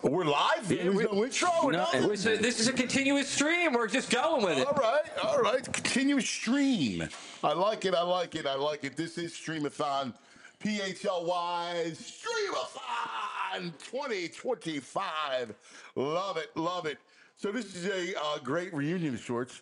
We're live? Yeah, There's no intro? No, this is a continuous stream. We're just going with it. All right. Continuous stream. I like it. This is Streamathon. PHLY Streamathon 2025. Love it. So this is a great reunion of sorts.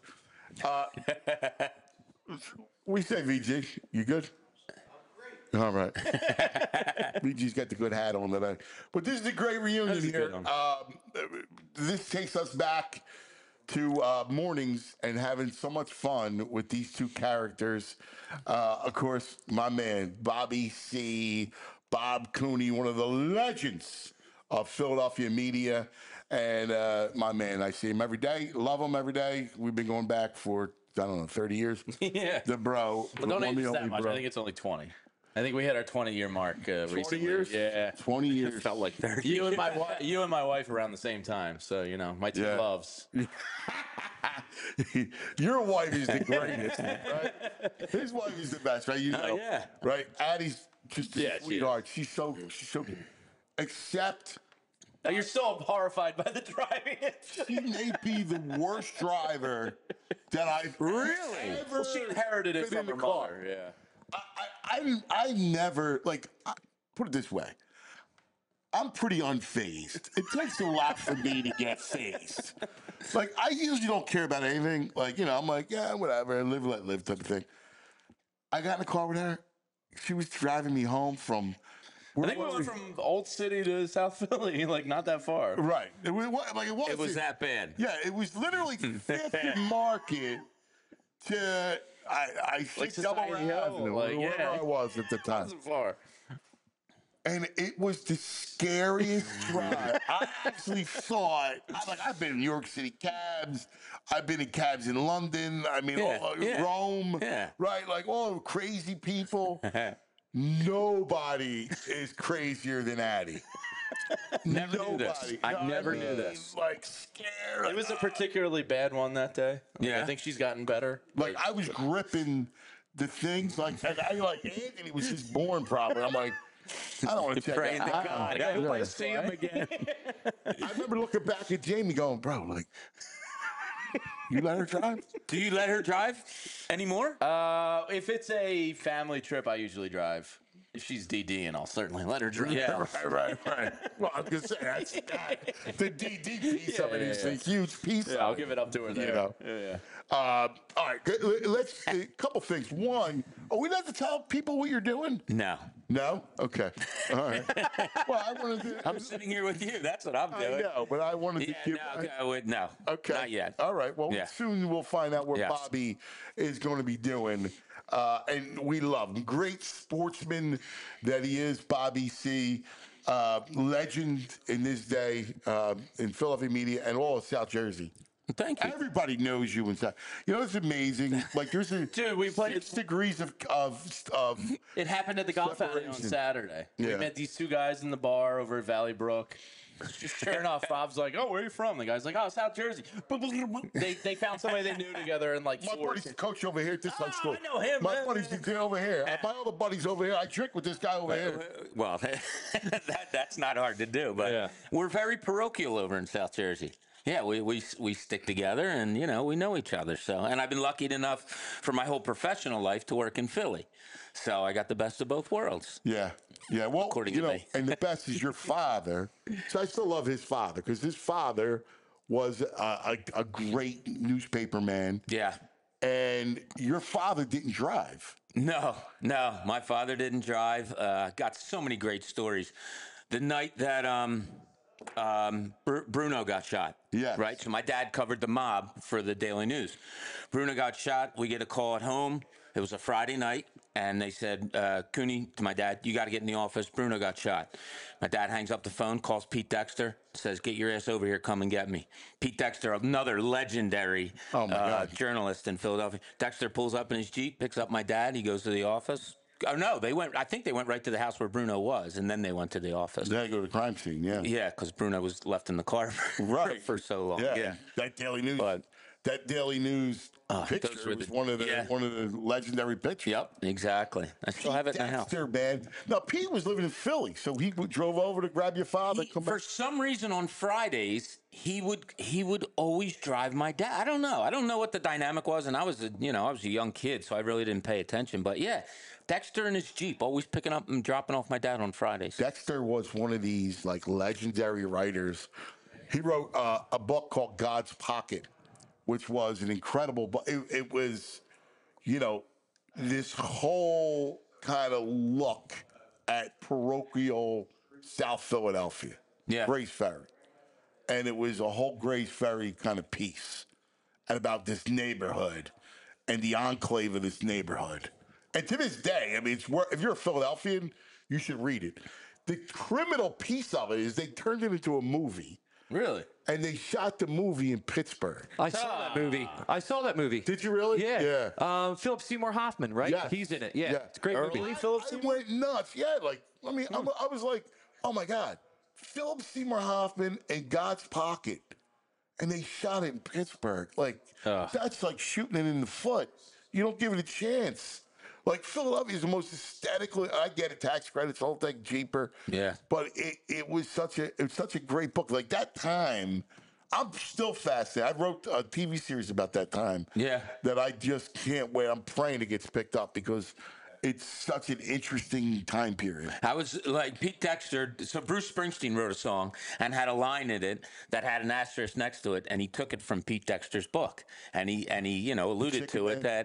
We say, VG, you good? All right. BG's got the good hat on today. But this is a great reunion here. This takes us back to mornings and having so much fun with these two characters. Of course, my man, Bobby C., Bob Cooney, one of the legends of Philadelphia media. And my man, I see him every day, love him every day. We've been going back for, I don't know, 30 years. Yeah. The bro. Well, don't age us that much. I think it's only 20. I think we hit our 20-year mark 20 recently. years? Yeah. 20 years. Felt like 30. You and my wife around the same time. So, my two loves. Your wife is the greatest, right? His wife is the best, right? You know, yeah. Right? Addie's just a Yeah, sweetheart. She's so except You're so horrified by the driving. she may be the worst driver that I've ever Well, she inherited it been in from her the car. mother. Yeah. I never, put it this way. I'm pretty unfazed. It takes a lot for me to get phased. I usually don't care about anything. I'm like, yeah, whatever, live, let live type of thing. I got in the car with her. She was driving me home from... I think we went from Old City to South Philly, not that far. Right. It was that bad. Yeah, it was literally 5th Market to... I think Double Avenue, wherever I was at the time. Wasn't far. And it was the scariest drive. I actually saw it. I've been in New York City cabs. I've been in cabs in London. Rome. Yeah. Right? All crazy people. Nobody is crazier than Addie. Never knew this. I never knew this. Scared. It was a particularly bad one that day. Yeah. I think she's gotten better. I was gripping the things. Anthony was just born probably. I'm like, I don't want to check Praying to that. God. I hope I see him again. I remember looking back at Jamie going, bro, you let her drive? Do you let her drive anymore? If it's a family trip, I usually drive. If she's DD, and I'll certainly let her drive. Yeah. Right. Well, I was going to say, that's the DD piece of it is a huge piece of it. I'll give it up to her there. Yeah. All right, good. Let's a couple things. One, are we allowed to tell people what you're doing? No. No? Okay. All right. Well, I wanted to. I'm sitting here with you. That's what I'm doing. I know, but I wanted to give. No. Okay. Not yet. All right. Well, soon we'll find out what Yes. Bobby is going to be doing. And we love him. Great sportsman that he is, Bobby C. Legend in this day in Philadelphia media and all of South Jersey. Thank you. Everybody knows you inside. It's amazing. There's a Dude, we played 6 degrees of It happened at the golf outing on Separation. Saturday. Yeah. We met these two guys in the bar over at Valley Brook. Sure enough, Bob's like, "Oh, where are you from?" The guy's like, "Oh, South Jersey." They found somebody they knew together and my buddy's the coach over here at this high school. I know him. My buddy's the kid over here. My other buddies over here. I drink with this guy over here. Well, that's not hard to do, but we're very parochial over in South Jersey. Yeah, we stick together and, we know each other. So, and I've been lucky enough for my whole professional life to work in Philly. So I got the best of both worlds. Yeah. Well, According to me. and the best is your father. So I still love his father because his father was a great newspaper man. Yeah. And your father didn't drive. No, my father didn't drive. Got so many great stories. The night that Bruno got shot. Yes. Right? So my dad covered the mob for the Daily News. Bruno got shot. We get a call at home. It was a Friday night. And they said, Cooney, to my dad, you got to get in the office. Bruno got shot. My dad hangs up the phone, calls Pete Dexter, says, get your ass over here, come and get me. Pete Dexter, another legendary journalist in Philadelphia. Dexter pulls up in his Jeep, picks up my dad. He goes to the office. Oh, no, I think they went right to the house where Bruno was, and then they went to the office. They go to the crime scene, yeah. Yeah, because Bruno was left in the car for so long. Yeah. That Daily News. But that Daily News those picture were was the- one of the yeah. legendary pictures. Yep, exactly. I still have it in the house. Dexter, man. Now Pete was living in Philly, so he drove over to grab your father. Come For back. some reason on Fridays he would always drive my dad. I don't know what the dynamic was, and I was a young kid, so I really didn't pay attention. But yeah, Dexter in his Jeep, always picking up and dropping off my dad on Fridays. Dexter was one of these like legendary writers. He wrote a book called God's Pocket, which was an incredible book. It was, this whole kind of look at parochial South Philadelphia, Yeah. Grace Ferry. And it was a whole Grace Ferry kind of piece and about this neighborhood and the enclave of this neighborhood. And to this day, I mean, if you're a Philadelphian, you should read it. The criminal piece of it is they turned it into a movie. Really? And they shot the movie in Pittsburgh. I saw that movie. Did you really? Yeah. Yeah. Philip Seymour Hoffman, right? Yes. He's in it. Yeah. Yeah. It's a great movie. Early Philip I Seymour? went nuts. Yeah, I was like, oh my God, Philip Seymour Hoffman and God's Pocket. And they shot it in Pittsburgh. That's like shooting it in the foot. You don't give it a chance. Like Philadelphia is the most aesthetically. I get it, tax credits, whole thing cheaper. Yeah. But it was such a great book. Like that time, I'm still fascinated. I wrote a TV series about that time. Yeah. That I just can't wait. I'm praying it gets picked up because it's such an interesting time period. I was like Pete Dexter. So Bruce Springsteen wrote a song and had a line in it that had an asterisk next to it, and he took it from Pete Dexter's book, and he alluded to it Man.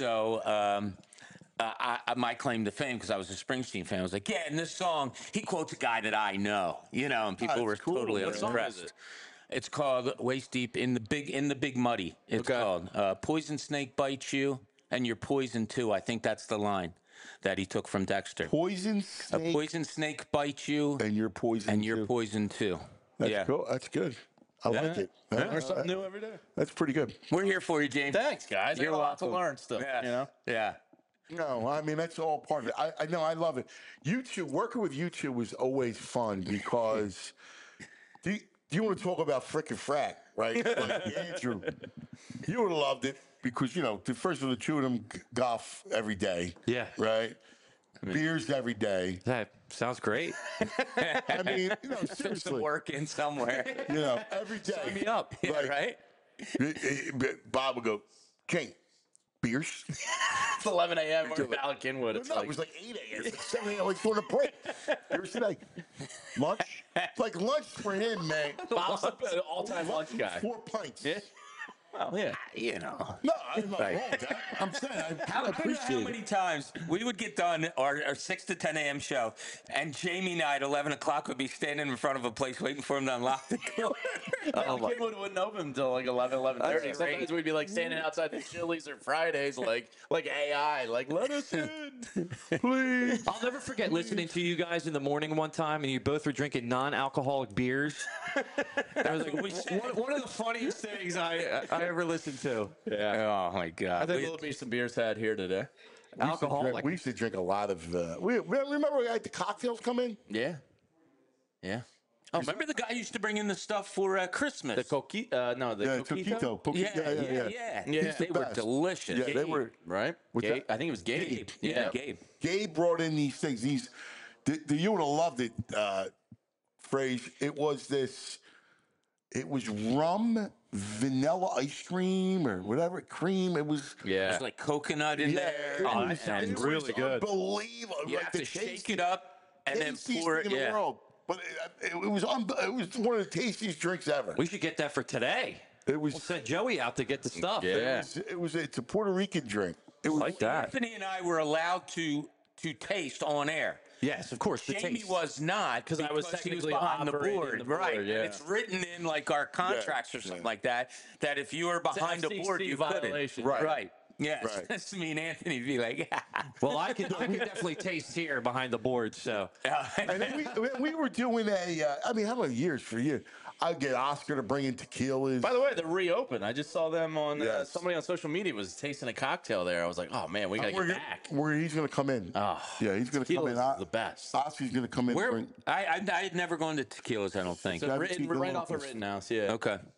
my claim to fame, because I was a Springsteen fan, I was like, yeah, in this song, he quotes a guy that I know, and people were that's cool. totally What song impressed. is it? It's called Waist Deep in the Big Muddy. It's Okay. called Poison Snake Bites You, and you're poison too. I think that's the line that he took from Dexter. Poison A snake poison snake bites you, and you're poison. and you're too. poison too. That's yeah. cool. That's good. I like it. Learn something new every day. That's pretty good. We're here for you, James. Thanks, guys. You're I got a lot to welcome. learn still. Yeah. Yeah. No, I mean that's all part of it. I know, I love it. YouTube, working with YouTube was always fun because do you want to talk about frickin' frack, right? Like Andrew, you would have loved it because first of all, the two of them golf every day. Yeah. Right. Beers every day. That sounds great. I mean, Some seriously, work in somewhere. every day. Sign me up. Yeah, right? Bob would go, King, beers. It's 11 a.m. We're in Valley Kinwood. It's No, like, it was like 8 a.m. It's like 7 a.m. Like doing a break. Beers today. Lunch. It's like lunch for him, man. Bob's the all-time lunch guy. 4 pints. Yeah. Well, yeah. No, I'm not wrong with that. I'm saying I How appreciate many it. times we would get done our 6 to 10 a.m. show, and Jamie and I at 11 o'clock would be standing in front of a place waiting for him to unlock the door. Valley Kinwood wouldn't open until like 11, 11:30. That's Sometimes great. we'd be like standing outside the Chili's or Fridays, like AI, like let us in. Please. I'll never forget listening to you guys in the morning one time, and you both were drinking non-alcoholic beers. That was like one of the funniest things I ever listened to. Oh my I God! think there'll be some beers had here today. Alcoholic. We used to drink a lot of. Remember we had the cocktails come in? Yeah. Yeah. Oh, remember the guy who used to bring in the stuff for Christmas? The coquito? No, the Yeah, coquito. Coquito. Yeah. Yeah. They were best. delicious. Yeah, they were. Right? What's Gabe? that? I think it was Gabe. Yeah, Gabe. Gabe brought in these things. You would have loved it, phrase. It was rum, vanilla ice cream, or whatever, cream. It was. Yeah. There's like coconut in there. Oh, and- that sounds and really good. Unbelievable. You have to shake it up and then tastiest pour it. thing in the Yeah. world. But it was one of the tastiest drinks ever. We should get that for today. It was. We'll send Joey out to get the stuff. Yeah. It's a Puerto Rican drink. It was Like that. Anthony and I were allowed to taste on air. Yes, of course. The Jamie taste. was not Because I was he technically behind the operating board, the board, right? yeah. And it's written in like our contracts or something like that. That if you were behind the FCC board, you violation. couldn't. Right. Right. Yes. Right. That's me and Anthony be like, Well, I can definitely taste here behind the board. So And then we were doing how many years for you? I'd get Oscar to bring in tequilas. By the way, they're reopened. I just saw them on Yes. somebody on social media was tasting a cocktail there. I was like, oh man, we gotta get back. He's going to come in. Oh, Yeah, he's going to come in. tequila's the best. Oscar's going to come in. where I had never gone to tequilas. I don't think. So written, tequila right off a was- Rittenhouse, yeah. Okay.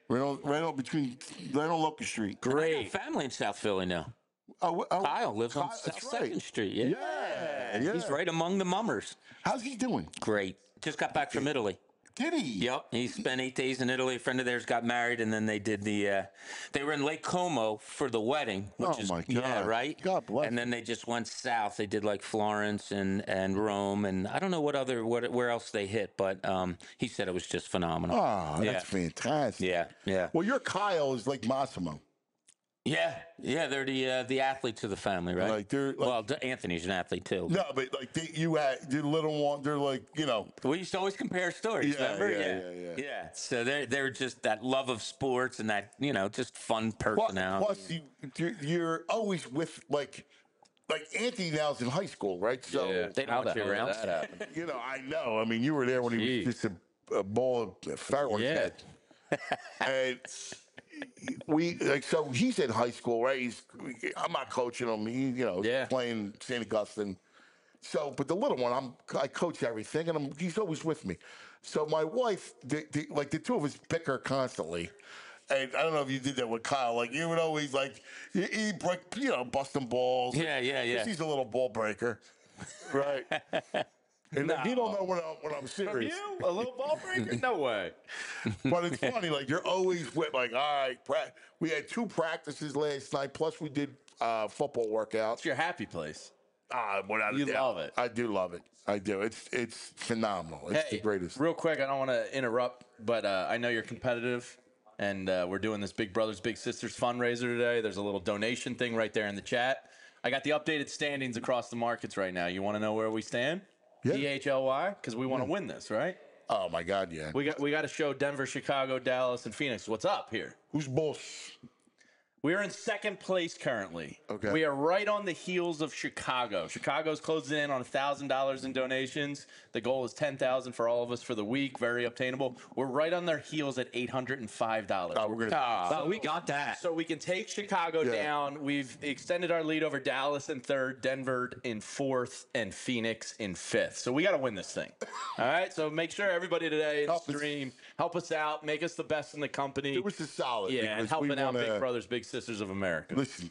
Right on between right on Locust Street. I Great. got family in South Philly now. Oh, Kyle lives on Kyle, South that's right. 2nd Street. Yeah. Yeah. He's right among the mummers. How's he doing? Great. Just got back from Italy. Did he? Yep. He spent 8 days in Italy. A friend of theirs got married, and then they did they were in Lake Como for the wedding, which Oh, is my yeah, God. right. God bless And then they just went south. They did like Florence and Rome, and I don't know where else they hit, but he said it was just phenomenal. Oh, yeah. that's fantastic. Yeah. Well, your Kyle is like Massimo. Yeah. They're the athletes of the family, right? Like they're like, well, Anthony's an athlete too. no, but like you had the little one. They're like We used to always compare stories, Yeah, remember? yeah. So they're just that love of sports and that just fun personality. Plus, you're always with like Anthony now's in high school, right? So They How know the that hell around. did that That happened. I know. I mean, you were there when he was just a ball of fireworks. Yeah. And so he's in high school, right? I'm not coaching him. He's playing St. Augustine. So, but the little one, I coach everything, and he's always with me. So my wife, the two of us bicker constantly. And I don't know if you did that with Kyle. Like you would always he break, busting balls. Yeah. 'Cause he's a little ball breaker, right? And he don't know when I'm serious. You a little ball breaker? No way. But it's funny, you're always with all right. We had 2 practices last night, plus we did football workouts. It's your happy place. Without a You doubt. love it. I do love it. I do. It's phenomenal. It's the greatest. Real quick, I don't want to interrupt, but I know you're competitive, and we're doing this Big Brothers Big Sisters fundraiser today. There's a little donation thing right there in the chat. I got the updated standings across the markets right now. You want to know where we stand? Yeah. DHLY, because we want to win this, right? Oh my God, yeah. We got to show Denver, Chicago, Dallas, and Phoenix what's up here. Who's boss? We're in second place currently. Okay. We are right on the heels of Chicago. Chicago's closing in on $1,000 in donations. The goal is $10,000 for all of us for the week. Very obtainable. We're right on their heels at $805. Oh, we're gonna. Oh, we got that. So we can take Chicago down. We've extended our lead over Dallas in 3rd, Denver in 4th, and Phoenix in 5th. So we got to win this thing. All right. So make sure everybody today in the stream help us out, make us the best in the company. It was a solid. Yeah, and because helping we out wanna- Big Brothers, Big Sisters of America. Listen,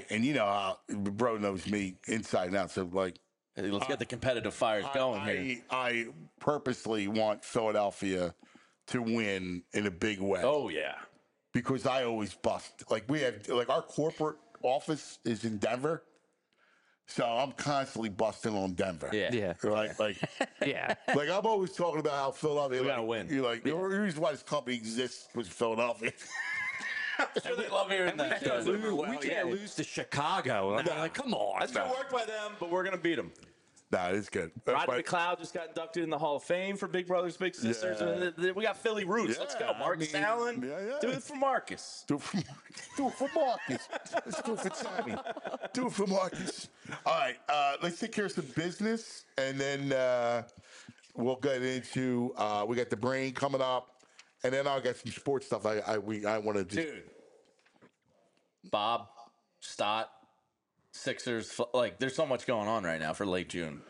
bro knows me inside and out. So Let's get the competitive fires going here. I purposely want Philadelphia to win in a big way. Oh yeah. Because I always bust. We have our corporate office is in Denver, so I'm constantly busting on Denver. Yeah. Right. Yeah. I'm always talking about how Philadelphia. We gotta win. You're the reason why this company exists was Philadelphia. Sure they love hearing that. We can't lose to Chicago. Come on. That's good work by them, but we're gonna beat them. Nah, it's good. Rodney McLeod just got inducted in the Hall of Fame for Big Brothers Big Sisters. Yeah. And we got Philly roots. Let's go, Marcus Allen. yeah. Do it for Marcus. Do it for Marcus. Let's do it for Tommy. Do it for Marcus. All right, let's take care of some business, and then we'll get into we got the brain coming up, and then I'll get some sports stuff. I want to Dude. Bob, Stott, Sixers. There's so much going on right now for late June.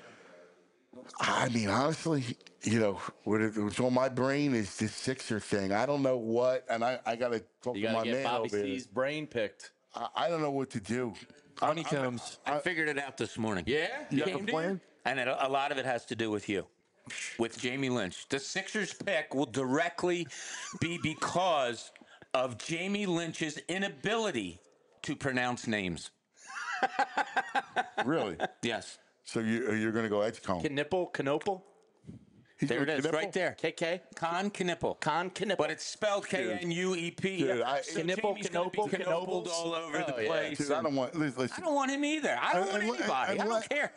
I mean, honestly, what's on my brain is this Sixer thing. I don't know what, and I got to talk You to got my to get man Bobby over here. C's brain picked. I don't know what to do. Honeycombs. I figured it out this morning. Yeah? You got Came the to you? plan? And a lot of it has to do with you, with Jamie Lynch. The Sixers pick will directly be because of Jamie Lynch's inability to pronounce names. Really? Yes. So you're going to go Edgecombe? Knipple? He's There it going is, right there. KK? Con Knippel. Knuppel. But it's spelled K-N-U-E-P. Dude, So Knipple, Jamie's gonna be Knoble, knobled Knobles. all over the Oh, yeah. place. Dude, I don't want. Listen. I don't want him either. I don't want anybody. I don't care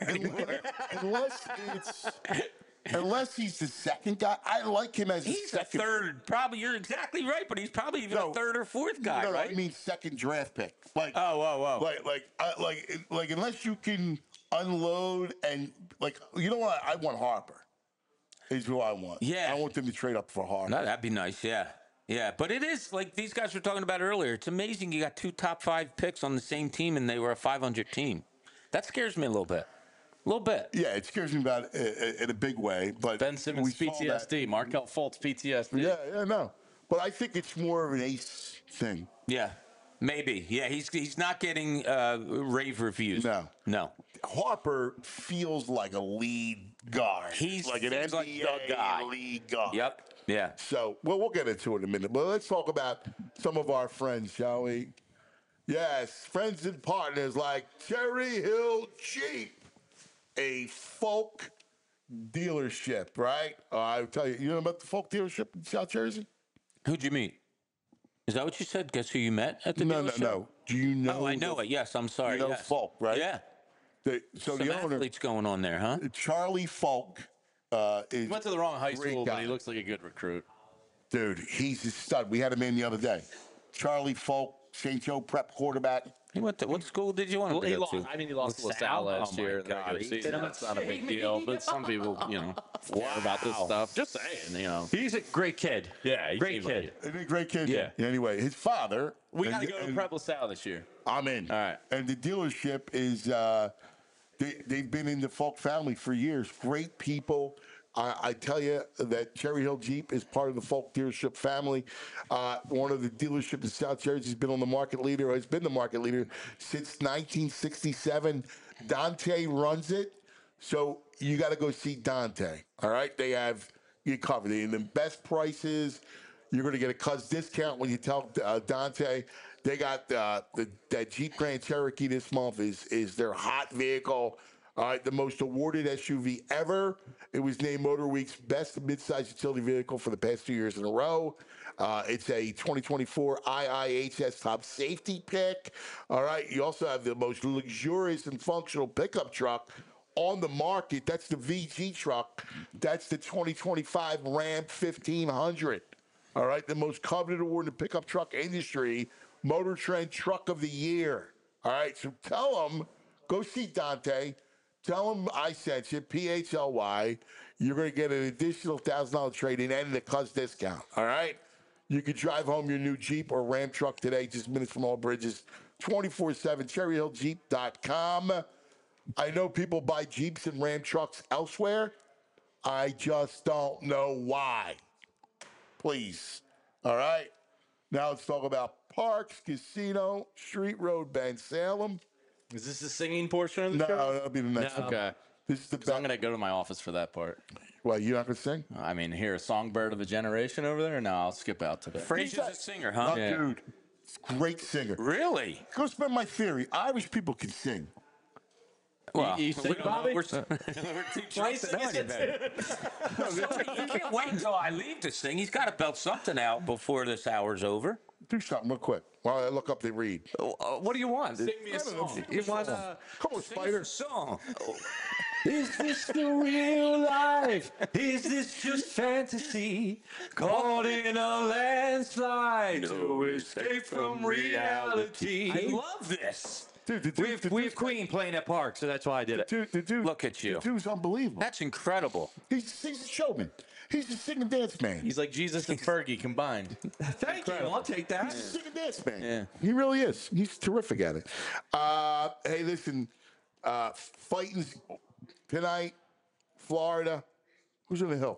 Unless he's the second guy. I like him as He's a a second. third. Probably, you're exactly right, but he's probably even No. a third or fourth guy, No, right? I mean second draft pick. Like unless you can unload and you know what? I want Harper. Is who I want. Yeah. I want them to trade up for Harper. No, that'd be nice, yeah. Yeah, but it is like these guys were talking about earlier. It's amazing you got 2 top 5 picks on the same team and they were a 500 team. That scares me a little bit. A little bit. Yeah, it scares me about in a big way. But Ben Simmons we saw that. PTSD. Markel Fultz PTSD. Yeah, no. but I think it's more of an ace thing. Yeah, maybe. Yeah, he's not getting rave reviews. No. Harper feels like a lead guard. He's like an feels NBA like the guy. lead guard. Yep. Yeah. So, well, we'll get into it in a minute. But let's talk about some of our friends, shall we? Yes, friends and partners like Cherry Hill Jeep, a Folk dealership, right? I'll tell you, you know about the Folk dealership in South Jersey? Who'd you meet? Is that what you said? Guess who you met at the dealership? No. Do you know? Oh, I know it. Yes, I'm sorry. You know yes. Folk, right? Yeah. So Some the owner, athletes going on there, huh? Charlie Folk, is He went to the wrong high great school, guy. but he looks like a good recruit. Dude, he's a stud. We had him in the other day. Charlie Folk, St. Joe prep quarterback. He went to what school did you want him to He go lost. to? I mean, he lost to LaSalle? LaSalle last Oh, my year in the God. regular He season. did That's not a big deal, but some people, care about this stuff. Just saying, He's a great kid. Yeah, he great seems like kid. it. Isn't he a great kid? Yeah. Anyway, his father. We got to go to Prep LaSalle this year. I'm in. All right. And the dealership is, they've been in the Folk family for years. Great people. I tell you that Cherry Hill Jeep is part of the Folk dealership family. One of the dealerships in South Jersey has been on the market leader, has been the market leader since 1967. Dante runs it. So you got to go see Dante. All right. They have you covered. They the best prices. You're going to get a cuz discount when you tell Dante. They got that Jeep Grand Cherokee this month is their hot vehicle. All right, the most awarded SUV ever. It was named MotorWeek's best midsize utility vehicle for the past 2 years in a row. It's a 2024 IIHS top safety pick. All right, you also have the most luxurious and functional pickup truck on the market. That's the VG truck. That's the 2025 Ram 1500. All right, the most coveted award in the pickup truck industry, Motor Trend Truck of the Year. All right, so tell them, go see Dante. Tell them I sent you, PHLY. You're going to get an additional $1,000 trade-in and the cuz discount. All right? You can drive home your new Jeep or Ram truck today, just minutes from all bridges, 24/7, cherryhilljeep.com. I know people buy Jeeps and Ram trucks elsewhere. I just don't know why. Please. All right? Now let's talk about Parks Casino, Street Road, Ben Salem. Is this the singing portion of the No, show? that'll be the next one. Okay. This is the 'Cause I'm best. going to go to my office for that part. Well, you not going to sing? I mean, hear a songbird of a generation over there? No, I'll skip out today. Frazier's a singer, huh? Oh, dude, great singer. Really? Go spend my theory. Irish people can sing. Well, You sing, we don't know. Bobby? We're too drunk to know any better. You can't wait until I leave to sing. He's got to belt something out before this hour's over. Do something real quick while I look up the read. What do you want? Sing me a song. You want Come on, Spider. Song. Is this the real life? Is this just fantasy? Caught in a landslide, no escape from reality. I love this. Dude, We have Queen playing at Park, so that's why I did it. Dude, Look at you. The dude's unbelievable. That's incredible. He's a showman. He's a sing and dance man. He's like Jesus and Fergie combined. Thank you. I'll take that. He's a sing and dance man. Yeah. He really is. He's terrific at it. Hey, listen, fighting tonight, Florida. Who's on the hill?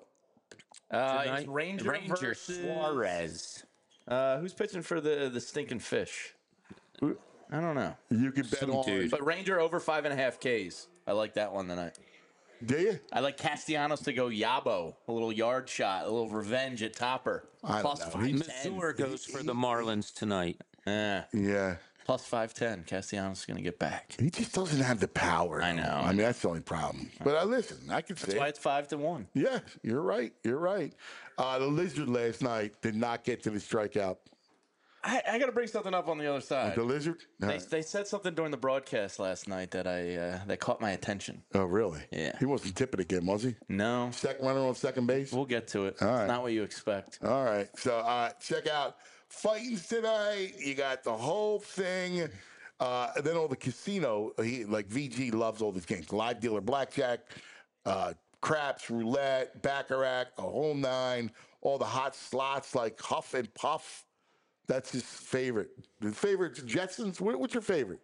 It's Ranger versus Suarez. Who's pitching for the stinking fish? I don't know. You can bet Some on. dude. But Ranger over 5.5 Ks. I like that one tonight. Do you? I like Castellanos to go Yabo, a little yard shot, a little revenge at Topper. I don't Plus know. 510. Missouri goes for the Marlins tonight. Yeah. Plus 510. Castellanos is going to get back. He just doesn't have the power. I know. I mean, that's the only problem. But listen, I can say That's why it's 5-1. Yeah, you're right. You're right. The Lizard last night did not get to the strikeout. I got to bring something up on the other side. The Lizard? They said something during the broadcast last night that that caught my attention. Oh, really? Yeah. He wasn't tipping again, was he? No, Second runner on second base? we'll get to it. All right. It's not what you expect. All right. So check out Fightings tonight. You got the whole thing. And then all the casino. Like VG loves all these games. Live dealer blackjack, craps, roulette, baccarat, a whole nine. All the hot slots like Huff and Puff. That's his favorite. The favorite Jetsons. What's your favorite?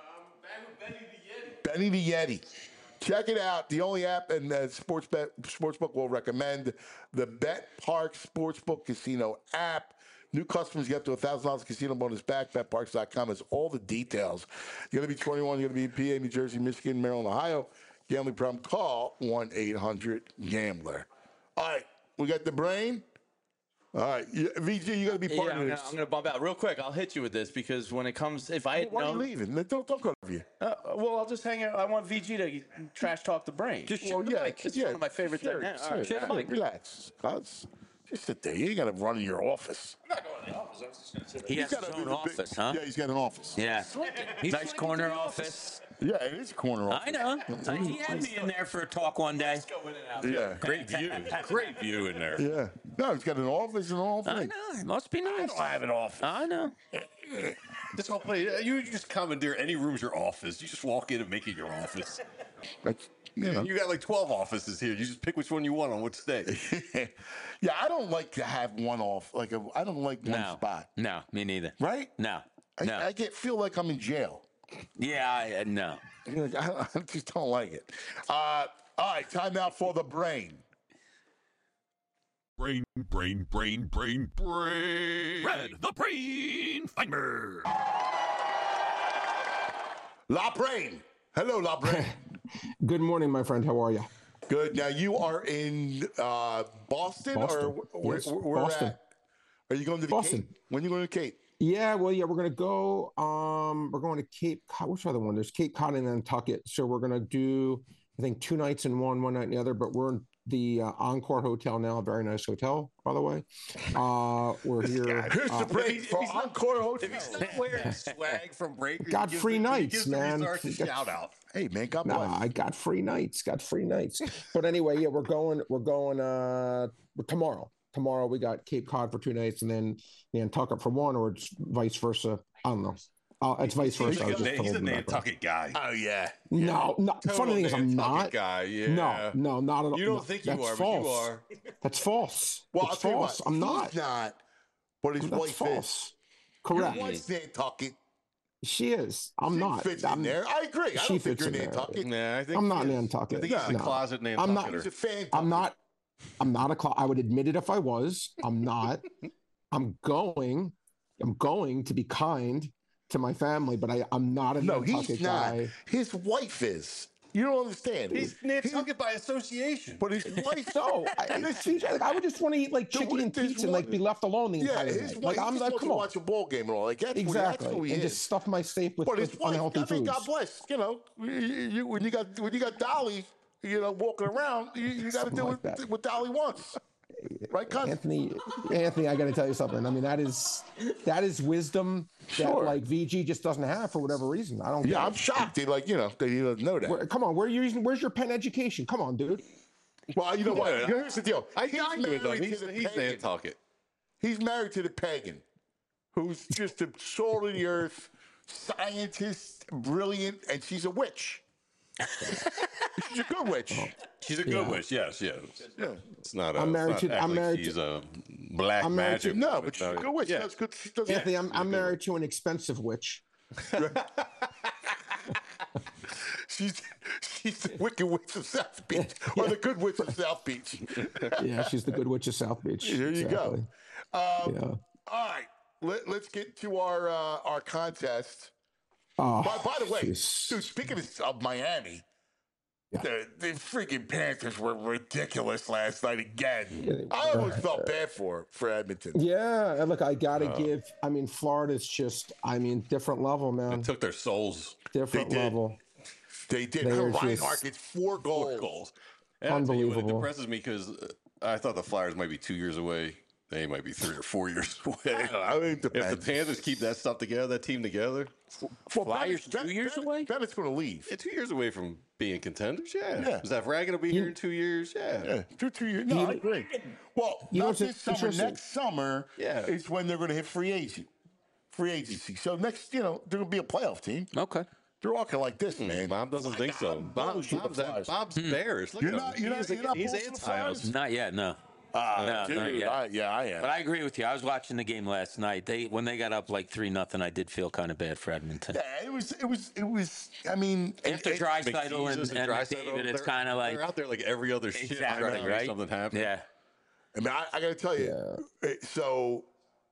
Benny the Yeti. Check it out. The only app and Sportsbook will recommend the Bet Park Sportsbook Casino app. New customers get up to $1,000 casino bonus back. BetParks.com has all the details. You got to be 21. You got to be in PA, New Jersey, Michigan, Maryland, Ohio. Gambling problem? Call 1-800-GAMBLER. All right, we got the brain. All right, VG, you got to be part of this. I'm gonna bump out real quick. I'll hit you with this because when it comes, if I had Why are you known, leaving? Don't go over you. well, I'll just hang out. I want VG to trash talk the brain. Just Well, yeah, it's one of my favorite sure, things. sure, All right, Mike, relax. Just sit there. You ain't got to run in your office. I'm not going to the office. I was just gonna sit He there. has his own office, huh? Yeah, he's got an office. Yeah. Nice corner office. Yeah, it is a corner office. I know. He had me in there for a talk one day. Go in and out. Yeah. Great view. Great view in there. Yeah. No, he's got an office and all I things. know. It must be nice. I have an office. I know. This whole place, you just commandeer any room's your office. You just walk in and make it your office. That's, you know. You got like 12 offices here. You just pick which one you want on which day. Yeah, I don't like to have one off. I don't like one No. spot. No, me neither. Right? No. No. I feel like I'm in jail. Yeah, no. I just don't like it. All right, time out for the brain. Brain. Red, the brain finder. La Brain. Hello, La Brain. Good morning, my friend. How are you? Good. Now, you are in Boston? Or Yes, where Boston. at? Are you going to the Boston. Cape? When are you going to the Cape? Yeah, well, yeah, we're gonna go. We're going to Cape Cod. Which other one? There's Cape Cod and Nantucket. So we're gonna do, I think, 2 nights in one night in the other. But we're in the Encore Hotel now. A very nice hotel, by the way. We're here. Here's the brain for Encore Hotel. If he's not wearing swag from Breaker, Got free nights, gives the man. Resarts a shout out. Hey, man, God bless. Nah, I got free nights. But anyway, yeah, we're going tomorrow. Tomorrow we got Cape Cod for 2 nights and then Nantucket for 1, or it's vice versa. I don't know. It's vice versa. I was just He's told a in the background. Nantucket guy. Oh, yeah. No. Funny thing is, I'm Nantucket not. guy. Yeah. No, not at all. You No, don't think you that's are, false. but you are. That's false. Well, I'll it's tell you false. what. I'm He's not. not, but his That's wife false. is. Correct. Your wife's Nantucket. She is. I'm She not. fits I'm, in there. I agree. I she don't think fits you're in there. Nantucket. Yeah, I think I'm not he is. Nantucket. I think he's a No. closet I'm Nantucketer. not. He's a fan. I'm not. I'm not I would admit it if I was. I'm not. I'm going to be kind to my family, but I'm not a No, Nantucket he's not. guy. His wife is. You don't understand. He's Nantucket by association. But his wife. So I would just want to eat like chicken and there's pizza and like one- be left alone the Yeah, entire his day. wife. Like I'm just like, wants come to on, watch a ball game and all. Like that's What, that's exactly, who he and is. just stuff my safe with, But his wife. unhealthy I mean, foods. God bless. You know, when you got Dolly, walking around, you got to do Something like that. what Dolly wants. Right, cousin? Anthony, I got to tell you something. I mean, that is wisdom Sure. that like VG just doesn't have for whatever reason. I don't. get Yeah, it. I'm shocked. That he doesn't know that. Come on, where's your Penn education? Come on, dude. Well, you know what? Here's the deal. I dined with him. married He's to the pagan. Nantucket. He's married to the pagan, who's just a salt of the earth, scientist, brilliant, and she's a witch. She's a good witch. She's a good witch. Yes. Yeah. It's not. I'm married it's to- not act I'm like married she's to- a black I'm married to- magic. No, woman. but she's a good witch. Yeah. That's good. She does Anthony, I'm married to an expensive witch. She's the wicked witch of South Beach, or the good witch of South Beach. Yeah, she's the good witch of South Beach. There you go. Exactly. Yeah. All right, let's get to our contest. Oh, By the way, jeez. dude, speaking of Miami, the freaking Panthers were ridiculous last night again. Yeah, they I almost felt bad for Edmonton. Yeah, and look, I gotta give. I mean, Florida's just. I mean, different level, man. It took their souls. Different They did. level. They did. They're Reinhardt just- gets 4 goals. And I'll tell you what, Unbelievable. it depresses me because I thought the Flyers might be 2 years away. They might be 3 or 4 years away. I mean, If the Panthers keep that stuff together, that team together, Flyers 2 years away? Bennett's going to leave. they're 2 years away from being contenders. Yeah. Yeah. Is that Rag going to be here in 2 years? Yeah. Yeah, 2 years. No, I agree. Well, You know not what's this summer. interesting? Next summer Yeah. is when they're going to hit free agency. So next, they're going to be a playoff team. Okay. They're walking like this, man. Bob doesn't think so. Bob's bearish. Look You're at not- him. you're not- you're not He's pulling for the Flyers? anti us. Not yet, no. No, Dude, not yet. I am. But I agree with you. I was watching the game last night. When they got up like 3-0, I did feel kind of bad for Edmonton. Yeah, it was. I mean, After Draisaitl Jesus and McDavid, it's kind of like they're out there like every other shit. exactly trying to make right. Something happen. Yeah. I mean, I got to tell you. So,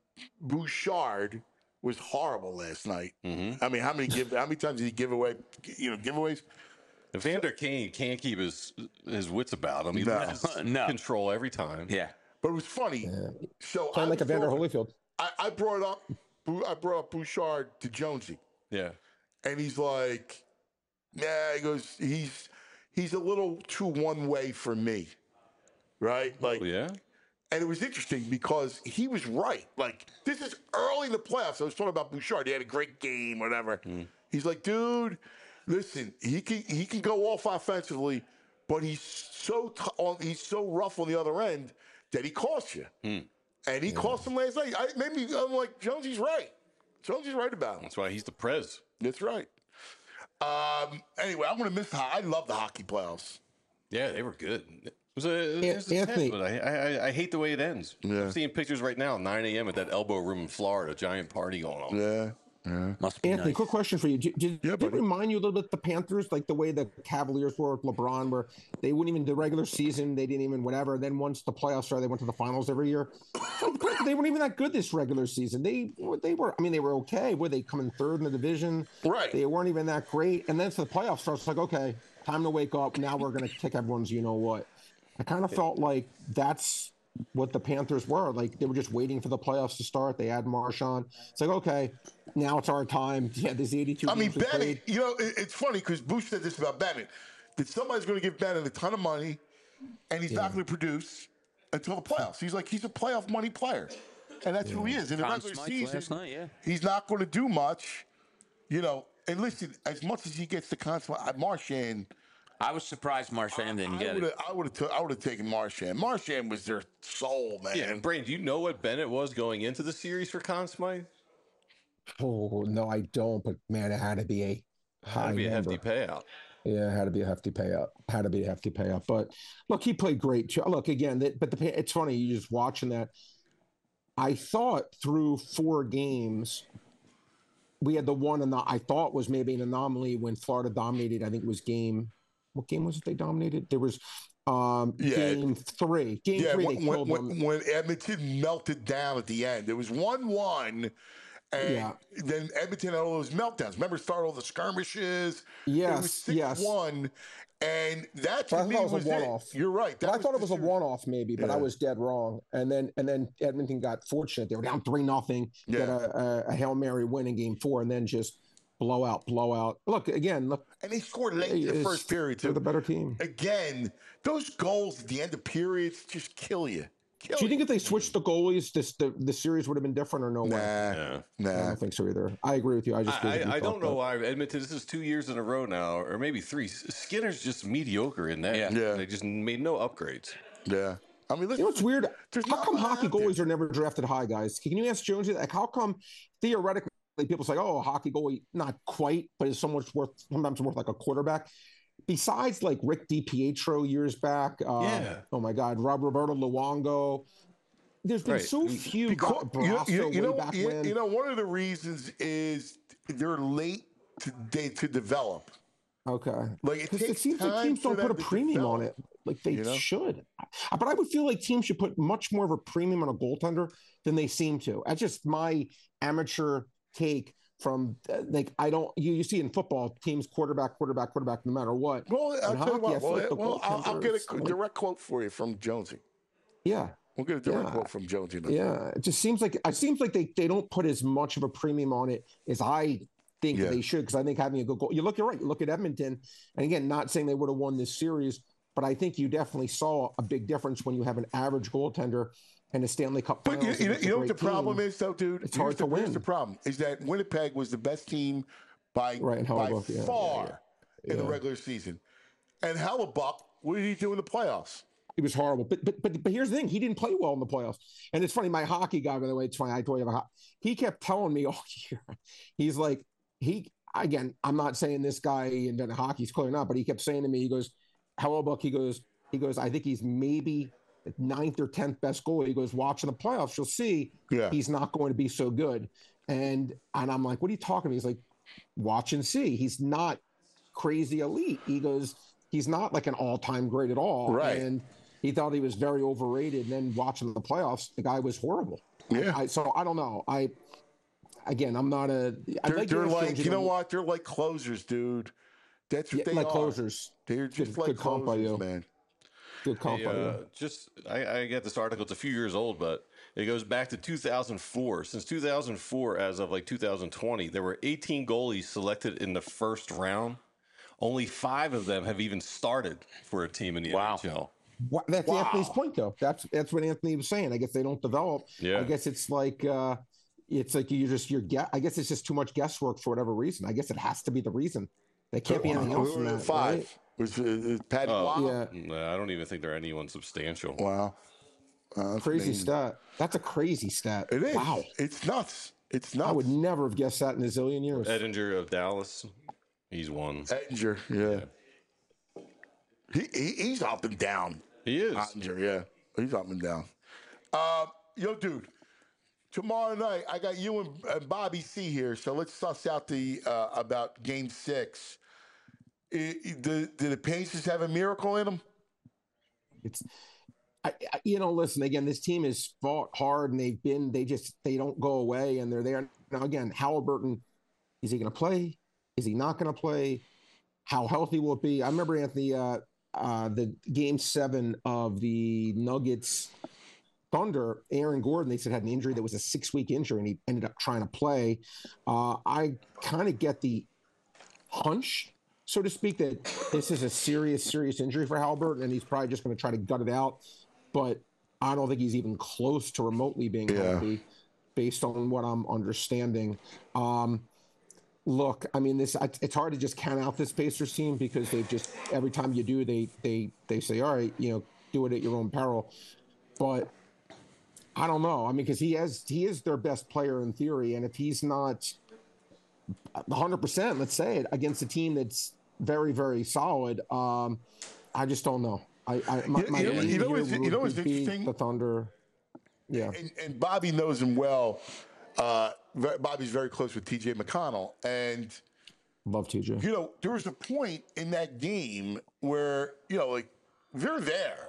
Bouchard was horrible last night. I mean, how many times did he give away? Giveaways. Evander Kane can't keep his wits about him. He No. loses control every time. Yeah. But it was funny. So Playing like Evander Holyfield. I brought up Bouchard to Jonesy, Yeah. and he's like, "Yeah," he goes, "He's a little too one way for me." Right? Like, Yeah. and it was interesting because he was right. Like, this is early in the playoffs. I was talking about Bouchard. He had a great game, whatever. He's like, dude, listen, he can go off offensively, but he's so rough on the other end that he costs you. And he cost him last night. I'm like, Jonesy's right. Jonesy's right about him. That's why he's the prez. That's right. Anyway, I'm going to miss. I love the hockey playoffs. Yeah, they were good. It was a Anthony- test, but I hate the way it ends. Yeah. I'm seeing pictures right now, 9 a.m. at that elbow room in Florida, giant party going on. Yeah. Must be Anthony, nice. quick question for you. Did it buddy. remind you a little bit the Panthers, like the way the Cavaliers were with LeBron, where they wouldn't even the regular season, they didn't even whatever. Then once the playoffs started, they went to the finals every year. They weren't even that good this regular season. They were. I mean, they were okay. Were they coming third in the division? Right. They weren't even that great. And then so the playoffs starts, like, okay, time to wake up. Now we're going to kick everyone's. You know what? I kind of felt like that's what the Panthers were. Like they were just waiting for the playoffs to start. They had Marshawn. It's like, okay, now it's our time. Yeah, there's 82. I mean, games we Bennett, played. it's funny because Bush said this about Bennett, that somebody's going to give Bennett a ton of money and he's not going to produce until the playoffs. He's like, he's a playoff money player. And that's who he is. In the Conn regular Smythe season, last night, yeah. he's not going to do much, And listen, as much as he gets the consummate, Marchand, I was surprised Marchand didn't get it. I would have taken Marchand. Marchand was their soul, man. Yeah, and Brain, do you know what Bennett was going into the series for Conn Smythe? Oh no, I don't. But man, it had to be a high That'd be a number. hefty payout. Yeah, it had to be a hefty payout. But look, he played great. Look again, it's funny. You just watching that. I thought through 4 games, we had the one, and I thought was maybe an anomaly when Florida dominated. I think it was what game was it they dominated? There was game 3. Game 3, they killed them. When Edmonton melted down at the end, it was 1-1. And then Edmonton had all those meltdowns. Remember, started all the skirmishes. Yes, it was 6-1. And that to me was a one-off. You're right. I thought it was a one-off maybe, but I was dead wrong. And then Edmonton got fortunate. They were down 3-0. Got a Hail Mary win in game 4, and then just blowout. Look. And they scored late in the first period too. They're the better team. Again, those goals at the end of periods just kill you. Do you think if they switched the goalies, the series would have been different or no way? Nah. I don't think so either. I agree with you. I don't know why Edmonton. This is 2 years in a row now, or maybe 3. Skinner's just mediocre in that. Yeah. They just made no upgrades. Yeah. I mean, listen, you know what's weird? How come hockey out there. goalies are never drafted high, guys? Can you ask Jonesy that? Like, how come theoretically people say, "Oh, a hockey goalie, not quite, but is sometimes worth like a quarterback"? Besides, like Rick DiPietro years back, oh my God, Roberto Luongo. There's been so few. One of the reasons is they're late to develop. Okay, like it seems like teams don't put a premium on it, like they should. But I would feel like teams should put much more of a premium on a goaltender than they seem to. That's just my amateur take. From I don't you see in football teams quarterback no matter what. Well, I'll tell you what. Like I'll get a direct quote for you from Jonesy. Yeah, we'll get a direct quote from Jonesy. Yeah, it just seems like they don't put as much of a premium on it as I think they should, because I think having a good goal. You're right. You look at Edmonton, and again, not saying they would have won this series, but I think you definitely saw a big difference when you have an average goiltender and a Stanley Cup. But you know what the problem is, though, dude? It's hard to win. Here's the problem: is that Winnipeg was the best team by far in the regular season, and Hellebuck, what did he do in the playoffs? He was horrible. But here's the thing: he didn't play well in the playoffs. And it's funny. My hockey guy, by the way, it's funny. I told you he kept telling me all year. He's like, I'm not saying this guy invented hockey. He's clearly not, but he kept saying to me, he goes, Hellebuck. He goes. I think he's maybe 9th or 10th best goalie. He goes, watching the playoffs, you'll see he's not going to be so good. And I'm like, what are you talking about? He's like, watch and see. He's not crazy elite. He goes, he's not like an all-time great at all. Right. And he thought he was very overrated. And then watching the playoffs, the guy was horrible. Yeah. So I don't know. I'm not a. They're like, you know what? They're like closers, dude. That's what they like are. closers. They're just Good like comp by closers, you. man. Good comp by you. I get this article. It's a few years old, but it goes back to 2004. Since 2004, as of like 2020, there were 18 goalies selected in the first round. Only 5 of them have even started for a team in the NHL. That's Anthony's point, though. That's what Anthony was saying. I guess they don't develop. Yeah. I guess it's like I guess it's just too much guesswork for whatever reason. I guess it has to be the reason. There can't be anything else than that. 5. Right? Was Patty Wow? Yeah. I don't even think they're anyone substantial. Wow. Crazy stat. That's a crazy stat. It is. Wow. It's nuts. It's nuts. I would never have guessed that in a zillion years. Edinger of Dallas, he's one. Edinger, yeah. He's up and down. He is. Edinger, yeah. He's up and down. Yo, dude. Tomorrow night, I got you and Bobby C here, so let's suss out the about Game 6. Do the Pacers have a miracle in them? Listen, again, this team has fought hard and they don't go away and they're there. Now, again, Halliburton, is he going to play? Is he not going to play? How healthy will it be? I remember, Anthony, the Game 7 of the Nuggets Thunder, Aaron Gordon, they said had an injury that was a 6-week injury and he ended up trying to play. I kind of get the hunch, so to speak, that this is a serious injury for Halliburton and he's probably just going to try to gut it out. But I don't think he's even close to remotely being healthy based on what I'm understanding. Look, I mean, it's hard to just count out this Pacers team because they've just, every time you do, they say, all right, do it at your own peril. But I don't know. I mean, because he is their best player in theory. And if he's not 100%, let's say it, against a team that's very, very solid, I just don't know. What's interesting? The Thunder. Yeah. And Bobby knows him well. Bobby's very close with TJ McConnell. And love TJ. There was a point in that game where, they're there.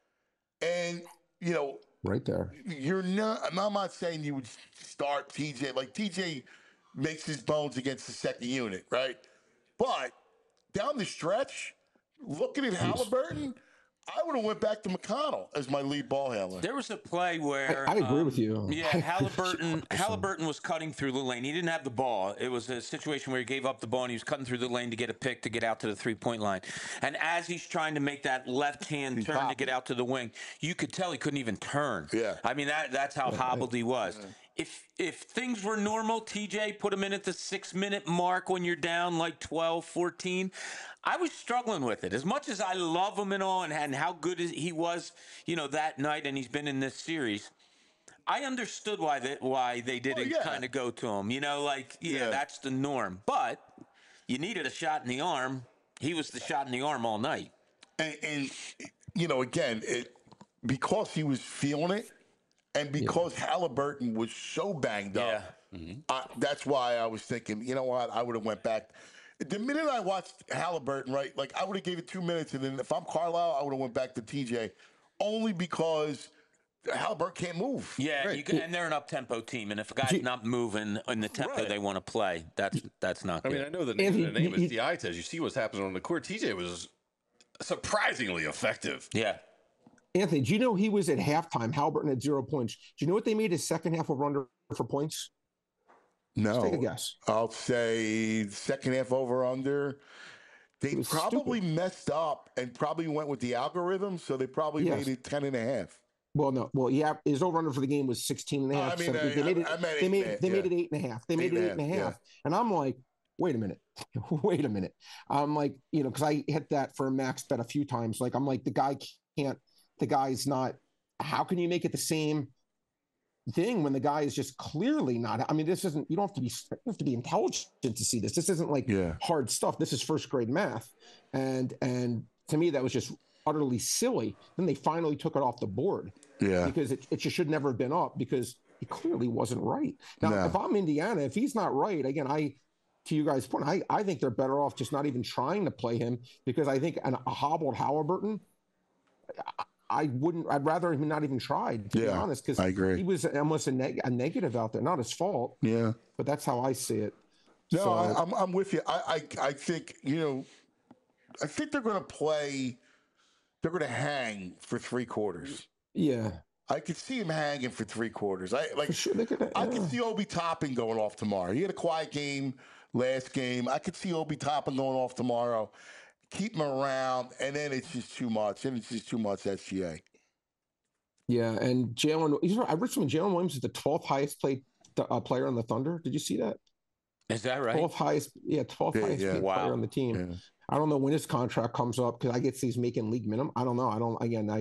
And, right there. I'm not saying you would start TJ. Like, TJ makes his bones against the second unit, right? But down the stretch, looking at Halliburton, I would have went back to McConnell as my lead ball handler. There was a play where I agree with you. Yeah, Halliburton was cutting through the lane. He didn't have the ball. It was a situation where he gave up the ball and he was cutting through the lane to get a pick to get out to the 3-point line. And as he's trying to make that left-hand turn to get out to the wing, you could tell he couldn't even turn. Yeah. I mean, that's how hobbled he was. Yeah. If things were normal, TJ, put him in at the 6-minute mark when you're down like 12, 14. I was struggling with it. As much as I love him and all and how good he was, that night, and he's been in this series, I understood why they didn't kind of go to him. That's the norm. But you needed a shot in the arm. He was the shot in the arm all night. And again, because he was feeling it, and because Halliburton was so banged up, that's why I was thinking, you know what, I would have went back. The minute I watched Halliburton, right, like I would have gave it 2 minutes, and then if I'm Carlisle, I would have went back to TJ, only because Halliburton can't move. Yeah, and they're an up-tempo team, and if a guy's not moving in the tempo they want to play, that's not good. I mean, I know the name is the eye test. You see what's happening on the court. TJ was surprisingly effective. Yeah. Anthony, do you know he was at halftime? Halliburton had 0 points. Do you know what they made his second half over under for points? No. Let's take a guess. I'll say second half over under. They probably messed up and probably went with the algorithm, so they probably made it 10.5. Well, no. Well, yeah, his over under for the game was 16.5. They made it 8.5. They made it 8.5. Yeah. And I'm like, wait a minute. I'm like, because I hit that for a max bet a few times. Like, I'm like, the guy's not, how can you make it the same thing when the guy is just clearly not? I mean, this isn't, you have to be intelligent to see this. This isn't like hard stuff. This is first grade math. And to me, that was just utterly silly. Then they finally took it off the board because it just should never have been up because he clearly wasn't right. Now, if I'm Indiana, if he's not right, again, to you guys' point, I think they're better off just not even trying to play him because I think a hobbled Halliburton, wouldn't. I'd rather him not even tried, to be honest, because I agree. he was almost a negative out there. Not his fault. Yeah. But that's how I see it. No, So, I'm with you. I think, I think they're going to play. They're going to hang for 3 quarters. yeah. I could see him hanging for 3 quarters. For sure, they could, I could see Obi Toppin going off tomorrow. He had a quiet game last game. I could see Obi Toppin going off tomorrow. Keep him around, and then it's just too much. And it's just too much SGA. Yeah, and Jalen. I read something. Jalen Williams is the 12th highest player on the Thunder. Did you see that? Is that right? 12th highest. Yeah, 12th highest paid player on the team. Yeah. I don't know when his contract comes up because I guess he's making league minimum. I don't know.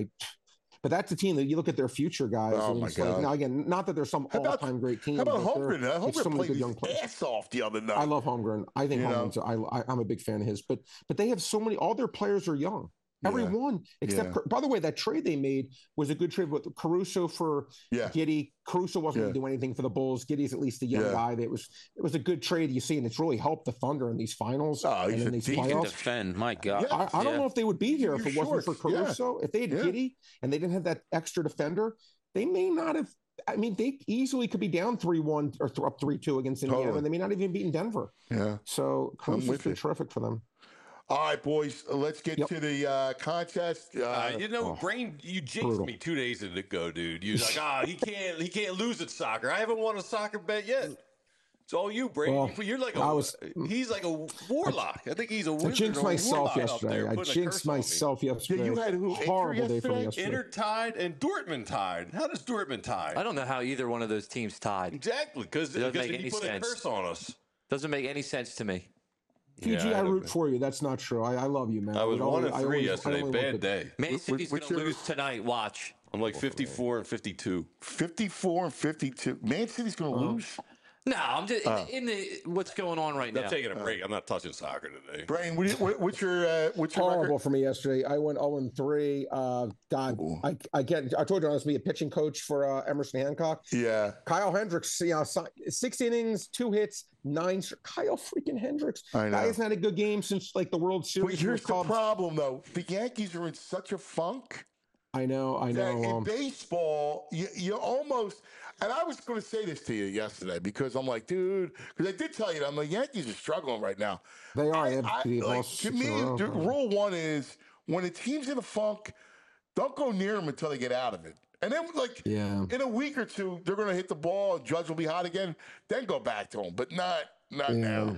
But that's a team that you look at their future guys. Oh, and my it's God. like, now again, not that there's some all-time great team. How about but Holmgren? there's Holmgren so many played good his young players. ass off the other night. I love Holmgren. I think Holmgren's. I'm a big fan of his. But they have so many. All their players are young. Everyone except. By the way, that trade they made was a good trade with Caruso for Giddey. Caruso wasn't going to do anything for the Bulls. Giddey's at least a young guy. It was a good trade. You see, and it's really helped the Thunder in these finals and in these He can playoffs. defend. My God. I don't know if they would be here if it wasn't for Caruso. If they had Giddey and they didn't have that extra defender, they may not have. I mean, they easily could be down 3-1 or up 3-2 against Indiana, and they may not even beat Denver. Yeah. So Caruso's been terrific for them. All right, boys, let's get to the contest. Brain, you jinxed me 2 days ago, dude. You was like, he can't lose at soccer. I haven't won a soccer bet yet. It's all you, Brain. Well, You're like he's like a warlock. I think he's a wizard. I jinxed myself yesterday. Yeah, you had who? Horrible day for me yesterday. Inter tied and Dortmund tied. How does Dortmund tie? I don't know how either one of those teams tied. Exactly, because It doesn't make he any put sense. a curse on us. Doesn't make any sense to me. PG, I root for you. That's not true. I love you, man. I was 1-3 yesterday. Bad day. Man City's going to lose tonight. Watch. I'm like 54 and 52. 54 and 52. Man City's going to lose? No, I'm just in the what's going on right now. I'm taking a break. I'm not touching soccer today. Brain, what's your horrible record? for me yesterday. I went 0-3. God, I told you I was to be a pitching coach for Emerson Hancock. Yeah. Kyle Hendricks, 6 innings, 2 hits, 9. Kyle freaking Hendricks. I know. Guy hasn't had a good game since like the World Series. But here's the problem, though. The Yankees are in such a funk. I know. In baseball, you almost. And I was going to say this to you yesterday because I'm like, dude, because I did tell you that I'm like, Yankees are struggling right now. They are. To me, rule 1 is when a team's in a funk, don't go near them until they get out of it. And then, in a week or two, they're going to hit the ball. Judge will be hot again. Then go back to them, but not now.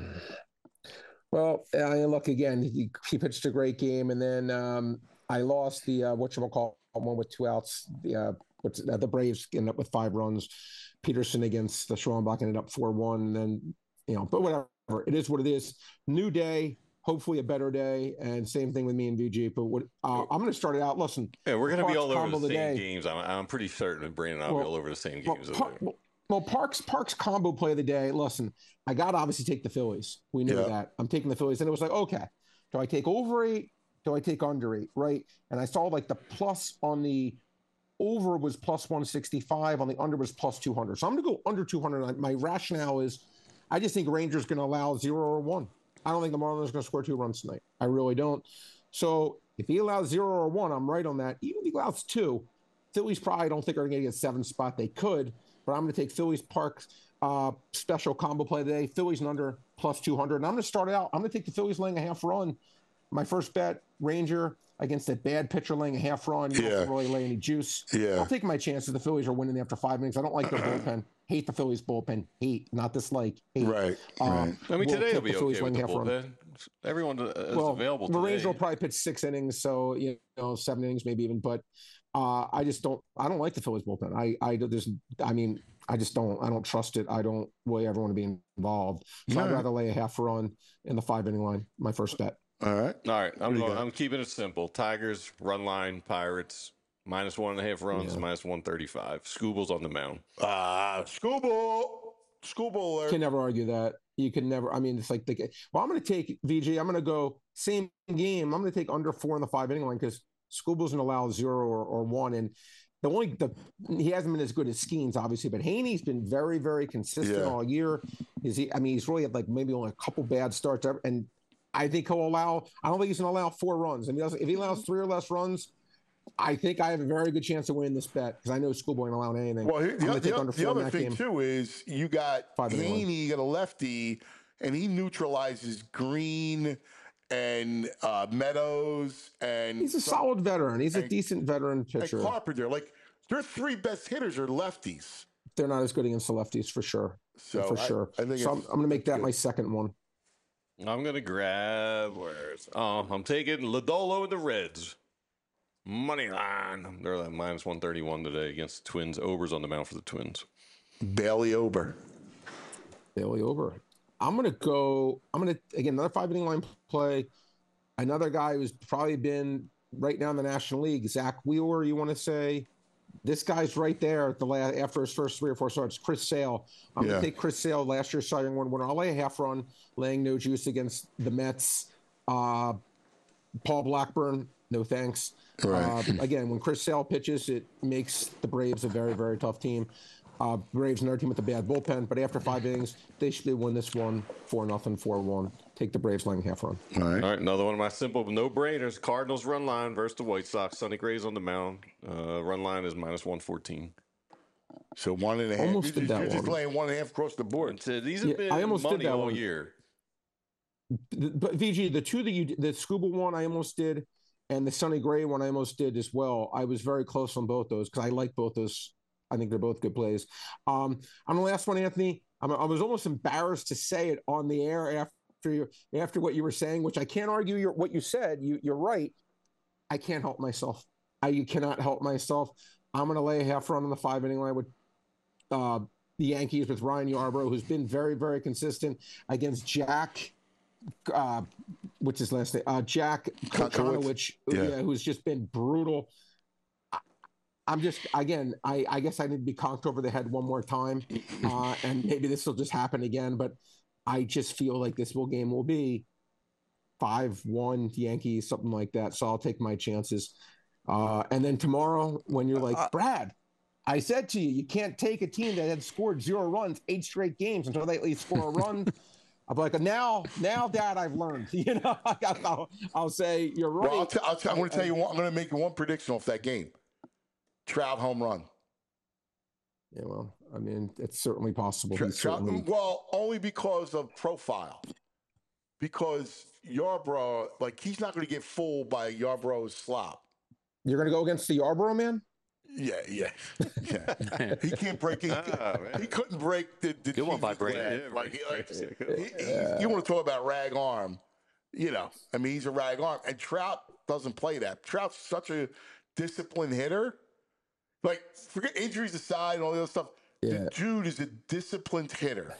Well, look again. He pitched a great game, and then I lost the one with 2 outs. The Braves ended up with 5 runs. Peterson against the Schwallenbach ended up 4-1. Then but whatever. It is what it is. New day. Hopefully a better day, and same thing with me and VG. But I'm going to start it out. Listen, we're going to be all over the same games. I'm pretty certain that Brandon and I'll be all over the same games. Parks combo play of the day. Listen, I got to obviously take the Phillies. We knew that. I'm taking the Phillies, and it was like, okay, do I take over 8? Do I take under 8? Right? And I saw like the plus on the over was plus 165, on the under was plus 200. So I'm going to go under 200. My rationale is, I just think Rangers going to allow 0 or 1. I don't think the Marlins are going to score 2 runs tonight. I really don't. So if he allows 0 or 1, I'm right on that. Even if he allows 2, Phillies probably don't think are going to get 7 spot. They could, but I'm going to take Phillies Parks special combo play today. Phillies and under plus 200. And I'm going to start it out. I'm going to take the Phillies laying a half run. My first bet, Ranger against a bad pitcher laying a half run. You don't really lay any juice. I'll take my chances. The Phillies are winning after 5 innings. I don't like their bullpen. Hate the Phillies bullpen. Hate, not dislike. Hate. Right. I mean, today will be okay with the bullpen. Everyone is available today. The Rangers will probably pitch 6 innings, so 7 innings maybe even. But I just don't. I don't like the Phillies bullpen. I just don't. I don't trust it. I don't really ever want to be involved. So I'd rather lay a half run in the 5-inning line. My first bet. All right. I'm keeping it simple. Tigers, run line, Pirates, minus 1.5 runs, minus 135. Scooble's on the mound. Scooble. You can never argue that. You can never. I mean, it's like I'm going to take VG. I'm going to go same game. I'm going to take under 4 in the 5-inning line because Scooble's going to allow 0 or 1. And he hasn't been as good as Skeens, obviously, but Haney's been very, very consistent all year. He's really had like maybe only a couple bad starts ever, and I think he'll allow. I don't think he's going to allow 4 runs. And if he allows 3 or less runs, I think I have a very good chance of winning this bet because I know Schoolboy ain't allowing anything. Well, I'm going to take under the 4 in other that thing game. too is you got 5-1. Haney, you got a lefty, and he neutralizes Green and Meadows, and He's a solid veteran. He's a decent veteran and pitcher. Carpenter. Like their three best hitters are lefties. They're not as good against the lefties for sure. So for sure. I think so I'm going to make that my second one. I'm gonna grab I'm taking Lodolo and the Reds. Money line. They're like minus 131 today against the Twins. Ober's on the mound for the Twins. Bailey Ober. Bailey Ober. I'm going to again, another 5-inning line play. Another guy who's probably been right now in the National League, Zach Wheeler, you want to say? This guy's right there at the after his first 3 or 4 starts. Chris Sale. I'm going to take Chris Sale, last year's Cy Young winner. I'll lay a half run, laying no juice against the Mets. Paul Blackburn, no thanks. Right. Again, when Chris Sale pitches, it makes the Braves a very, very tough team. Braves, another team with a bad bullpen, but after 5 innings, they should win this one 4-0, 4-1. Take the Braves laying half run. All right, another one of my simple no-brainers. Cardinals run line versus the White Sox. Sonny Gray's on the mound. Run line is minus 114. So 1.5. Almost did that you're just one. laying 1.5 across the board. These have been I almost did money that all one. year. But VG, the two that the Scuba one I almost did, and the Sonny Gray one I almost did as well. I was very close on both those because I like both those. I think they're both good plays. On the last one, Anthony, I was almost embarrassed to say it on the air after what you were saying, which I can't argue what you said. You're right. I can't help myself. I cannot help myself. I'm going to lay a half run on the 5-inning line with the Yankees with Ryan Yarbrough, who's been very, very consistent against Jack. What's his last name? Jack Konowich, who's just been brutal. I'm just, again, I guess I need to be conked over the head one more time, and maybe this will just happen again, but I just feel like this game will be 5-1 Yankees, something like that, so I'll take my chances. And then tomorrow, when you're like, Brad, I said to you, you can't take a team that had scored 0 runs 8 straight games until they at least score a run. I'm like, now, Dad, I've learned. I'll say you're right. Well, I'm going to tell you one. I'm going to make one prediction off that game. Trout home run. Yeah, well, I mean, it's certainly possible. Well, only because of profile. Because Yarbrough, he's not going to get fooled by Yarbrough's slop. You're going to go against the Yarbrough man? Yeah. He can't break it. He couldn't break the good one by Brady. You want to talk about rag arm? I mean, he's a rag arm, and Trout doesn't play that. Trout's such a disciplined hitter. Forget injuries aside and all the other stuff. Yeah. The dude is a disciplined hitter.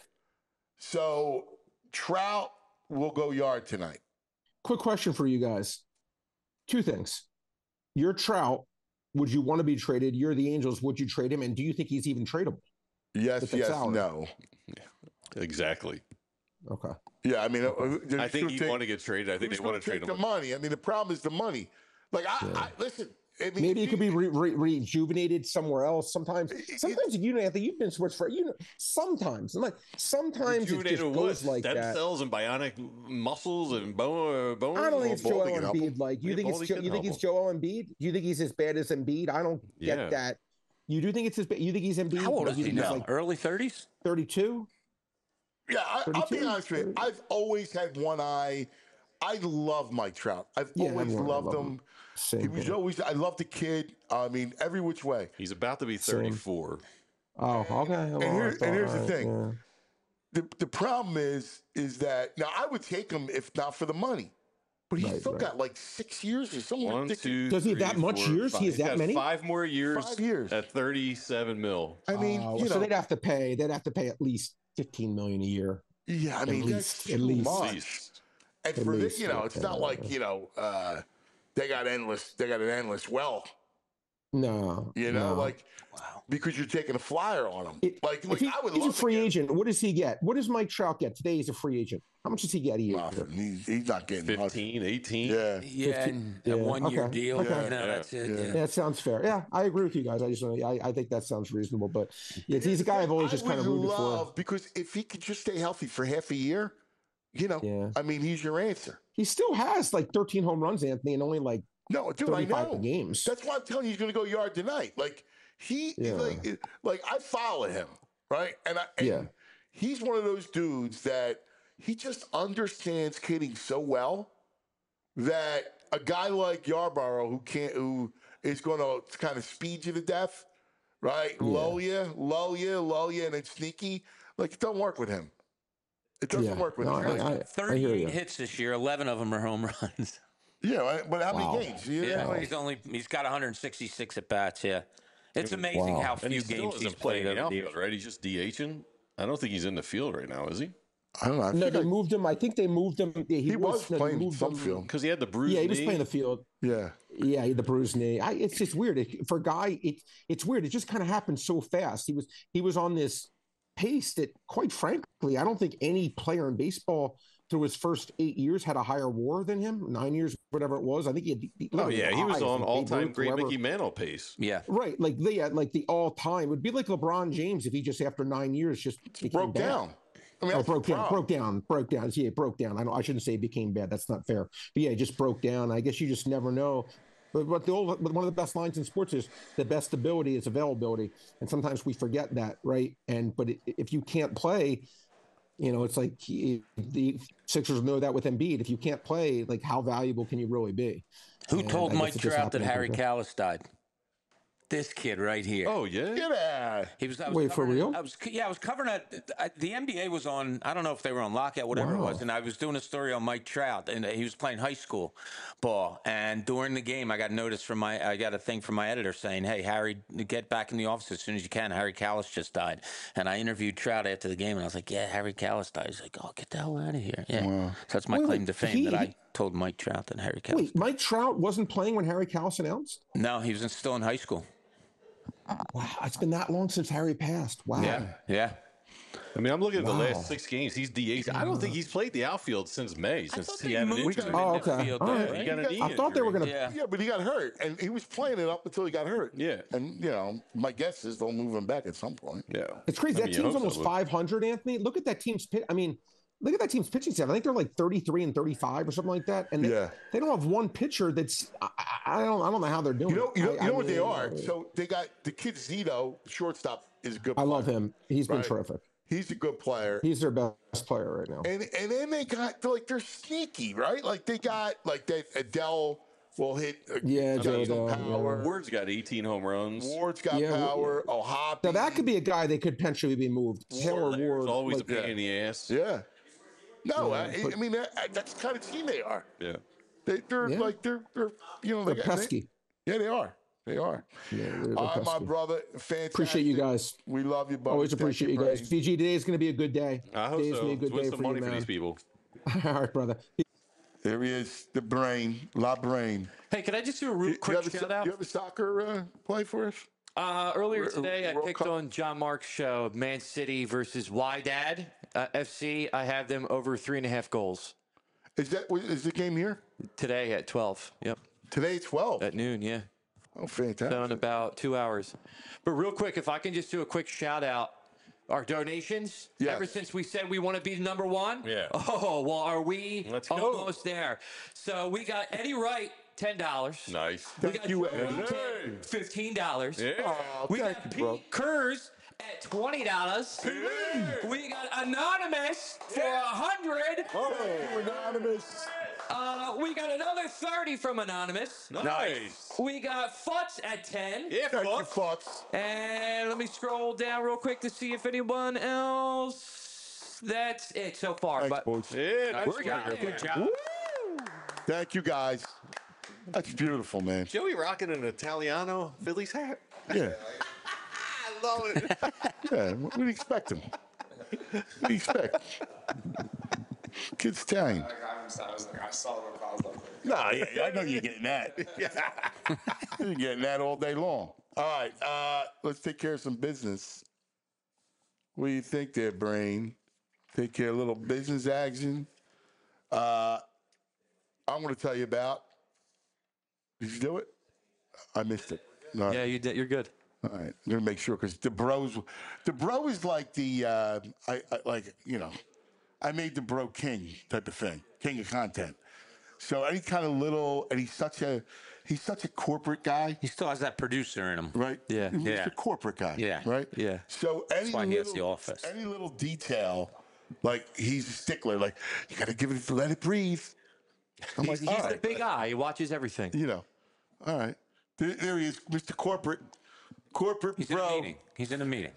So Trout will go yard tonight. Quick question for you guys. 2 things. You're Trout. Would you want to be traded? You're the Angels. Would you trade him? And do you think he's even tradable? Yes, no. Exactly. Okay. Yeah, I mean, I think you want to get traded. I think they want to trade him. The money. I mean, the problem is the money. I listen. I mean, maybe it could be rejuvenated somewhere else. Sometimes Anthony, you've been sports for sometimes. Sometimes it just goes like stem that. Cells and bionic muscles and bones. I don't think it's Joel Embiid. You think it's Joel Embiid? Do you think he's as bad as Embiid? I don't get that. You do think it's as bad? You think he's Embiid? How old is he now? Early 30s? 32. Yeah, I'll be honest with you. I've always had one eye. I love Mike Trout. I've always loved him. He was always. I love the kid. I mean, every which way. He's about to be 34. Oh, okay. And here's the thing. Yeah. The problem is that now I would take him if not for the money, but he's still got 6 years or something. 1, 2, does he have that much years? He has that many? 5 more years. 5 years at $37 million. I mean, so they'd have to pay. They'd have to pay at least $15 million a year. Yeah, I mean, that's at least. And for this, it's not like they got an endless well. No. Because you're taking a flyer on him. I would he's love a free agent. What does he get? What does Mike Trout get? Today he's a free agent. How much does he get a year? He's not getting 15, 18. Yeah. Yeah, a 1-year deal. Okay. That's it. Yeah, that sounds fair. Yeah, I agree with you guys. I think that sounds reasonable. But he's a guy I've always just kind of rooted for. Because if he could just stay healthy for half a year, I mean, he's your answer. He still has 13 home runs, Anthony, and only No, dude, I 35 know. games. That's why I'm telling you he's going to go yard tonight. Like like I follow him, right? And he's one of those dudes that he just understands kidding so well that a guy like Yarborough who is going to kind of speed you to death, right? Yeah. Lull you, and then sneaky. Like it don't work with him. It doesn't work with No, him. I hear 38 you. hits this year. 11 of them are home runs. Yeah, but how many games? He's got 166 at bats. Yeah, it's amazing how And he few still games he's isn't playing played in the over the outfield, years. right? He's just DHing. I don't think he's in the field right now, is he? I don't know. No, they moved him. I think they moved him. Yeah, He was they playing moved some him- field. Because he had the bruised Yeah, he was knee. playing the field. Yeah. Yeah, he had the bruised knee. It's just weird for a guy. It's weird. It just kind of happened so fast. He was on this pace that, quite frankly, I don't think any player in baseball through his first 8 years had a higher WAR than him. 9 years, whatever it was. I think he had. Oh, yeah. He was highs, on like Babe all-time Ruth, great whoever. Mickey Mantle pace. Yeah, Right, like the all time. It would be like LeBron James if he just after 9 years just became Broke bad. down. I mean, Oh, that's the broke down. problem. Yeah, it broke down. I shouldn't say it became bad. That's not fair. But yeah, it just broke down. I guess you just never know. But one of the best lines in sports is the best ability is availability, and sometimes we forget that, right? But if you can't play, it's like the Sixers know that with Embiid. If you can't play, like how valuable can you really be? who And told I guess Mike it just Trout that happened Harry quicker. Kalas died? This kid right here. Oh, yeah? Get out. He was. I was Wait, for covering- real? I was covering the NBA was on. I don't know if they were on lockout, whatever it was, Wow. and I was doing a story on Mike Trout, and he was playing high school ball. And during the game, I got a thing from my editor saying, "Hey, Harry, get back in the office as soon as you can. Harry Kalas just died." And I interviewed Trout after the game, and I was like, "Yeah, Harry Kalas died." He's like, "Oh, get the hell out of here." Yeah, so that's my Wait, claim to fame he- that I told Mike Trout that Harry Kalas. Wait, Mike Trout wasn't playing when Harry Kalas announced? No, he was still in high school. Wow, it's been that long since Harry passed. Wow. Yeah. I mean, I'm looking at the Wow. last 6 games. He's DH. I don't think he's played the outfield since May, since thought he they had an moved injury. him. Oh, in the okay. field, All yeah, right. He got a knee I thought they were injury. going to. Yeah. Yeah, but he got hurt, and he was playing it up until he got hurt. Yeah. And, my guess is they'll move him back at some point. Yeah. It's crazy. I That mean, you team's hope almost so. 500, Anthony. Look at that team's pitch. I mean, look at that team's pitching staff. I think they're like 33 and 35 or something like that. And they don't have one pitcher that's. I don't know how they're doing. You know it. what they are? So they got the kid Zito, shortstop, is a good player. I love him. He's been Right. terrific. He's a good player. He's their best player right now. And then they're sneaky, right? Like they got like that Adele will hit. Yeah, Joe some Adele, power. Ward's got 18 home runs. Ward's got Yeah, power. O'Hoppe. Now that could be a guy that could potentially be moved. Taylor Lair's Ward. always like- a pain in the ass. Yeah. No, but- I mean that's the kind of team they are. Yeah. They're Yeah. like they're they're pesky. Yeah, they are. They are. Yeah, they're All right, my pesky. brother. Fantastic. Appreciate you guys. We love you, buddy. Always Thank appreciate you guys. Brain. VG, today is going to be a good day. I hope Today is so. gonna be a good Let's win day some for money you, for man. these people. All right, brother. There he is, the brain, La Brain. Hey, can I just do a real quick shout out? You have a soccer play for us? Earlier today, I World picked Cup? on John Mark's show, Man City versus Wydad FC. I have them over 3.5 goals Is the game here? today at 12. Yep, Today, 12. at noon. Yeah, Oh, fantastic. so in about 2 hours. But real quick, if I can just do a quick shout out. Our donations, Yes. ever since we said we want to be number one. Yeah. Oh, well, are we Let's go. almost there? So we got Eddie Wright, $10. Nice. We Thank got you, Joey Eddie. Ted, $15. Yeah. Oh, We thank got you, Pete bro. Kurz at $20. We got Anonymous for $100. Oh, anonymous. We got another 30 from Anonymous. Nice. We got Futz at 10. Yeah, Thank you, fuck. Fox. And let me scroll down real quick to see if anyone else. That's it so far. Thanks, But boys. Yeah, nice. we're getting there. Good job. Thank you, guys. That's beautiful, man. Joey rocking an Italiano Phillies hat. Yeah. I love it. Yeah, what do you expect him? What do you expect? Kid's Italian. I saw the cause of it. No, yeah, I know you're getting that. You're getting that all day long. All right, let's take care of some business. What do you think there, Brain? Take care of a little business action. I'm going to tell you about. Did you do it? I missed it. All right. Yeah, you did. You're good. All right, I'm gonna make sure because the bro is like the I made the bro king type of thing, king of content. So any kind of little, and he's such a corporate guy, He still has that producer in him. right? Yeah. He's Yeah. a corporate guy, Yeah. right? Yeah. So any why he has little, The Office. any little detail, like he's a stickler. Like you got to give it, let it breathe. I'm like, He's all the right, big eye. He watches everything. you know, all right. There he is, Mr. Corporate He's in a bro. meeting. He's in a meeting.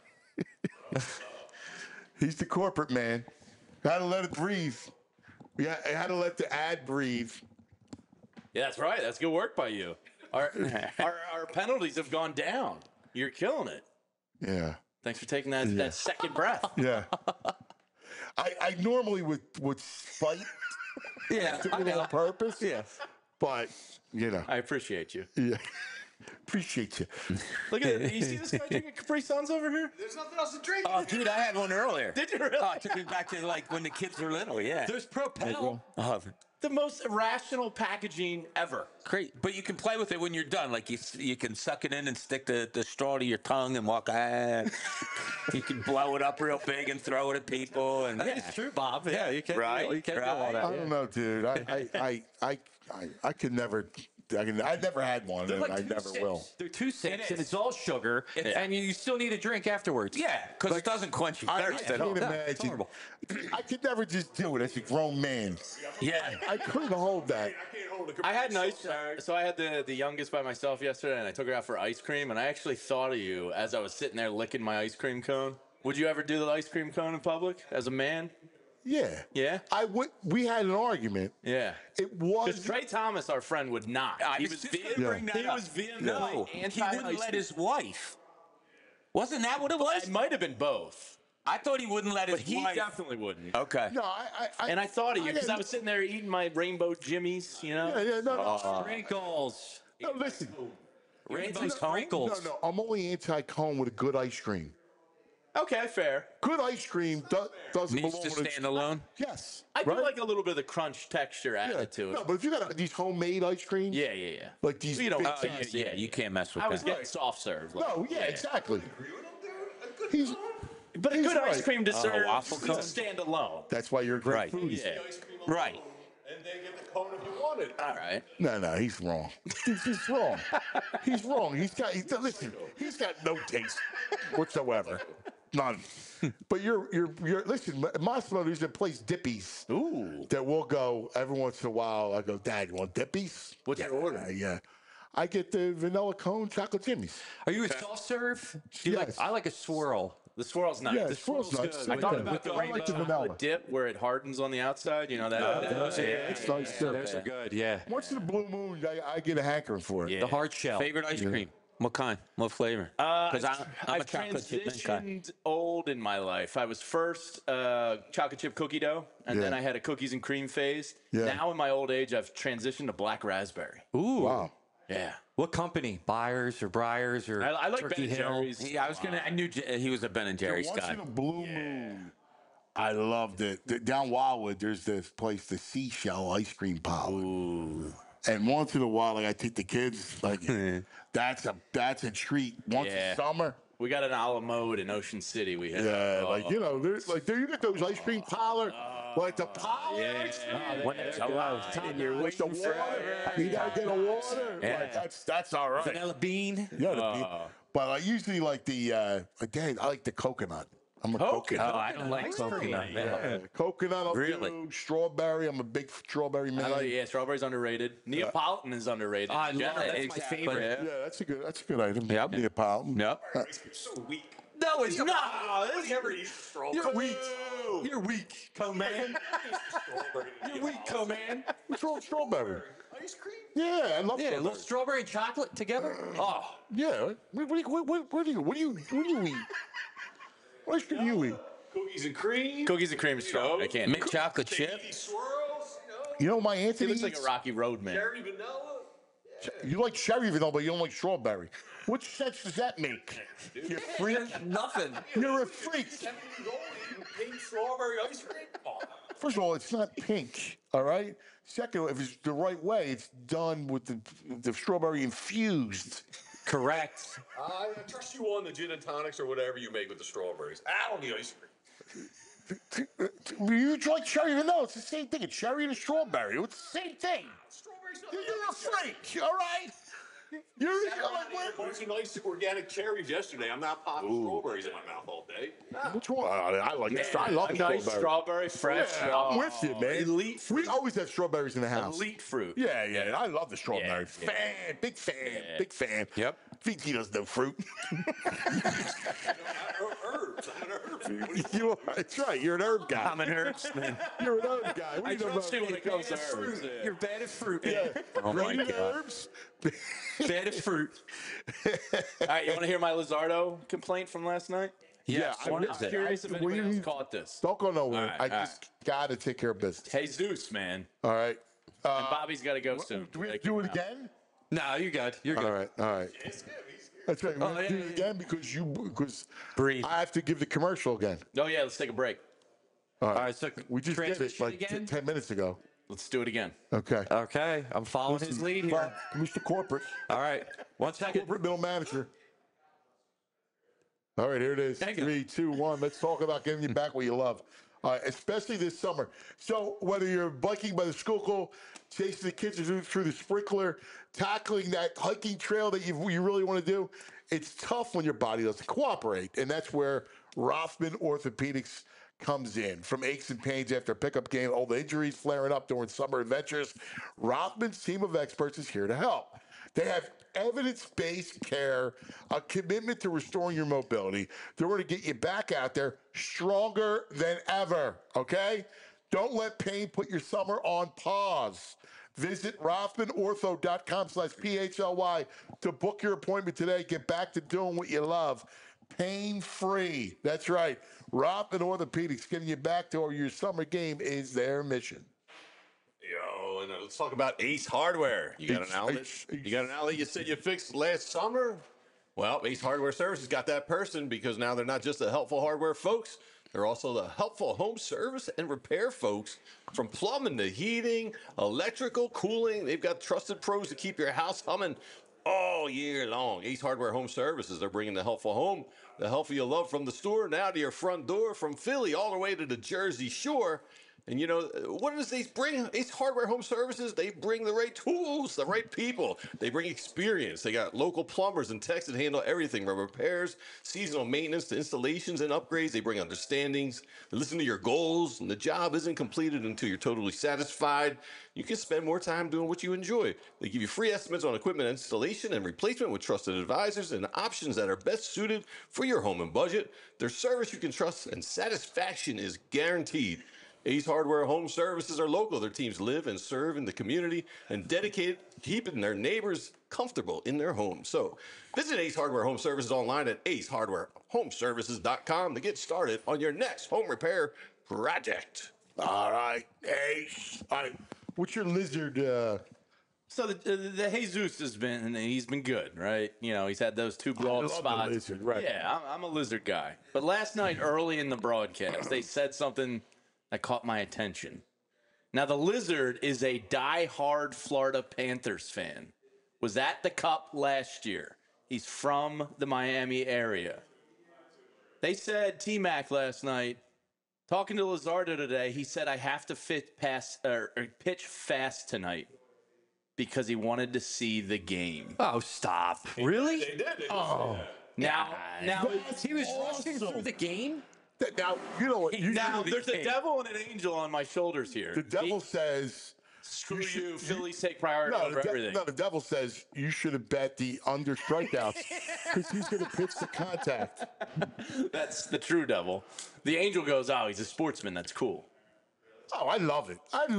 He's the corporate man. Got to let it breathe. Yeah, I had to let the ad breathe. Yeah, that's right. That's good work by you. Our penalties have gone down. You're killing it. Yeah. Thanks for taking that second breath. Yeah. I normally would fight Yeah. do it on purpose. Yeah. But, you know, I appreciate you. yeah. Appreciate you. Look at it. You see this guy drinking Capri Suns over here? There's nothing else to drink. Oh, dude, I had one earlier. Did you really? Oh, it took me back to like when the kids were little. Yeah. There's Propel. Oh, The most irrational packaging ever. great. But you can play with it when you're done. Like you can suck it in and stick the straw to your tongue and walk. You can blow it up real big and throw it at people. And It's true, Bob. Yeah, you can't. Right, You can't do right. all that. I don't know, dude. I could never. I never had one, and I never will. They're 2 cents, and it's all sugar, and you still need a drink afterwards. yeah, because it doesn't quench your I thirst at can't all. imagine. horrible. I could never just do it as a grown man. Yeah. I couldn't hold that. I had nice. So I had the youngest by myself yesterday, and I took her out for ice cream. And I actually thought of you as I was sitting there licking my ice cream cone. Would you ever do the ice cream cone in public as a man? Yeah. Yeah. We had an argument. Yeah. It was. Because Trey Thomas, our friend, would not. He was vehemently- just gonna bring that he up. was vehemently No, he anti-ice wouldn't let cream. his wife. Wasn't that what it was? It might have been both, I thought he wouldn't let his but he wife. definitely wouldn't. Okay. No, And I thought of you because I didn't- was sitting there eating my rainbow jimmies, you know. Yeah, no. Sprinkles. No, listen. Rainbow No, sprinkles. no. I'm only anti-cone with a good ice cream. Okay, fair. Good ice cream doesn't Needs belong to with stand alone. Yes. I do right? like a little bit of the crunch texture added to it. No, but if you got these homemade ice creams, Yeah. like these, You don't- big oh, things- Yeah, you can't mess with I was that. getting soft serve. like- No, yeah, exactly. He's, But a he's good ice right. cream deserves waffle to cone? stand alone. That's why you're a great Right. foodie. Yeah. Right. And then get the cone if you want it. All right. No, he's wrong. He's wrong. He's wrong. Listen. He's got no taste whatsoever. None. But you're listen. Massimo, there's a place Dippy's. Ooh. That we'll go every once in a while. I go, Dad, you want Dippy's? What's your order? Yeah. I get the vanilla cone chocolate jimmies. Are you a soft serve? Do you Yes. I like a swirl. The swirl's nice. Yeah, The swirl's nice. good. I thought Yeah. about the I like the vanilla. chocolate dip where it hardens on the outside. You know that. It's nice too. Those are good. Yeah. Once in a blue moon, I get a hankering for it. Yeah. The hard shell. Favorite ice cream? What kind? What flavor? Because I'm a I've chocolate chip mint guy. transitioned old in my life. I was first chocolate chip cookie dough, and then Yeah. I had a cookies and cream phase. Yeah. Now in my old age, I've transitioned to black raspberry. Ooh. Wow. Yeah. What company? Byers or Briars or I like Turkey Ben Hill? Jerry's. Yeah, I knew he was a Ben and Jerry's Once guy. in a blue moon, I loved it. Down Wildwood, there's this place, the Seashell Ice Cream Parlor. Ooh. And once in a while, like I take the kids, like that's a treat. Once Yeah. in summer, We got an a la mode in Ocean City. We had. yeah, like you know, there's like there you get those ice cream parlor, like the parlor. When it's alive. And you're with the water. You gotta get a water. Yeah. Like, that's all right. Vanilla bean. Yeah, but I usually like the again, I like the coconut. I'm a Oh, coconut. I don't like coconut. Yeah, coconut. I'll Really? do strawberry. I'm a big strawberry man. Yeah, strawberry's underrated. Neapolitan is underrated. I love Generally, it. That's my Exactly. favorite. Yeah, that's a good item. Yep. Neapolitan. Yep. So weak. No, it's not. I never eat strawberry. You're weak. You're weak, co-man. You're weak, co-man. What's wrong with strawberry? Ice cream? Yeah, I love Yeah, a strawberry. little strawberry and chocolate together. Oh, Yeah. What do you eat? What ice cream do you eat? Cookies and cream. Cookies and cream is strong. I can't. Mint chocolate chip. Baby swirls. You know my He Anthony looks like eats? a Rocky Road man. Cherry vanilla. You like cherry vanilla, but you don't like strawberry. What sense does that make? You freak. nothing. You're a freak. 7 years old eating pink strawberry ice cream. Oh. First of all, it's not pink, all right? Second, if it's the right way, it's done with the strawberry infused. Correct. I trust you on the gin and tonics or whatever you make with the strawberries. I don't need ice cream. You like cherry vanilla, it's the same thing. It's cherry and a strawberry. It's the same thing. Strawberries not You're a freak, all right? You're like, what? Bought some nice organic cherries yesterday. I'm not popping strawberries in my mouth all day. Which one? I like it. I love A the nice strawberry. strawberry, fresh. Yeah, I'm with you, man. Elite fruit. We always have strawberries in the house. Elite fruit. Yeah. I love the strawberry. Yeah. Fan, big fan, big fan. Yep. VT doesn't know fruit. Herbs. I'm an herb. You are. That's right. You're an herb guy. I'm an herbs man. You're an herb guy. What I do you know trust about you when it comes to herbs. You're bad at fruit. Yeah. Oh my Grated God. herbs. Bad at fruit. All right, you want to hear my Lizardo complaint from last night? Yes. I What was is it? Curious if What anybody do you else need? caught this. Don't go nowhere. All right, I all just got to take care of business. Jesus, man. All right. And Bobby's got to go soon. Do we have to do it again? No, you're good. You're good. All right. That's right. We have to do yeah, it again because Breathe. I have to give the commercial again. Oh, yeah, let's take a break. All right, so We just did it transition like again. 10 minutes ago. Let's do it again. Okay. Okay, I'm following his lead here. Mr. Corporate. All right, 1 second. Corporate middle manager. All right, here it is. Thank you. 3, 2, 1. Let's talk about getting you back what you love, especially this summer. So whether you're biking by the Schuylkill, chasing the kids through the sprinkler, tackling that hiking trail that you really want to do, it's tough when your body doesn't cooperate, and that's where Rothman Orthopedics comes in. From aches and pains after a pickup game, all the injuries flaring up during summer adventures, Rothman's team of experts is here to help. They have evidence-based care, a commitment to restoring your mobility. They're going to get you back out there stronger than ever, okay? Don't let pain put your summer on pause. Visit RothmanOrtho.com/PHLY to book your appointment today. Get back to doing what you love. Pain-free. That's right. Rothman Orthopedics, getting you back to your summer game is their mission. Yo, and let's talk about Ace Hardware. You got an outlet? You got an outlet you said you fixed last summer? Well, Ace Hardware Services got that person because now they're not just the helpful hardware folks. They're also the helpful home service and repair folks. From plumbing to heating, electrical, cooling, they've got trusted pros to keep your house humming all year long. Ace Hardware Home Services, they're bringing the helpful home, the helpful you love from the store now to your front door, from Philly all the way to the Jersey Shore. And you know, what does Ace bring? Ace Hardware Home Services, they bring the right tools, the right people. They bring experience. They got local plumbers and techs that handle everything from repairs, seasonal maintenance to installations and upgrades. They bring understandings. They listen to your goals, and the job isn't completed until you're totally satisfied. You can spend more time doing what you enjoy. They give you free estimates on equipment installation and replacement with trusted advisors and options that are best suited for your home and budget. Their service you can trust and satisfaction is guaranteed. Ace Hardware Home Services are local. Their teams live and serve in the community and dedicated to keeping their neighbors comfortable in their homes. So visit Ace Hardware Home Services online at acehardwarehomeservices.com to get started on your next home repair project. All right, Ace. All right. What's your lizard? So the Jesus he's been good, right? You know, he's had those 2 blow up love the spots. lizard, right. Yeah, I'm a lizard guy. But last night, early in the broadcast, they said something that caught my attention. Now, the lizard is a die-hard Florida Panthers fan. Was at the Cup last year. He's from the Miami area. They said T-Mac last night, talking to Lizardo today, he said, I have to pitch fast tonight because he wanted to see the game. Oh, stop. Really? They did. Now He was rushing through the game? Now, you know what? now there's a devil and an angel on my shoulders here. The devil says, Screw you, Phillies take priority no, over everything. the devil says you should have bet the under strikeouts because he's going to pitch the contact. That's the true devil. The angel goes, oh, he's a sportsman. That's cool. Oh, I love it.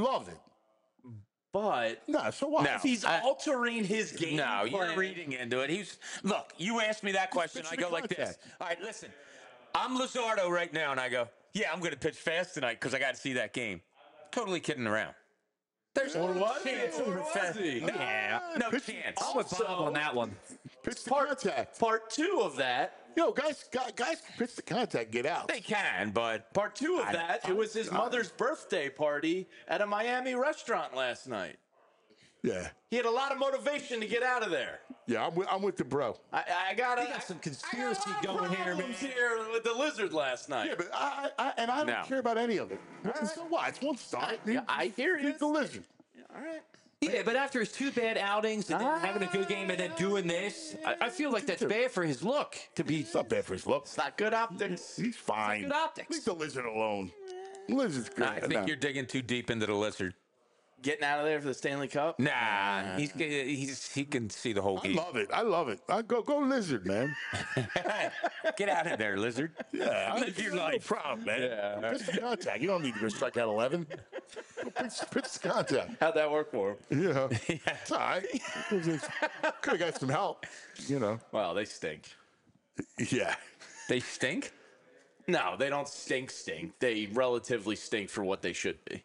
But No, so what? No. if he's altering his game No, you're plan- reading into it. Look, you asked me that question. I go like this. All right, listen. I'm Lizardo right now, and I go, yeah, I'm going to pitch fast tonight because I got to see that game. Totally kidding around. There's no chance of a fast. Yeah, no chance. I'm with Bob on that one. Pitch the contact. Part 2 of that, Guys can pitch the contact, get out. They can, but part 2 of that, it was his mother's birthday party at a Miami restaurant last night. Yeah, He had a lot of motivation to get out of there. yeah, I'm with the bro. I got Some conspiracy going here, man. here with the lizard last night. Yeah, but I don't No. care about any of it. So what? It's one star. I hear you. He's the lizard. All right. Yeah, but after his 2 bad outings and then having a good game and then doing this, I feel like that's bad for his look to be. It's not bad for his look. It's not good optics. He's fine. Good optics. Leave the lizard alone. Lizard's good. I think you're digging too deep into the lizard. Getting out of there for the Stanley Cup? Nah, he can see the whole I game. love it. I love it. I go lizard, man. Get out of there, lizard. Yeah, Live your life. No problem, man. Yeah. Pitch the contact. You don't need to go strike out 11. Go pitch the contact. How'd that work for him? Yeah. It's all right. Could have got some help, you know. Well, they stink. Yeah. They stink. No, they don't stink. They relatively stink for what they should be.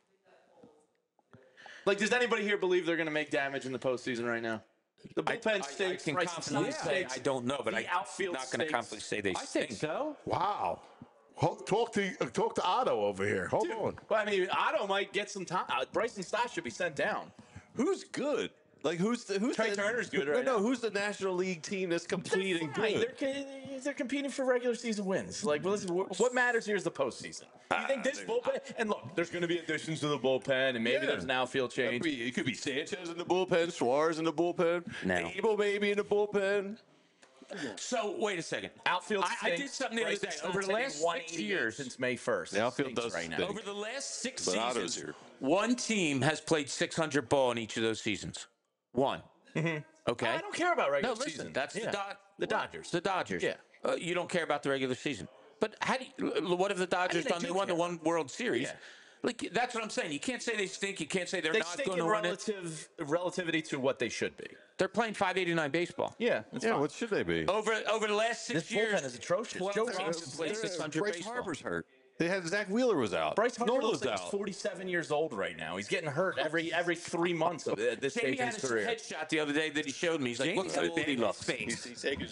Like, does anybody here believe they're going to make damage in the postseason right now? The bullpen stinks. I can Bryson confidently Stott say stinks. I don't know, but The I'm outfield not going to stinks. confidently say they I think stink. so. Wow. Talk to Otto over here. Hold on. Well, I mean, Otto might get some time. Bryson Stott should be sent down. Who's good? Like who's Trey Turner's good right no, now. who's the National League team that's complete and Fine. good? They're competing for regular season wins. Like, well, listen, what matters here is the postseason. You think this bullpen? And look, there's going to be additions to the bullpen, and maybe there's an outfield change. It could be Sanchez in the bullpen, Suarez in the bullpen, No. Abel maybe in the bullpen. So wait a second. Outfield I did something the other day. Over the last 6 years, since May 1st. The outfield Stinks does right now. stink. over the last 6 But Otto's seasons, here. one team has played 600 ball in each of those seasons. One. Okay. I don't care about No, regular listen. season. That's Yeah. the Dodgers. The Dodgers. Yeah. You don't care about the regular season. But how do you, what have the Dodgers they done? They do won the care. one World Series. Yeah. Like that's what I'm saying. You can't say they stink. You can't say they're They not stink going in to win it. relativity to what they should be. They're playing 589 baseball. Yeah, that's Yeah, fine. what should they be? Over the last 6 This years, bullpen is atrocious. 12 Joe teams Ross have played 600 Bryce baseball. Harper's hurt. They had Zach Wheeler was out. Bryce Harper Nola's looks like he's out. 47 years old right now. He's getting hurt every 3 months of this Jamie stage in had his his career. headshot the other day that he showed me. He's like, look how old he looks. He's taking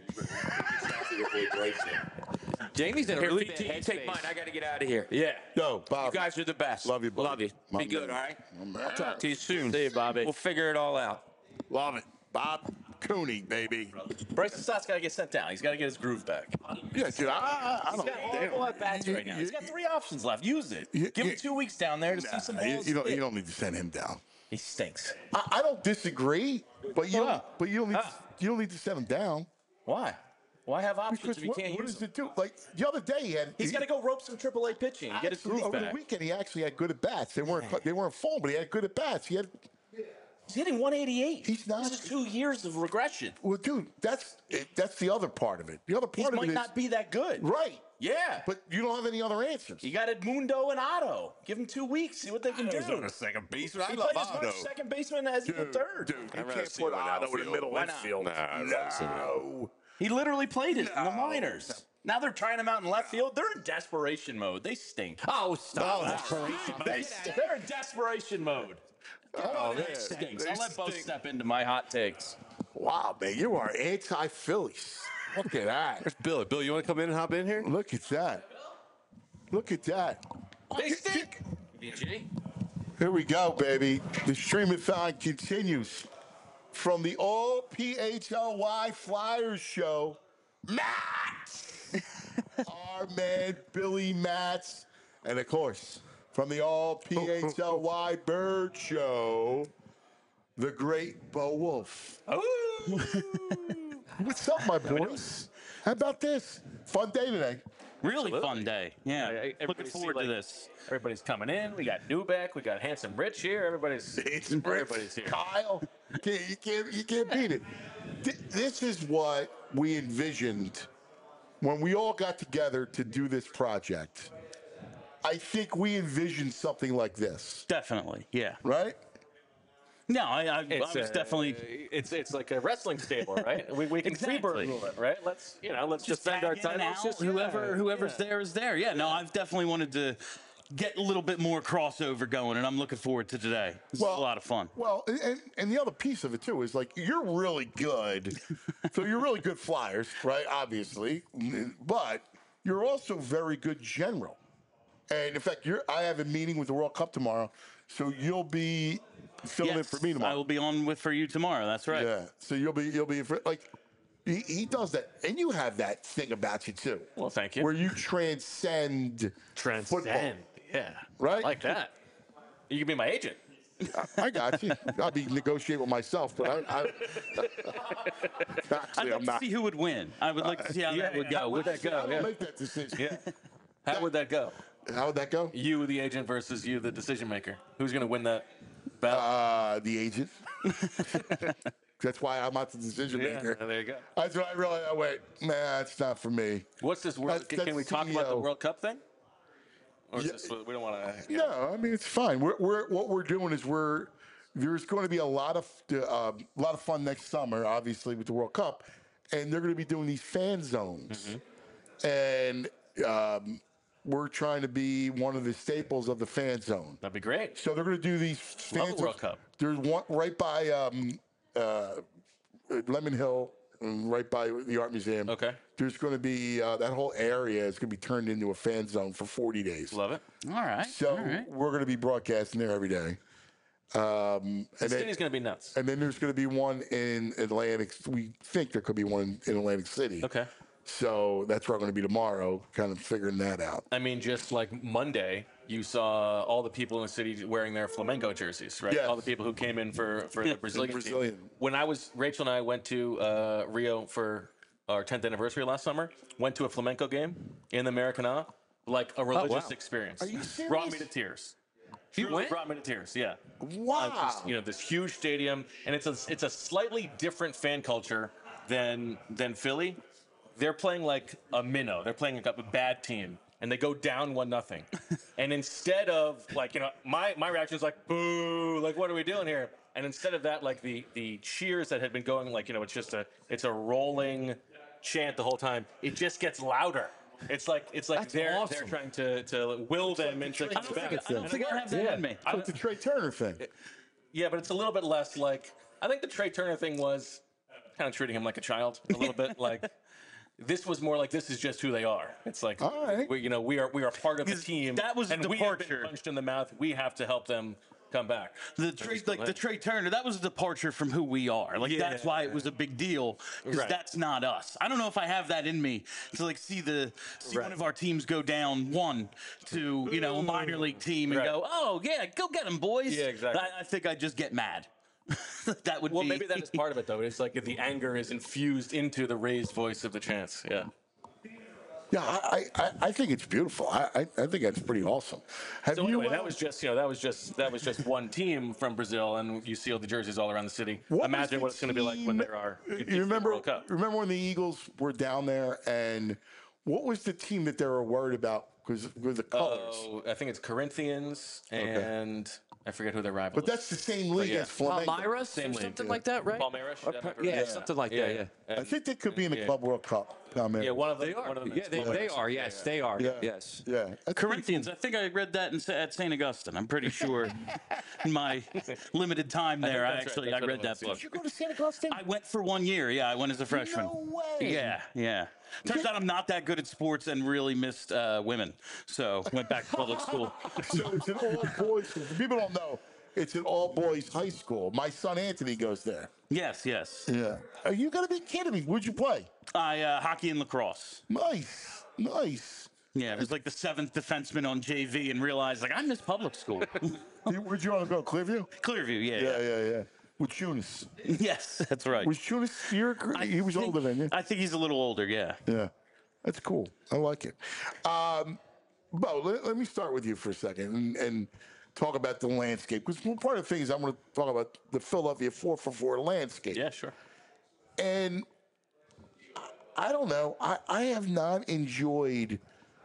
Jamie's in a Here, really VT, bad you take headspace. mine. I got to get out of here. Yeah. Yo, Bob. You guys are the best. Love you, buddy. Love you. My Be good, man. all right? My man. I'll talk to you soon. See you, Bobby. We'll figure it all out. Love it. Bob Cooney, baby. Bryson Stott's got to get sent down. He's got to get his groove back. Yeah, dude, I He's don't got horrible at bats right now. He's got 3 options left. Use it. Give him 2 weeks down there to see some balls. you don't need to send him down. He stinks. I don't disagree, but you don't need to send him down. Why? Why have options Because if you can't what use does them? it do? Like the other day, He's got to go rope some AAA pitching and get his groove over the back. weekend. He actually had good at bats. They weren't full, but he had good at bats. He had. He's hitting 188. He's not. This is 2 years of regression. Well, dude, that's the other part of it. The other He part of might it is not be that good. right. Yeah. But you don't have any other answers. You got Edmundo and Otto. Give them 2 weeks. See what they can do. He's on a second baseman. I He love played as Otto. much second baseman as he did third. Dude, you I'd rather can't see put him in Otto in the outfield. middle Why not? infield. Nah, I'd rather see him in No. He literally played it in the minors. Now they're trying him out in left field. They're in desperation mode. They stink. Oh, stop. They're in desperation mode. Oh, man. That stinks. I'll let Bo step into my hot takes. Wow, man, you are anti-Phillies. Look at that. There's Bill. Bill, you want to come in and hop in here? Look at that. Look at that. They stink. Here we go, baby. The stream-a-thon continues from the All PHLY Flyers show. Matt, our man Billy Matz, and of course from the All PHLY Bird show, the great Bo Wolf. What's up, my boys? How about this? Fun day today. Really fun day. Yeah. Looking Everybody forward see, to like, this. Everybody's coming in. We got Newbeck. We got Handsome Rich here. Everybody's here. Kyle, you can't beat it. This is what we envisioned when we all got together to do this project. I think we envisioned something like this, Definitely. Yeah. right? No, I was definitely. It's like a wrestling stable, right? We can Exactly. freebird rule it, right? Let's defend our tag in and titles. out. Just Whoever's there is there. Yeah. No, I've definitely wanted to get a little bit more crossover going, and I'm looking forward to today. This is a lot of fun. Well, and the other piece of it too is like you're really good, so you're really good flyers, right? Obviously, but you're also very good general. And in fact, I have a meeting with the World Cup tomorrow, so you'll be filling in for me tomorrow. I will be on for you tomorrow. That's right. Yeah, so you'll be like he does that, and you have that thing about you too. Well, thank you. Where you transcend football. Yeah, Right? like that. You can be my agent. I got you. I'll be negotiating with myself, but I'd actually, like I'm to not. see who would win. I would like to see how that would go. Would that I go? don't Yeah. make that decision. Yeah. How would that go? How would that go? You, the agent, versus you, the decision maker. Who's going to win that battle? The agent. That's why I'm not the decision maker. There you go. That's when I realized, oh, wait, man, it's not for me. What's this? Can we talk about the CEO. World Cup thing? Or is Yeah. this, we don't want to. No, I mean it's fine. What we're doing is there's going to be a lot of fun next summer, obviously with the World Cup, and they're going to be doing these fan zones, and we're trying to be one of the staples of the fan zone. That'd be great. So they're going to do these fan Love zones. the World Cup. There's one right by Lemon Hill, and right by the Art Museum. Okay. There's going to be that whole area is going to be turned into a fan zone for 40 days. Love it. All right. So we're going to be broadcasting there every day. And The city's going to be nuts. then there's going to be one in Atlantic. We think there could be one in Atlantic City. Okay. So that's where I'm going to be tomorrow, kind of figuring that out. I mean, just like Monday, you saw all the people in the city wearing their flamenco jerseys, right? Yes. All the people who came in for the Brazilian team. Brazilian. When Rachel and I went to Rio for our 10th anniversary last summer, went to a flamenco game in the Maracana, like a religious experience. Are you serious? Brought me to tears. You Truly went? brought me to tears. Yeah. Wow. This huge stadium, and it's a slightly different fan culture than Philly. They're playing like a minnow. They're playing like a bad team, and they go down 1-0. And instead of my reaction is like boo, like what are we doing here? And instead of that, like the cheers that had been going, like it's a rolling chant the whole time. It just gets louder. It's like they're trying to will them into coming back. I don't think I have that in me. It's the Trey Turner thing. Yeah, but it's a little bit less like I think the Trey Turner thing was kind of treating him like a child a little bit. Like this was more like this is just who they are. It's like All right. we are part of the team. That was a and we have been departure. punched in the mouth. We have to help them come back. The Trey Turner, that was a departure from who we are. Like that's why it was a big deal because Right. that's not us. I don't know if I have that in me to like see one of our teams go down 1 to a minor league team and Right. go, oh yeah, go get them boys. Yeah, exactly. I think I'd just get mad. That would Well, be maybe that is part of it though. It's like the anger is infused into the raised voice of the chants. Yeah. Yeah, I think it's beautiful. I think that's pretty awesome. Have So you? anyway, that was just one team from Brazil, and you see all the jerseys all around the city. What was Imagine the what it's going to be like when there are. You remember? World Cup. Remember when the Eagles were down there, and what was the team that they were worried about because with the colors? Oh, I think it's Corinthians, and I forget who their rival. But that's the same league yeah. as Flamengo. Palmeiras Same or league, something yeah. like that, right? Palmeiras. Yeah, something like that. Yeah. I think they could be in the Club World Cup. Yeah, one of them. They are. One of them Yeah, is they Palmeiras. are. Yes, they are. Yeah. Yes. Yeah, that's Corinthians. I think I read that at St. Augustine. I'm pretty sure in my limited time there, I that's right. actually That's I what read it that was. book. Did you go to St. Augustine? I went for 1 year. Yeah, I went as a freshman. No way. Yeah. Turns out I'm not that good at sports and really missed women. So went back to public school. So it's an all boys school. People don't know. It's an all boys high school. My son Anthony goes there. Yes. Yeah. Are you gonna be kidding me? Would you play? Hockey and lacrosse. Nice. Yeah, it was like the 7th defenseman on JV and realized like I miss public school. Where'd you want to go? Clearview? Clearview, Yeah. With Tunis. Yes, that's right. Was Tunis? He was older than you. I think he's a little older. Yeah. Yeah, that's cool. I like it. Bo, let me start with you for a second and talk about the landscape. Because one part of the thing is I'm going to talk about the Philadelphia 4-for-4 landscape. Yeah, sure. And I don't know. I have not enjoyed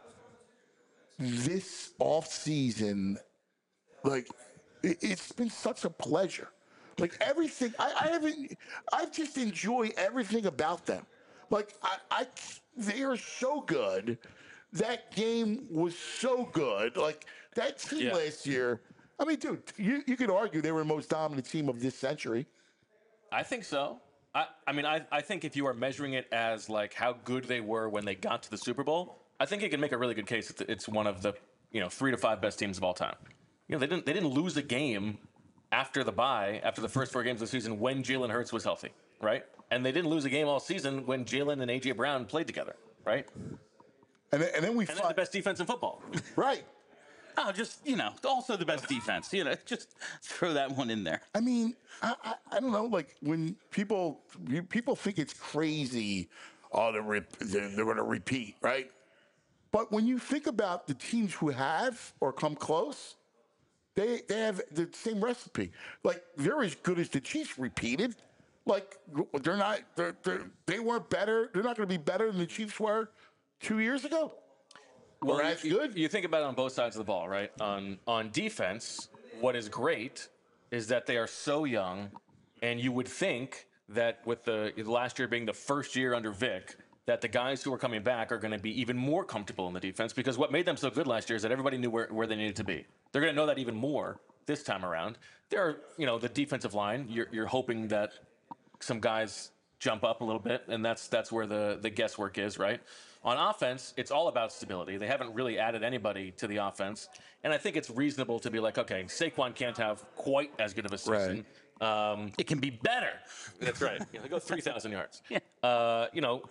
this off season. Like it's been such a pleasure. Like everything, I just enjoy everything about them. Like they are so good. That game was so good. Like that team last year. I mean, dude, you could argue they were the most dominant team of this century. I think so. I think if you are measuring it as like how good they were when they got to the Super Bowl, I think you can make a really good case that it's one of the 3 to 5 best teams of all time. They didn't lose a game after the bye, after the first 4 games of the season when Jalen Hurts was healthy, right? And they didn't lose a game all season when Jalen and AJ Brown played together, right? And then we And they're the best defense in football. right. Oh, just, also the best defense. Just throw that one in there. I mean, I don't know. Like when people think it's crazy, they're going to repeat, right? But when you think about the teams who have or come close, they have the same recipe. Like they're as good as the Chiefs repeated. Like they're not. They weren't better. They're not going to be better than the Chiefs were 2 years ago. Well, or as good. You think about it on both sides of the ball, right? On defense, what is great is that they are so young, and you would think that with the last year being the first year under Vic, that the guys who are coming back are going to be even more comfortable in the defense, because what made them so good last year is that everybody knew where they needed to be. They're going to know that even more this time around. There are, the defensive line, you're hoping that some guys jump up a little bit, and that's where the guesswork is, right? On offense, it's all about stability. They haven't really added anybody to the offense, and I think it's reasonable to be like, okay, Saquon can't have quite as good of a season. Right. It can be better. That's right. They go 3,000 yards. Yeah.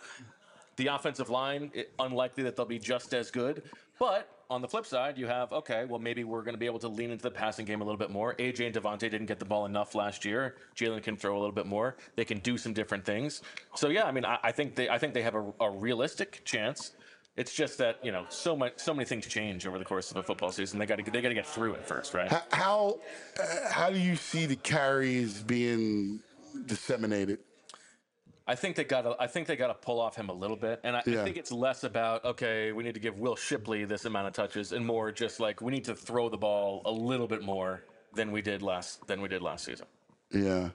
The offensive line, unlikely that they'll be just as good. But on the flip side, you have, okay, well, maybe we're going to be able to lean into the passing game a little bit more. AJ and Devontae didn't get the ball enough last year. Jalen can throw a little bit more. They can do some different things. So, yeah, I mean, I think they have a realistic chance. It's just that, so many things change over the course of a football season. They got to get through it first, right? How do you see the carries being disseminated? I think they got to pull off him a little bit, and I think it's less about, okay, we need to give Will Shipley this amount of touches, and more just like we need to throw the ball a little bit more than we did last season. Yeah.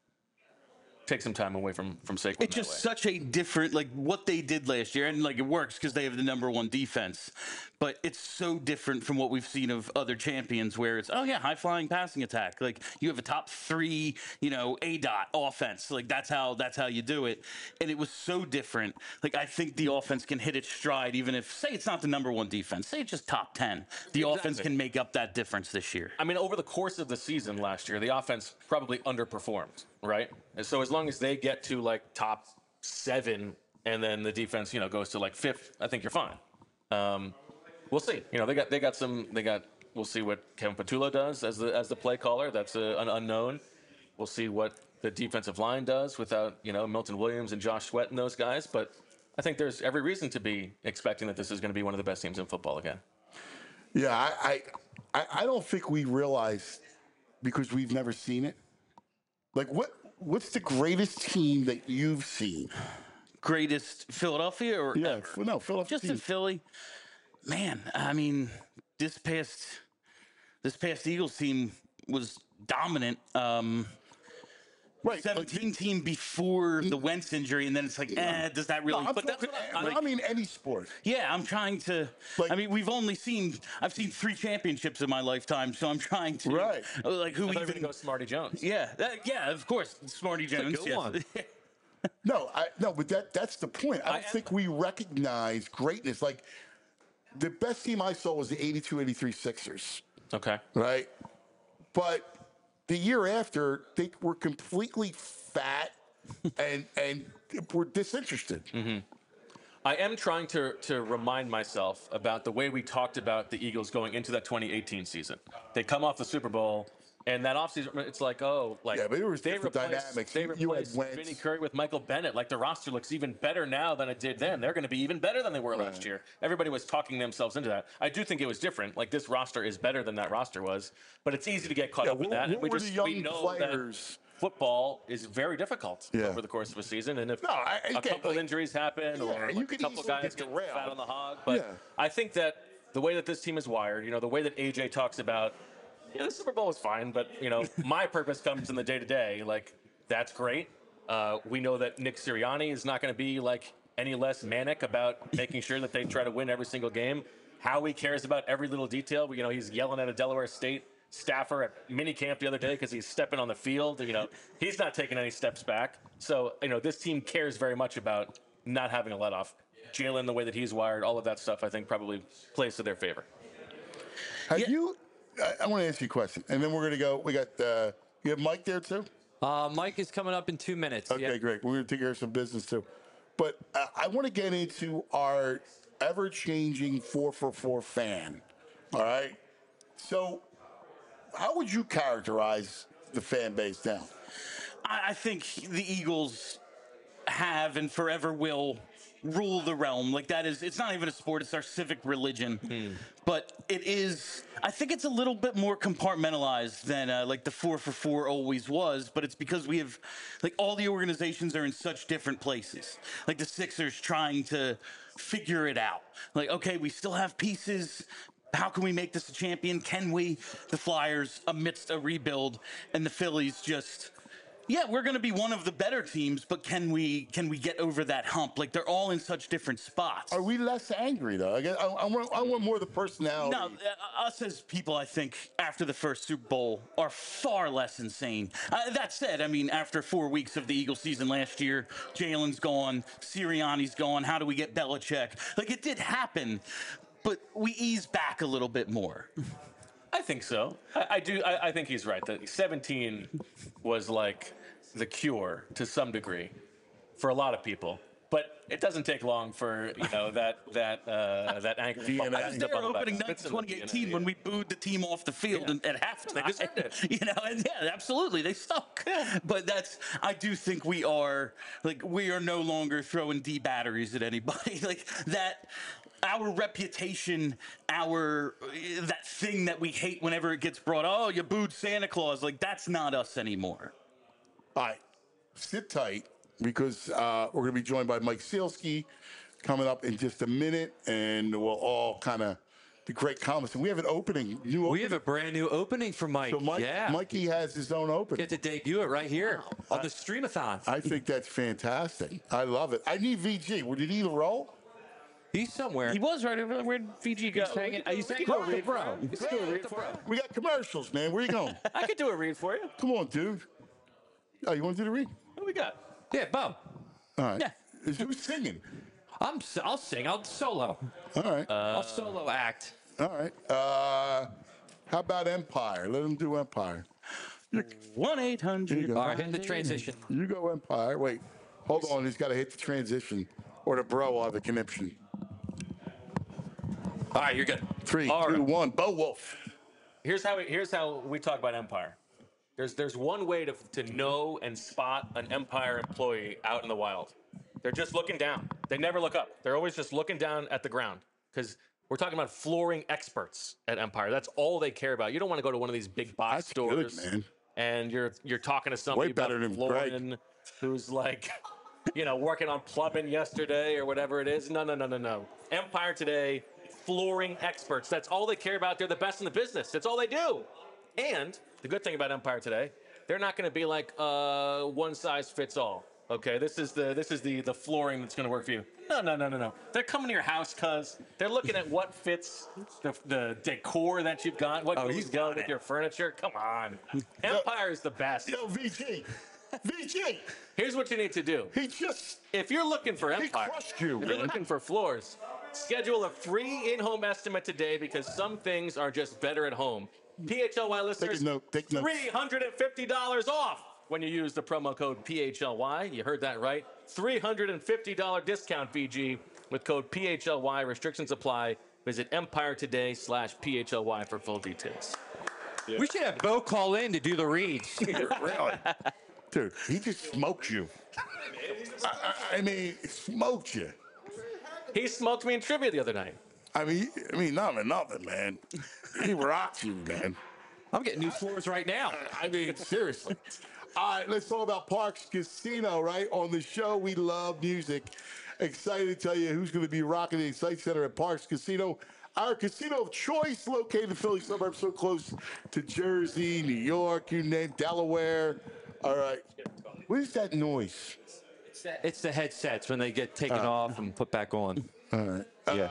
Take some time away from Saquon. It's just such a different, what they did last year, and it works because they have the #1 defense. But it's so different from what we've seen of other champions, where it's high flying passing attack. You have a top 3, A-dot offense. That's how you do it. And it was so different. I think the offense can hit its stride, even if, say, it's not the #1 defense. Say it's just top 10. The offense can make up that difference this year. I mean, over the course of the season last year, the offense probably underperformed, right? And so as long as they get to top 7, and then the defense, goes to 5th, I think you're fine. We'll see. We'll see what Kevin Patullo does as the play caller. That's an unknown. We'll see what the defensive line does without, Milton Williams and Josh Sweat and those guys. But I think there's every reason to be expecting that this is going to be one of the best teams in football again. Yeah, I don't think we realize, because we've never seen it. What's the greatest team that you've seen? Greatest Philadelphia or yeah? Ever? No, Philadelphia. Just in Philly. Man, I mean, this past Eagles team was dominant. Right, 17 team before the Wentz injury, and then it's does that really? No, but that's what I mean, any sport. Yeah, I'm trying to. I've seen 3 championships in my lifetime, so I'm trying to. Right. Who even go Smarty Jones? Yeah, of course, Smarty Jones. Good one. No, but that's the point. I don't think we recognize greatness. The best team I saw was the 82-83 Sixers. Okay. Right? But the year after, they were completely fat and were disinterested. Mm-hmm. I am trying to remind myself about the way we talked about the Eagles going into that 2018 season. They come off the Super Bowl, and that offseason, it's but it was different dynamics. They replaced Vinny Curry with Michael Bennett. The roster looks even better now than it did then. They're going to be even better than they were last year. Everybody was talking themselves into that. I do think it was different. This roster is better than that roster was, but it's easy to get caught up in that. And we know players? That football is very difficult over the course of a season, and if a couple injuries happen or a couple guys get fat on the hog, but I think that the way that this team is wired, the way that AJ talks about, the Super Bowl was fine, but my purpose comes in the day-to-day. That's great. We know that Nick Sirianni is not going to be any less manic about making sure that they try to win every single game. Howie cares about every little detail. He's yelling at a Delaware State staffer at minicamp the other day because he's stepping on the field. He's not taking any steps back. So this team cares very much about not having a let off. Jalen, the way that he's wired, all of that stuff, I think probably plays to their favor. I want to ask you a question, and then we're going to go. We got you have Mike there too. Mike is coming up in 2 minutes. Okay, great. We're going to take care of some business too, but I want to get into our ever-changing 4-for-4 fan. All right, So, how would you characterize the fan base now? I think the Eagles have and forever will rule the realm. Like that is, it's not even a sport, it's our civic religion. But it is, I think it's a little bit more compartmentalized than like the 4 for 4 always was, but it's because we have, like all the organizations are in such different places. Like the Sixers trying to figure it out. Like, okay, we still have pieces. How can we make this a champion? Can we? The Flyers amidst a rebuild, and the Phillies just, yeah, we're going to be one of the better teams, but can we get over that hump? Like they're all in such different spots. Are we less angry though? I want more of the personality. No, us as people, I think, after the first Super Bowl, are far less insane. That said, I mean, after 4 weeks of the Eagles season last year, Jalen's gone, Sirianni's gone. How do we get Belichick? Like it did happen, but we ease back a little bit more. I think so. I do. I think he's right. That 17 was like the cure to some degree for a lot of people. But it doesn't take long for that anger. I was there opening night 2018 when we booed the team off the field and at halftime. And yeah, absolutely, they suck. But I do think we are no longer throwing D batteries at anybody like that. Our reputation, that thing that we hate whenever it gets brought, oh, you booed Santa Claus, like that's not us anymore. All right, sit tight because we're going to be joined by Mike Sealski coming up in just a minute, and we'll all kind of the great comments. And we have an opening. We have a brand new opening for Mike. So Mikey has his own opening. Get to debut it right here on the Streamathon. I think that's fantastic. I love it. I need VG. Did he roll? He's somewhere. He was right over there. Where'd VG go? He's hanging out with bro. We got commercials, man. Where you going? I could do a read for you. Come on, dude. Oh, you want to do the read? What we got? Yeah, Bum. All right. Yeah. Who's singing? I'll sing. I'll solo. All right. I'll solo act. All right. How about Empire? Let him do Empire. 1-800. All right, hit the transition. You go Empire. Wait. Hold on. He's got to hit the transition, or the bro will have the conniption. All right, you're good. 3, 2, 1. Bo Wolf. Here's how we talk about Empire. There's one way to know and spot an Empire employee out in the wild. They're just looking down. They never look up. They're always just looking down at the ground because we're talking about flooring experts at Empire. That's all they care about. You don't want to go to one of these big box stores, good, man. And you're talking to somebody about flooring who's like, working on plumbing yesterday or whatever it is. No. Empire Today, flooring experts. That's all they care about. They're the best in the business. That's all they do. And the good thing about Empire Today, they're not going to be like one size fits all. Okay, this is the flooring that's going to work for you. No. They're coming to your house because they're looking at what fits the decor that you've got, what goes well with your furniture. Come on. Empire is the best. Yo, VG. Here's what you need to do. If you're looking for Empire, crushed you, if you're looking for floors, schedule a free in-home estimate today because some things are just better at home. PHLY listeners, take note. $350 off when you use the promo code PHLY. You heard that right. $350 discount, VG, with code PHLY. Restrictions apply. Visit EmpireToday/PHLY for full details. Yeah. We should have Bo call in to do the reads. Really? Dude, he just smoked you. I mean, smoked you. He smoked me in trivia the other night. I mean, nothing, man. He rocked you, man. I'm getting new floors right now. I mean, seriously. All right, let's talk about Parx Casino, right? On the show, we love music. Excited to tell you who's going to be rocking the Excite Center at Parx Casino. Our casino of choice, located in the Philly suburbs, so close to Jersey, New York, you name Delaware. All right. What is that noise? It's the headsets when they get taken off and put back on. All right. Yeah.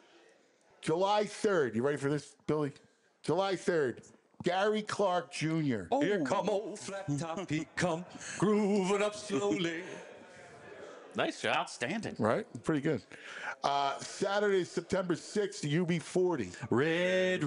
July 3rd. You ready for this, Billy? July 3rd. Gary Clark Jr. Oh. Here come old flat top, he come grooving up slowly. Nice job. Outstanding. Right? Pretty good. Saturday, September 6th, UB40. Red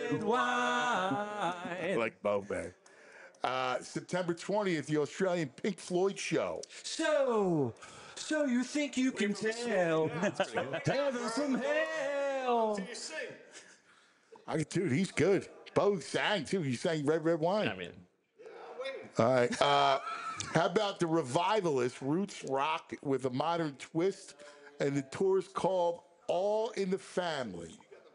wine. Like Bo Bang. September 20th, the Australian Pink Floyd show. So you think you can tell heaven from hell? Dude, he's good. Bo sang too. He sang Red Red Wine. I mean, all right. How about the Revivalists, roots rock with a modern twist, and the tour's called All in the Family.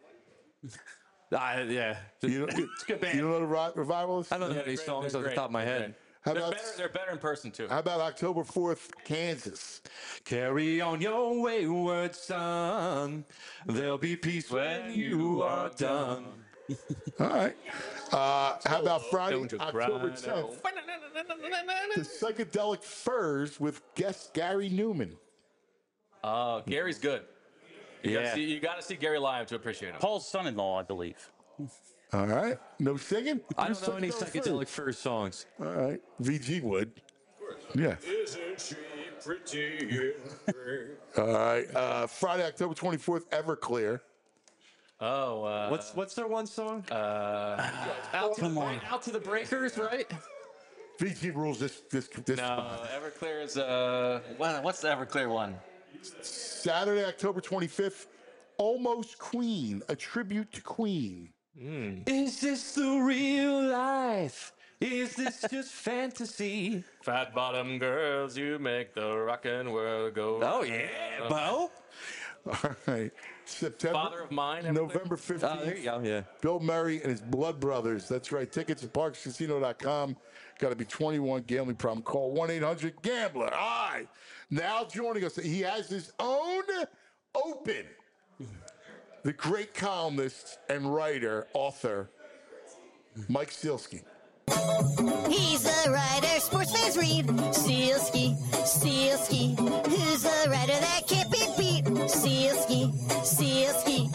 Yeah. You know, It's a good band. You don't know the Revivalists? I don't know any songs off the top of my head. How about they're better in person too. How about October 4th, Kansas? Carry on your wayward son. There'll be peace when you are done. All right. How about Friday, October 10th? The Psychedelic Furs with guest Gary Newman. Gary's good. You got to see Gary live to appreciate him. Paul's son-in-law, I believe. All right. No singing? I don't know any Psychedelic Furs songs. All right. VG would. Yeah. Isn't she pretty? All right. Friday, October 24th, Everclear. Oh, What's their one song? out to the breakers, right? VG rules this. No, Everclear is what's the Everclear one? Saturday, October 25th, Almost Queen, a tribute to Queen. Is this the real life? Is this just fantasy? Fat bottom girls, you make the rockin' world go. Oh yeah, Bo. All right. September. Father of Mine. November 15th. Oh, there you go. Yeah. Bill Murray and his Blood Brothers. That's right. Tickets at parkscasino.com. Got to be 21. Gambling problem. Call 1-800-GAMBLER. All right. Now joining us, he has his own Open. The great columnist and writer, author, Mike Sealski. He's a writer, sports fans read. Sealski, Sealski. Who's the writer that can't be beat? Sealski, Sealski.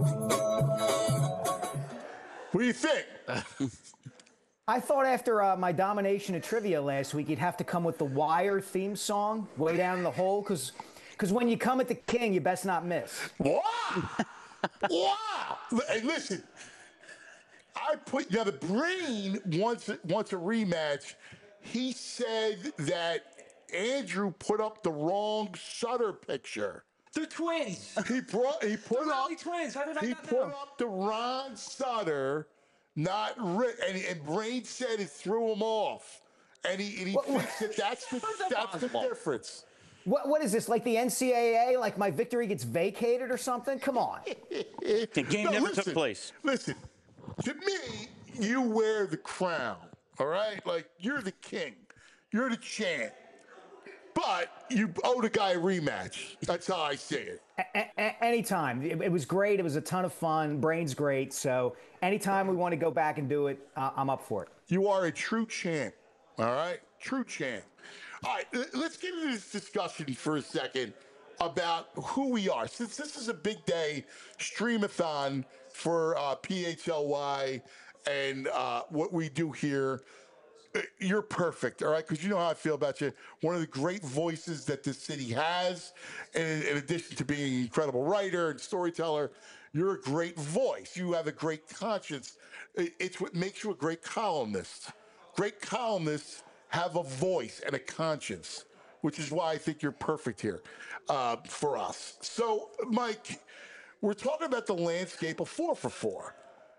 What do you think? I thought after my domination of trivia last week, you'd have to come with the Wire theme song, Way Down in the Hole, because when you come at the king, you best not miss. Wow! Wow! Hey, listen. Now the Brain wants a rematch. He said that Andrew put up the wrong Sutter picture. They're twins. He put up twins. How did I he not put know? up the Ron Sutter, not Rick, and Brain said it threw him off, and he thinks that's the difference. What is this, like the NCAA? Like my victory gets vacated or something? Come on. The game never took place. Listen, to me, you wear the crown, all right? Like, you're the king. You're the champ. But you owe the guy a rematch. That's how I see it. Anytime. It was great. It was a ton of fun. Brain's great. So anytime we want to go back and do it, I'm up for it. You are a true champ, all right? True champ. All right, let's get into this discussion for a second about who we are. Since this is a big day, streamathon for PHLY and what we do here, you're perfect, all right? Because you know how I feel about you. One of the great voices that this city has, and in addition to being an incredible writer and storyteller, you're a great voice. You have a great conscience. It's what makes you a great columnist. Great columnists have a voice and a conscience, which is why I think you're perfect here for us. So, Mike, we're talking about the landscape of 4 for 4.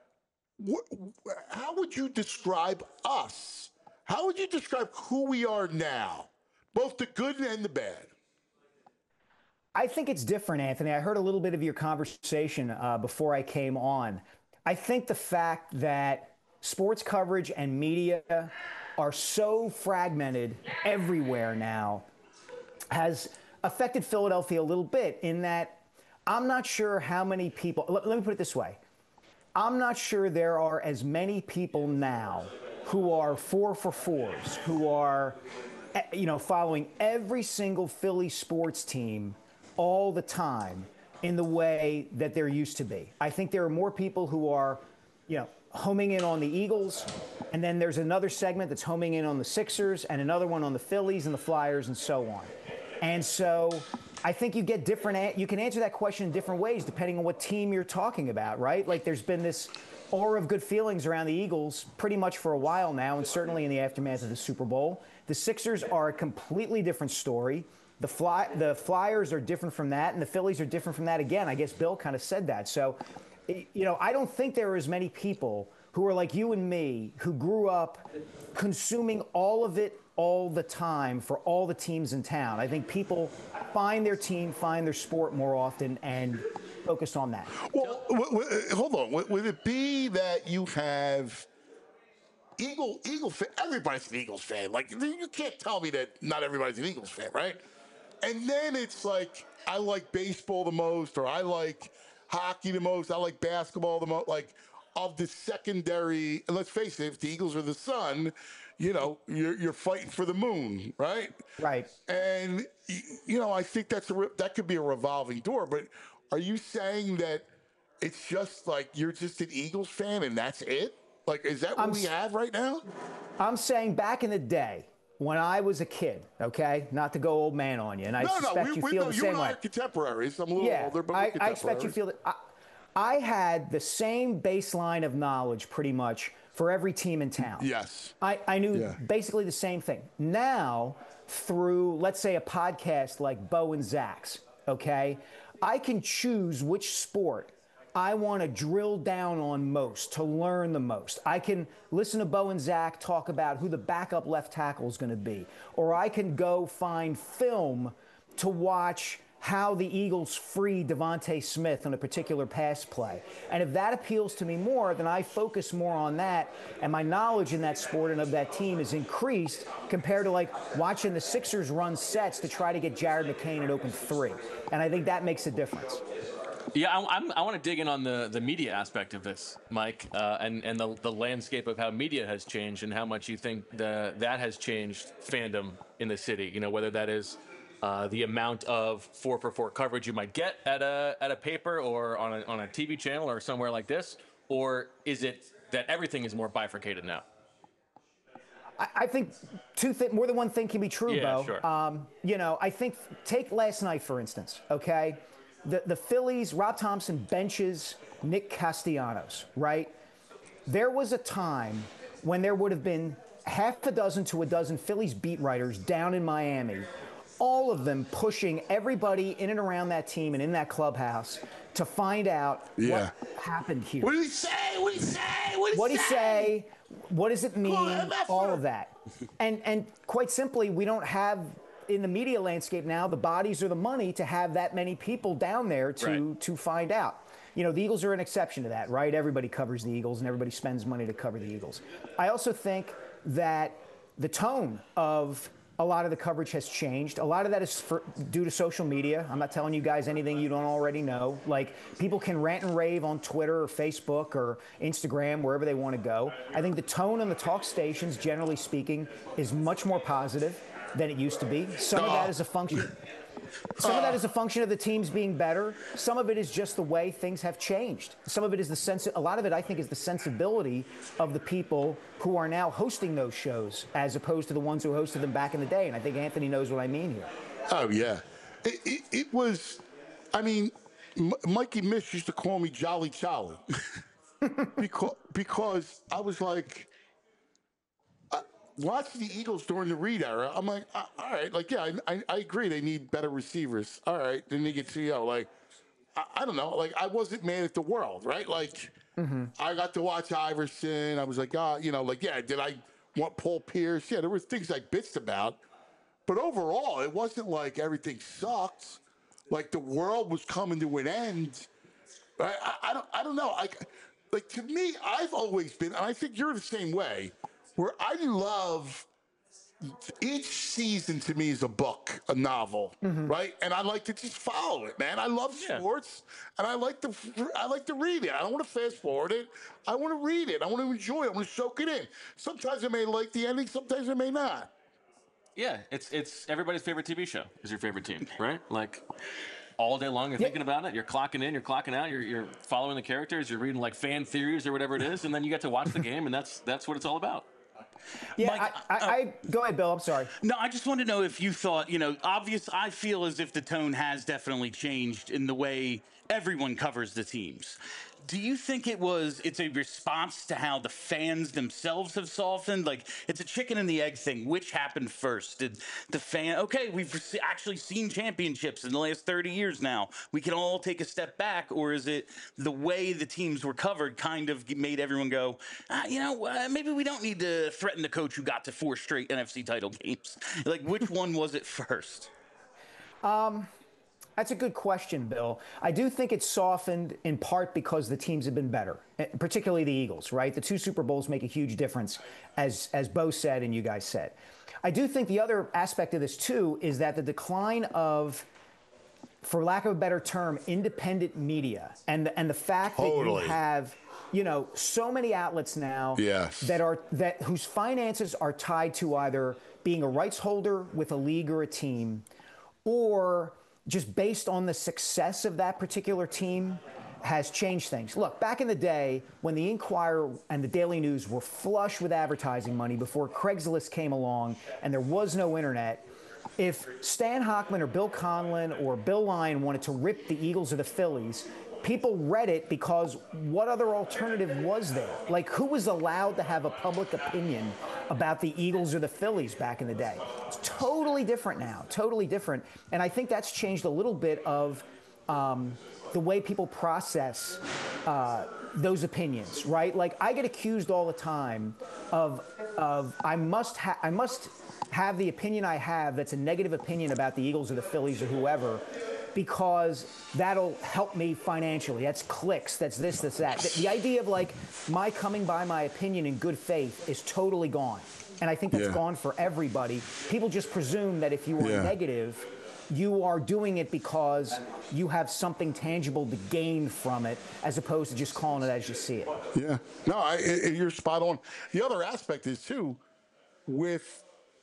How would you describe us? How would you describe who we are now, both the good and the bad? I think it's different, Anthony. I heard a little bit of your conversation before I came on. I think the fact that sports coverage and media are so fragmented everywhere now has affected Philadelphia a little bit in that I'm not sure how many people, let me put it this way. I'm not sure there are as many people now who are 4 for 4s, who are, following every single Philly sports team all the time in the way that there used to be. I think there are more people who are, homing in on the Eagles, and then there's another segment that's homing in on the Sixers, and another one on the Phillies and the Flyers, and so on. And so I think you get you can answer that question in different ways depending on what team you're talking about, right? Like there's been this aura of good feelings around the Eagles pretty much for a while now, and certainly in the aftermath of the Super Bowl. The Sixers are a completely different story. The Flyers are different from that, and the Phillies are different from that again. I guess Bill kind of said that. So I don't think there are as many people who are like you and me who grew up consuming all of it all the time for all the teams in town. I think people find their team, find their sport more often, and focus on that. Well, hold on. Would it be that you have Eagle fan? Everybody's an Eagles fan. Like, you can't tell me that not everybody's an Eagles fan, right? And then it's like, I like baseball the most, or I like hockey the most, I like basketball the most. Like, of the secondary, and let's face it, if the Eagles are the sun, you're fighting for the moon, right? Right. And I think that could be a revolving door. But are you saying that it's just like you're just an Eagles fan and that's it? Like, is that what we have right now? I'm saying back in the day when I was a kid, okay, not to go old man on you, and I suspect you feel the same way. You and I are contemporaries. I'm a little older, but we're contemporaries. I expect you feel that. I had the same baseline of knowledge pretty much for every team in town. Yes. I knew basically the same thing. Now, through, let's say, a podcast like Bo and Zach's, okay, I can choose which sport I want to drill down on most, to learn the most. I can listen to Bo and Zach talk about who the backup left tackle is going to be, or I can go find film to watch how the Eagles free Devontae Smith on a particular pass play. And if that appeals to me more, then I focus more on that, and my knowledge in that sport and of that team is increased compared to like watching the Sixers run sets to try to get Jared McCain at open three. And I think that makes a difference. Yeah, I want to dig in on the media aspect of this, Mike, and the landscape of how media has changed and how much you think that has changed fandom in the city. Whether that is the amount of 4x4 coverage you might get at a paper or on a TV channel or somewhere like this, or is it that everything is more bifurcated now? I think more than one thing can be true, Bo. Sure. I think take last night, for instance, okay? The Phillies, Rob Thompson benches Nick Castellanos, right? There was a time when there would have been half a dozen to a dozen Phillies beat writers down in Miami, all of them pushing everybody in and around that team and in that clubhouse to find out what happened here. What did he say? What did he say? What did he say? What does it mean? All of that. And quite simply, we don't have in the media landscape now the bodies or the money to have that many people down there to find out. The Eagles are an exception to that, right? Everybody covers the Eagles and everybody spends money to cover the Eagles. I also think that the tone of a lot of the coverage has changed. A lot of that is due to social media. I'm not telling you guys anything you don't already know. Like, people can rant and rave on Twitter or Facebook or Instagram, wherever they want to go. I think the tone on the talk stations, generally speaking, is much more positive than it used to be. Some of that is a function. Some of that is a function of the teams being better. Some of it is just the way things have changed. Some of it is a lot of it, I think, is the sensibility of the people who are now hosting those shows as opposed to the ones who hosted them back in the day. And I think Anthony knows what I mean here. Oh, yeah. It was, Mikey Mish used to call me Jolly Charlie because I was like, watching the Eagles during the Reed era, I'm like, all right, like, yeah, I agree they need better receivers. All right, then they get CEO. Like, I don't know. Like, I wasn't mad at the world, right? Like, I got to watch Iverson. I was like, did I want Paul Pierce? Yeah, there were things I bitched about. But overall, it wasn't like everything sucked. Like, the world was coming to an end. I don't know. Like, to me, I've always been, and I think you're the same way, where I love each season to me is a book, a novel, right? And I like to just follow it, man. I love sports, and I like to read it. I don't want to fast forward it. I want to read it. I want to enjoy it. I want to soak it in. Sometimes I may like the ending. Sometimes I may not. Yeah, it's everybody's favorite TV show is your favorite team, right? Like, all day long you're thinking about it. You're clocking in, you're clocking out. You're following the characters. You're reading like fan theories or whatever it is, and then you get to watch the game, and that's what it's all about. Yeah, Mike, I go ahead, Bill. I'm sorry. No, I just want to know if you thought, I feel as if the tone has definitely changed in the way everyone covers the teams. Do you think it's a response to how the fans themselves have softened? Like, it's a chicken and the egg thing. Which happened first? Did the okay, we've actually seen championships in the last 30 years now. We can all take a step back. Or is it the way the teams were covered kind of made everyone go, maybe we don't need to threaten the coach who got to 4 straight NFC title games? Like, which one was it first? That's a good question, Bill. I do think it's softened in part because the teams have been better, particularly the Eagles, right? The 2 Super Bowls make a huge difference, as Bo said and you guys said. I do think the other aspect of this, too, is that the decline of, for lack of a better term, independent media and the fact that you have, so many outlets now whose finances are tied to either being a rights holder with a league or a team, or just based on the success of that particular team, has changed things. Look, back in the day when the Inquirer and the Daily News were flush with advertising money before Craigslist came along and there was no internet, if Stan Hochman or Bill Conlon or Bill Lyon wanted to rip the Eagles or the Phillies, people read it because what other alternative was there? Like, who was allowed to have a public opinion about the Eagles or the Phillies back in the day? It's totally different now, totally different. And I think that's changed a little bit of the way people process those opinions, right? Like, I get accused all the time of I must have the opinion I have that's a negative opinion about the Eagles or the Phillies or whoever, because that'll help me financially. That's clicks, that's this, that's that. The idea of, like, my coming by my opinion in good faith is totally gone. And I think that's gone for everybody. People just presume that if you are negative, you are doing it because you have something tangible to gain from it, as opposed to just calling it as you see it. Yeah. No, you're spot on. The other aspect is, too, with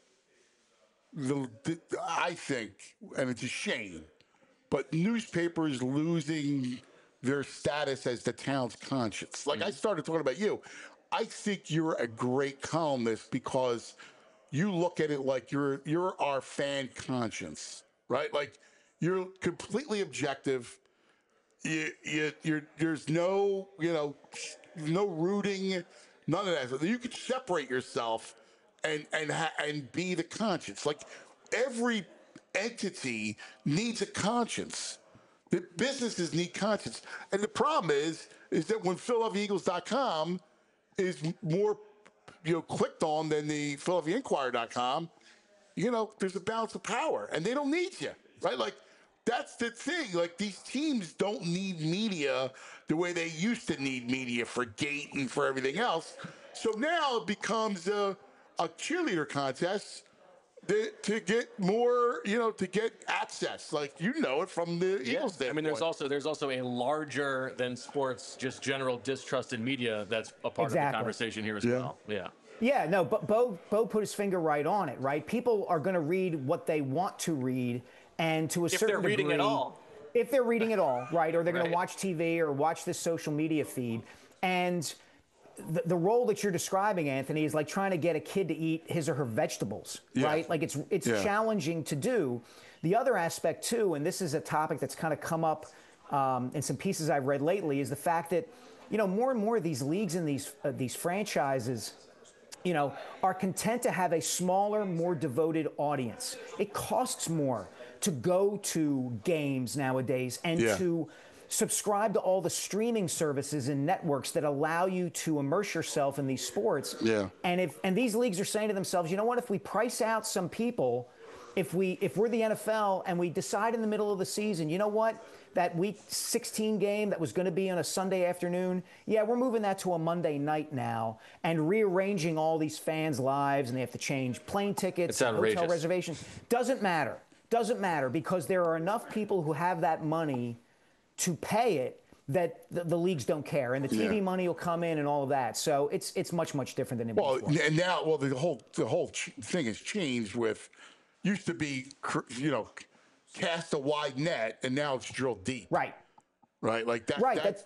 I think, and it's a shame, but newspapers losing their status as the town's conscience. Like, I started talking about you. I think you're a great columnist because you look at it like you're our fan conscience, right? Like, you're completely objective. There's no, no rooting, none of that. You could separate yourself and be the conscience. Like, every entity needs a conscience. The businesses need conscience. And the problem is that when PhiladelphiaEagles.com is more, clicked on than the PhiladelphiaInquirer.com, there's a balance of power, and they don't need you, right? Like, that's the thing. Like, these teams don't need media the way they used to need media for Gate and for everything else. So now it becomes a cheerleader contest to get more, to get access. Like, it from the Eagles standpoint. I mean, there's also a larger than sports, just general distrust in media that's a part of the conversation here as well. Yeah. Yeah, no, but Bo put his finger right on it, right? People are going to read what they want to read, and to a certain degree. If they're reading at all. If they're reading at all, right? Or they're going to watch TV or watch this social media feed. And the role that you're describing, Anthony, is like trying to get a kid to eat his or her vegetables, right? Like, it's challenging to do. The other aspect, too, and this is a topic that's kind of come up in some pieces I've read lately, is the fact that, more and more of these leagues and these franchises, are content to have a smaller, more devoted audience. It costs more to go to games nowadays and to subscribe to all the streaming services and networks that allow you to immerse yourself in these sports. Yeah. And these leagues are saying to themselves, you know what, if we price out some people, if we're the NFL and we decide in the middle of the season, you know what, that week 16 game that was going to be on a Sunday afternoon, we're moving that to a Monday night now and rearranging all these fans' lives, and they have to change plane tickets, hotel reservations. Doesn't matter, because there are enough people who have that money to pay it that the leagues don't care, and the TV money will come in and all of that. So it's much, much different than it was before. And now, the whole thing has changed. With used to be, cast a wide net, and now it's drilled deep. Right. Like that. Right. That's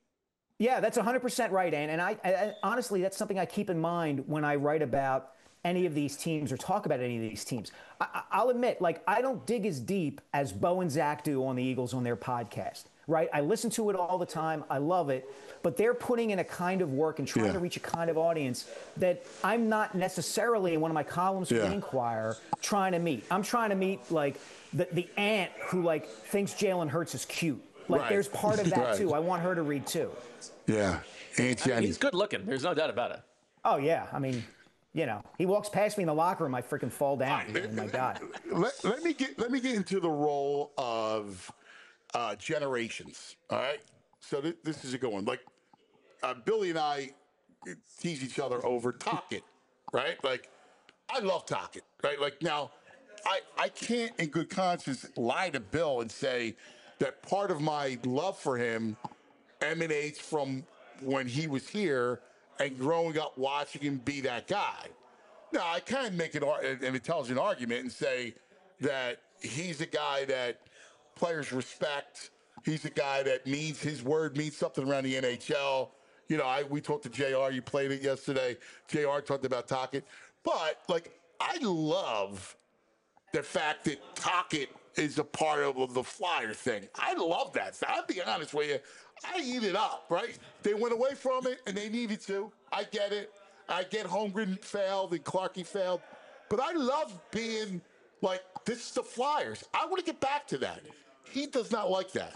100% right, Ann. And I honestly, that's something I keep in mind when I write about any of these teams or talk about any of these teams. I'll admit, like, I don't dig as deep as Bo and Zach do on the Eagles on their podcast. right? I listen to it all the time. I love it. But they're putting in a kind of work and trying to reach a kind of audience that I'm not necessarily in one of my columns for the Inquirer trying to meet. I'm trying to meet, like, the aunt who, like, thinks Jalen Hurts is cute. Like, there's part of that, too. I want her to read, too. Yeah. Aunt Jenny. He's good looking. There's no doubt about it. Oh, yeah. I mean, you know, he walks past me in the locker room, I freaking fall down. Oh, my God. Let me get into the role of generations. All right. So this is a good one. Like Billy and I tease each other over Tocchet, right? Like I love Tocchet, right? Like now, I can't in good conscience lie to Bill and say that part of my love for him emanates from when he was here and growing up watching him be that guy. Now, I can make an intelligent argument and say that he's a guy that players respect. He's a guy that means his word means something around the NHL. You know, we talked to JR. You played it yesterday. JR talked about Tocchet. But, like, I love the fact that Tocchet is a part of the Flyer thing. I love that. So I'll be honest with you. I eat it up, right? They went away from it, and they needed to. I get it. I get Holmgren failed and Clarkie failed. But I love being like, this is the Flyers. I want to get back to that. He does not like that.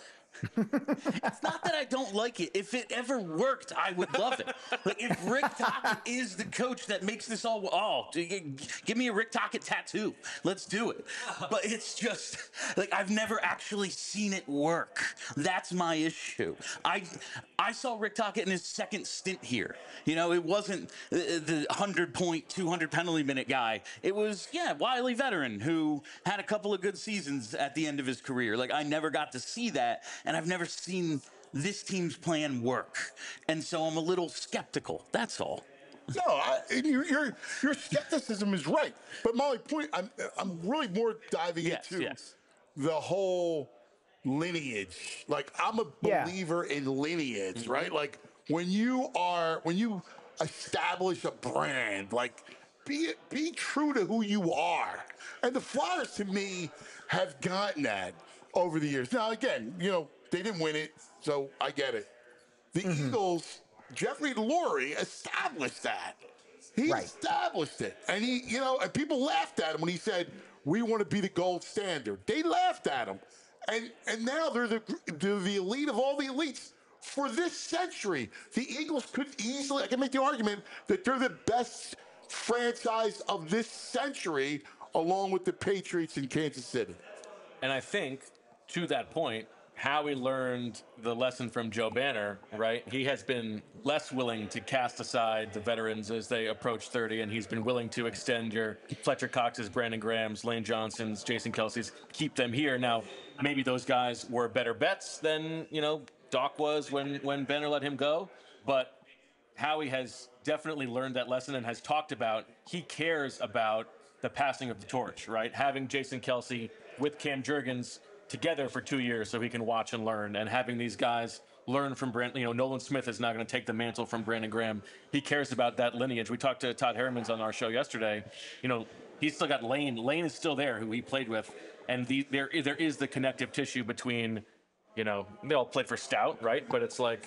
It's not that I don't like it. If it ever worked, I would love it. Like if Rick Tocchet is the coach that makes this all, give me a Rick Tocchet tattoo. Let's do it. But it's just like I've never actually seen it work. That's my issue. I saw Rick Tocchet in his second stint here. You know, it wasn't the 100-point, 200 penalty minute guy. It was wily veteran who had a couple of good seasons at the end of his career. Like I never got to see that. And I've never seen this team's plan work. And so I'm a little skeptical. That's all. No, your skepticism is right. But my point, I'm really more diving into the whole lineage. Like, I'm a believer in lineage, right? Like, when you establish a brand, like, be true to who you are. And the Flyers, to me, have gotten that over the years. Now, again, you know, they didn't win it, so I get it. The Eagles, Jeffrey Lurie established that. He established it. And and people laughed at him when he said, we want to be the gold standard. They laughed at him. And now they're the elite of all the elites for this century. The Eagles could easily, I can make the argument that they're the best franchise of this century along with the Patriots in Kansas City. And I think, to that point, Howie learned the lesson from Joe Banner, right? He has been less willing to cast aside the veterans as they approach 30, and he's been willing to extend your Fletcher Cox's, Brandon Graham's, Lane Johnson's, Jason Kelsey's, keep them here. Now, maybe those guys were better bets than, Doc was when Banner let him go, but Howie has definitely learned that lesson and has talked about he cares about the passing of the torch, right? Having Jason Kelsey with Cam Jurgens together for 2 years so he can watch and learn, and having these guys learn from Brandon. Nolan Smith is not going to take the mantle from Brandon Graham. He cares about that lineage. We talked to Todd Herremans on our show yesterday. He's still got Lane. Lane is still there, who he played with, and there is the connective tissue between, they all played for Stout, right? But it's like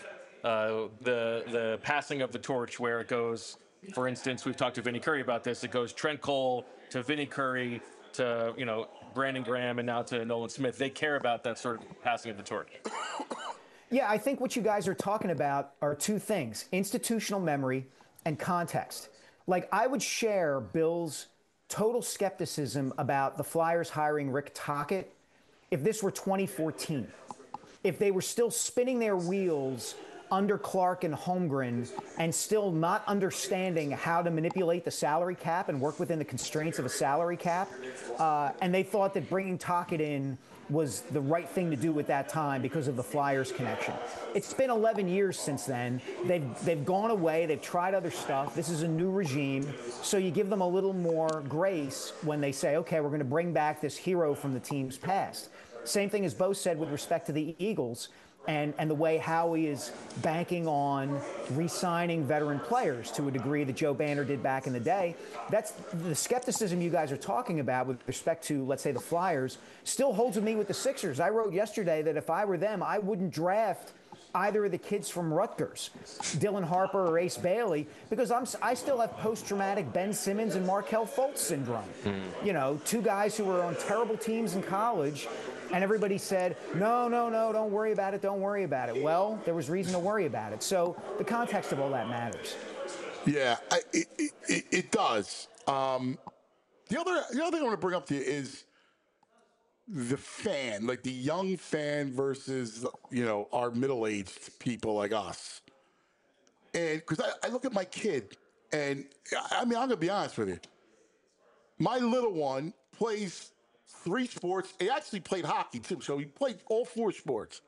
the passing of the torch where it goes. For instance, we've talked to Vinny Curry about this. It goes Trent Cole to Vinny Curry to Brandon Graham and now to Nolan Smith. They care about that sort of passing of the torch. Yeah, I think what you guys are talking about are two things: institutional memory and context. Like, I would share Bill's total skepticism about the Flyers hiring Rick Tocchet if this were 2014. If they were still spinning their wheels under Clark and Holmgren and still not understanding how to manipulate the salary cap and work within the constraints of a salary cap. And they thought that bringing Tocchet in was the right thing to do at that time because of the Flyers connection. It's been 11 years since then. They've gone away. They've tried other stuff. This is a new regime. So you give them a little more grace when they say, okay, we're going to bring back this hero from the team's past. Same thing as Bo said with respect to the Eagles. and the way Howie is banking on re-signing veteran players to a degree that Joe Banner did back in the day. That's the skepticism you guys are talking about with respect to, let's say, the Flyers, still holds with me with the Sixers. I wrote yesterday that if I were them, I wouldn't draft either of the kids from Rutgers, Dylan Harper or Ace Bailey, because I still have post-traumatic Ben Simmons and Markelle Fultz syndrome. You know, two guys who were on terrible teams in college, and everybody said, no, don't worry about it, don't worry about it. Well, there was reason to worry about it. So the context of all that matters. Yeah, it does. The other thing I want to bring up to you is the fan, like the young fan versus, you know, our middle-aged people like us. And because I look at my kid, and I mean, I'm going to be honest with you. My little one plays 3 sports. He actually played hockey, too, so he played all 4 sports.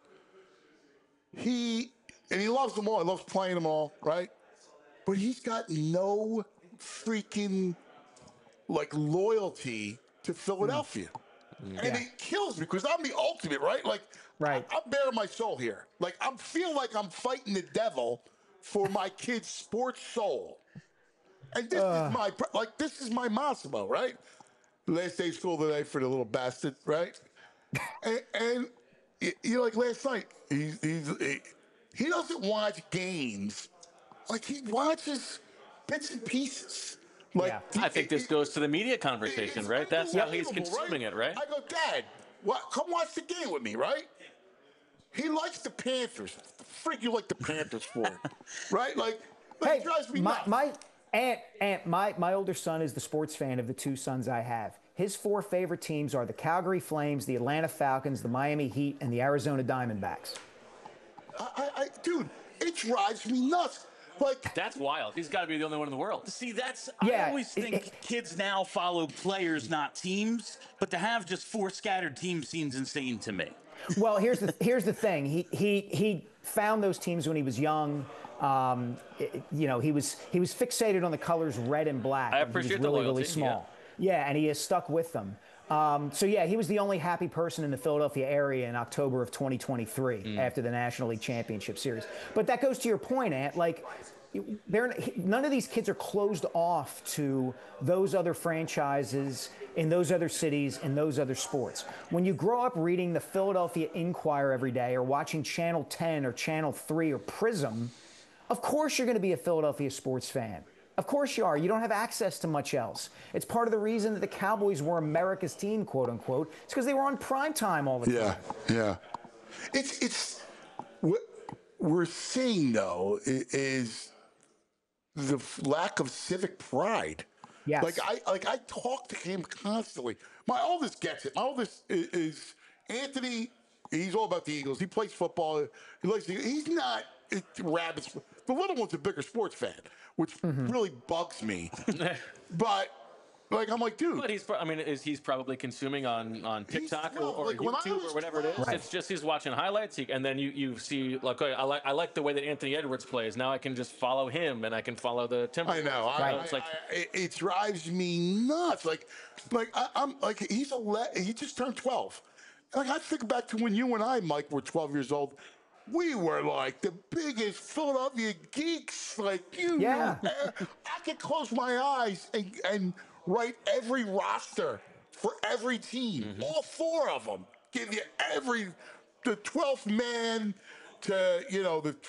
He loves them all. He loves playing them all, right? But he's got no freaking, like, loyalty to Philadelphia. And it kills me because I'm the ultimate, right? Like, I'm bare my soul here. Like, I feel like I'm fighting the devil for my kid's sports soul. And this is my Massimo, right? Last day of school today for the little bastard, right? and you know, like last night, he doesn't watch games. Like, he watches bits and pieces. Like, I think this goes to the media conversation, right? That's how he's consuming it, right? I go, Dad, come watch the game with me, right? He likes the Panthers. What the frig you like the Panthers for? Right? Like, it drives me nuts. My older son is the sports fan of the 2 sons I have. His 4 favorite teams are the Calgary Flames, the Atlanta Falcons, the Miami Heat, and the Arizona Diamondbacks. Dude, it drives me nuts. Like, that's wild. He's got to be the only one in the world. See, I always think kids now follow players, not teams. But to have just 4 scattered teams seems insane to me. Well, here's the thing. He found those teams when he was young. You know, he was fixated on the colors red and black. I appreciate the loyalty. Really small. Yeah, and he has stuck with them. So yeah, he was the only happy person in the Philadelphia area in October of 2023 after the National League Championship Series. But that goes to your point, Ant. Like, none of these kids are closed off to those other franchises in those other cities in those other sports. When you grow up reading the Philadelphia Inquirer every day or watching Channel 10 or Channel 3 or Prism, of course you're going to be a Philadelphia sports fan. Of course you are. You don't have access to much else. It's part of the reason that the Cowboys were America's team, quote unquote. It's because they were on prime time all the time. Yeah. It's what we're seeing though is the lack of civic pride. Yes. I talk to him constantly. My oldest gets it. My oldest is Anthony. He's all about the Eagles. He plays football. He likes the Eagles. He's not rabbits. The little one's a bigger sports fan, which really bugs me. But like, I'm like, dude. But he's probably consuming on TikTok or like YouTube or whatever it is. Right. It's just he's watching highlights, and then you see like, okay, I like the way that Anthony Edwards plays. Now I can just follow him, and I can follow the Timberwolves. I know. It drives me nuts. I'm like he just turned 12. Like, I think back to when you and I, Mike, were 12 years old. We were like the biggest Philadelphia geeks. Like, you know, I could close my eyes and write every roster for every team, all 4 of them. Give you the 12th man to, you know, the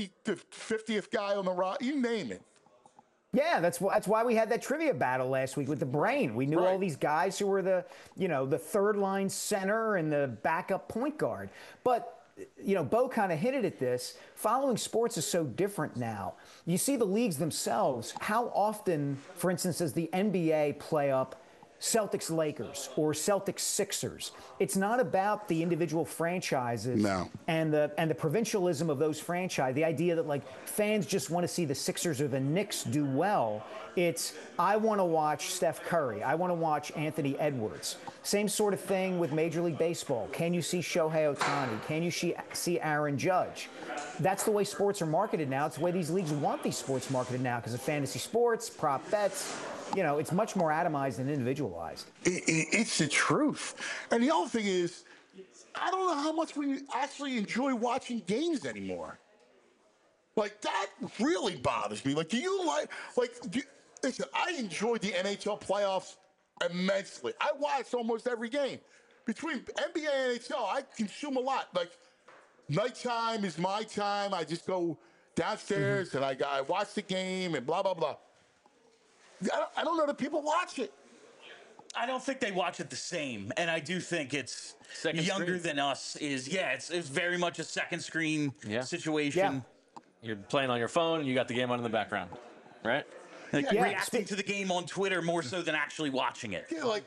50th guy on the roster. You name it. Yeah, that's why we had that trivia battle last week with the brain. We knew all these guys who were the third line center and the backup point guard. But you know, Bo kind of hinted at this. Following sports is so different now. You see the leagues themselves. How often, for instance, does the NBA play up Celtics Lakers or Celtics Sixers? It's not about the individual franchises and the provincialism of those franchises. The idea that like fans just want to see the Sixers or the Knicks do well. It's, I want to watch Steph Curry. I want to watch Anthony Edwards. Same sort of thing with Major League Baseball. Can you see Shohei Ohtani? Can you see Aaron Judge? That's the way sports are marketed now. It's the way these leagues want these sports marketed now because of fantasy sports, prop bets. You know, it's much more atomized and individualized. It's the truth. And the other thing is, I don't know how much we actually enjoy watching games anymore. Like, that really bothers me. Like, do you listen, I enjoyed the NHL playoffs immensely. I watched almost every game. Between NBA and NHL, I consume a lot. Like, nighttime is my time. I just go downstairs and I watch the game and blah, blah, blah. I don't know that people watch it. I don't think they watch it the same, and I do think it's Second younger screen. than us. It's very much a second screen situation. Yeah. You're playing on your phone, and you got the game on in the background, right? Like Yeah. reacting to the game on Twitter more so than actually watching it. Yeah, like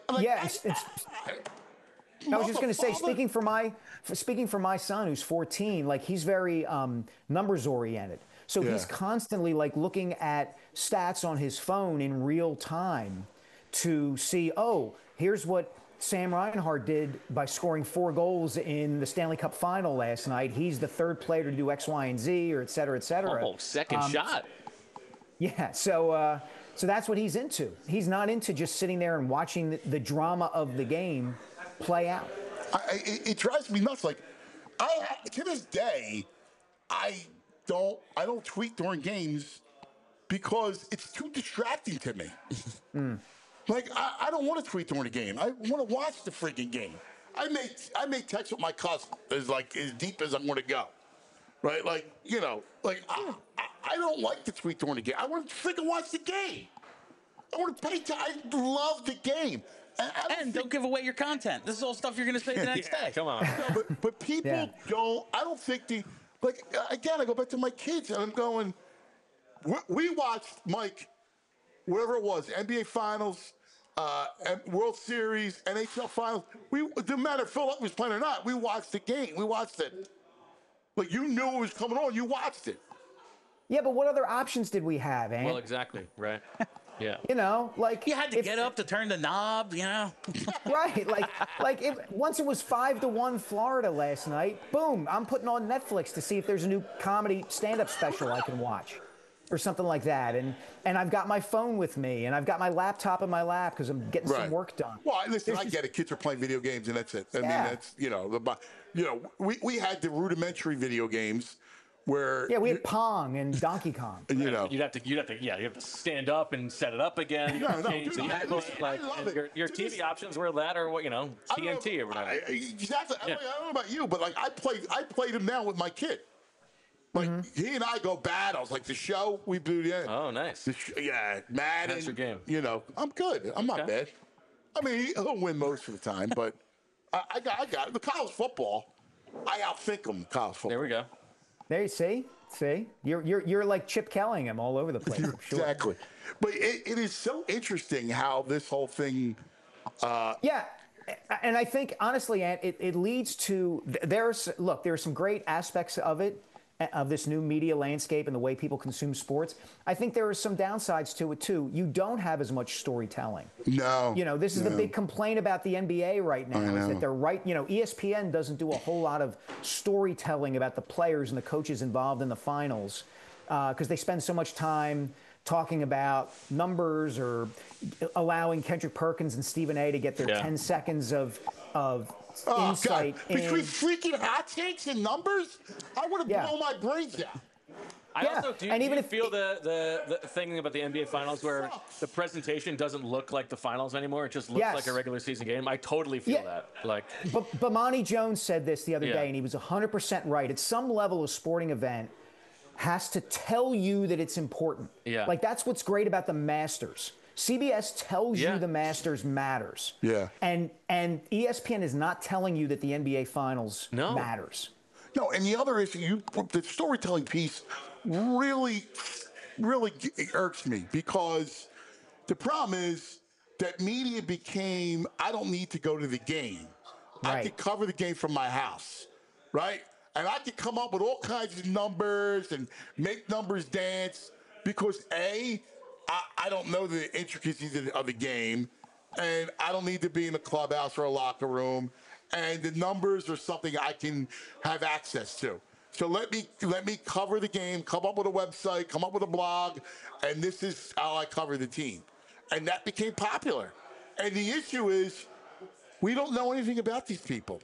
I was just going to say, speaking for my son who's 14, like he's very numbers oriented. So he's constantly like looking at stats on his phone in real time to see, oh, here's what Sam Reinhart did by scoring 4 goals in the Stanley Cup final last night. He's the third player to do X, Y, and Z, or et cetera, et cetera. Oh, second shot. Yeah, so that's what he's into. He's not into just sitting there and watching the drama of the game play out. It drives me nuts. Like, to this day, I don't tweet during games because it's too distracting to me. Like, I don't want to tweet during the game. I want to watch the freaking game. I may text with my cousin as deep as I'm going to go, right? Like, you know, like I don't like to tweet during the game. I want to freaking watch the game. I want to pay time. I love the game. And don't give away your content. This is all stuff you're going to say the next day. Come on. No, but people don't. I don't think again, I go back to my kids and I'm going, we watched, Mike, whatever it was, NBA Finals, World Series, NHL Finals. It didn't matter if Phil was playing or not. We watched the game. We watched it. Like, you knew it was coming on. You watched it. Yeah, but what other options did we have, Ant? Well, exactly. Right. Yeah. You know, like you had to get up to turn the knob, you know. Right, once it was 5-1 Florida last night. Boom! I'm putting on Netflix to see if there's a new comedy stand-up special I can watch, or something like that. And I've got my phone with me, and I've got my laptop in my lap because I'm getting some work done. Well, listen, I get it. Kids are playing video games, and that's it. I mean, that's we had the rudimentary video games. Where we had Pong and Donkey Kong. You know, you have to stand up and set it up again. No, change the angle, your TV options were that or what, you know, TNT or whatever. Exactly. I don't know about you, but like I played him now with my kid. Like he and I go battles, like the show we do. Yeah. Oh, nice. Madden. That's your game. You know, I'm good. I'm not bad. I mean, he'll win most of the time, but I got the college football. I outthink him. College football. There we go. There you see, you're like Chip Kellingham all over the place. I'm sure. Exactly, but it is so interesting how this whole thing. Yeah, and I think honestly, Ant, it leads to there are some great aspects of it, of this new media landscape and the way people consume sports. I think there are some downsides to it too. You don't have as much storytelling. No. You know, this is the big complaint about the NBA right now is that they're ESPN doesn't do a whole lot of storytelling about the players and the coaches involved in the finals because they spend so much time talking about numbers or allowing Kendrick Perkins and Stephen A to get their 10 seconds of insight. God. Between freaking hot takes and numbers, I would have blown my brains out. I also do you feel the thing about the NBA Finals where the presentation doesn't look like the finals anymore. It just looks like a regular season game. I totally feel that. Like, but Bomani Jones said this the other day, and he was 100% right. At some level, a sporting event has to tell you that it's important. Yeah. Like, that's what's great about the Masters. CBS tells you the Masters matters. Yeah. And ESPN is not telling you that the NBA Finals matters. No, and the other issue, the storytelling piece really irks me because the problem is that media became, I don't need to go to the game. I could cover the game from my house, right? And I could come up with all kinds of numbers and make numbers dance because I don't know the intricacies of the game, and I don't need to be in a clubhouse or a locker room, and the numbers are something I can have access to. So let me cover the game, come up with a website, come up with a blog, and this is how I cover the team. And that became popular. And the issue is we don't know anything about these people.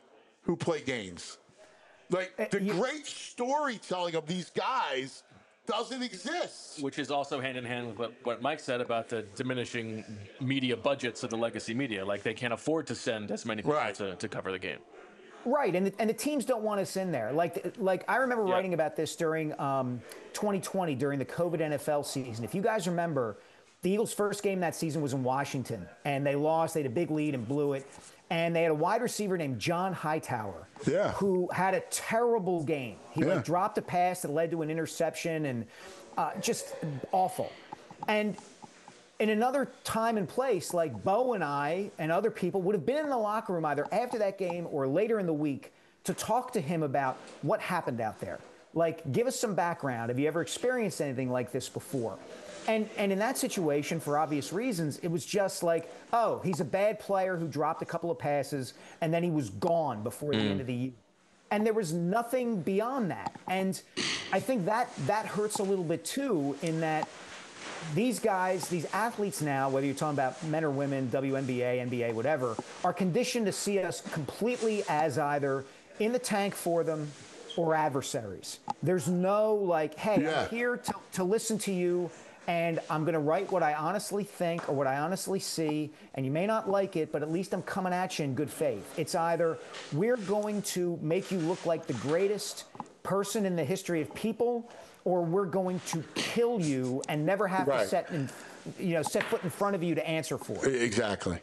who play games. Like the great storytelling of these guys doesn't exist. Which is also hand in hand with what Mike said about the diminishing media budgets of the legacy media. Like they can't afford to send as many people to cover the game. Right, and the teams don't want us in there. Like I remember writing about this during 2020 during the COVID NFL season. If you guys remember, the Eagles' first game that season was in Washington, and they lost. They had a big lead and blew it. And they had a wide receiver named John Hightower, who had a terrible game. He dropped a pass that led to an interception, and just awful. And in another time and place, like Bo and I and other people would have been in the locker room either after that game or later in the week to talk to him about what happened out there. Like, give us some background. Have you ever experienced anything like this before? And in that situation, for obvious reasons, it was just like, oh, he's a bad player who dropped a couple of passes, and then he was gone before the end of the year. And there was nothing beyond that. And I think that hurts a little bit, too, in that these guys, these athletes now, whether you're talking about men or women, WNBA, NBA, whatever, are conditioned to see us completely as either in the tank for them or adversaries. There's no like, hey, I'm here to listen to you, and I'm going to write what I honestly think or what I honestly see, and you may not like it, but at least I'm coming at you in good faith. It's either we're going to make you look like the greatest person in the history of people, or we're going to kill you and never have to set foot in front of you to answer for it. Exactly.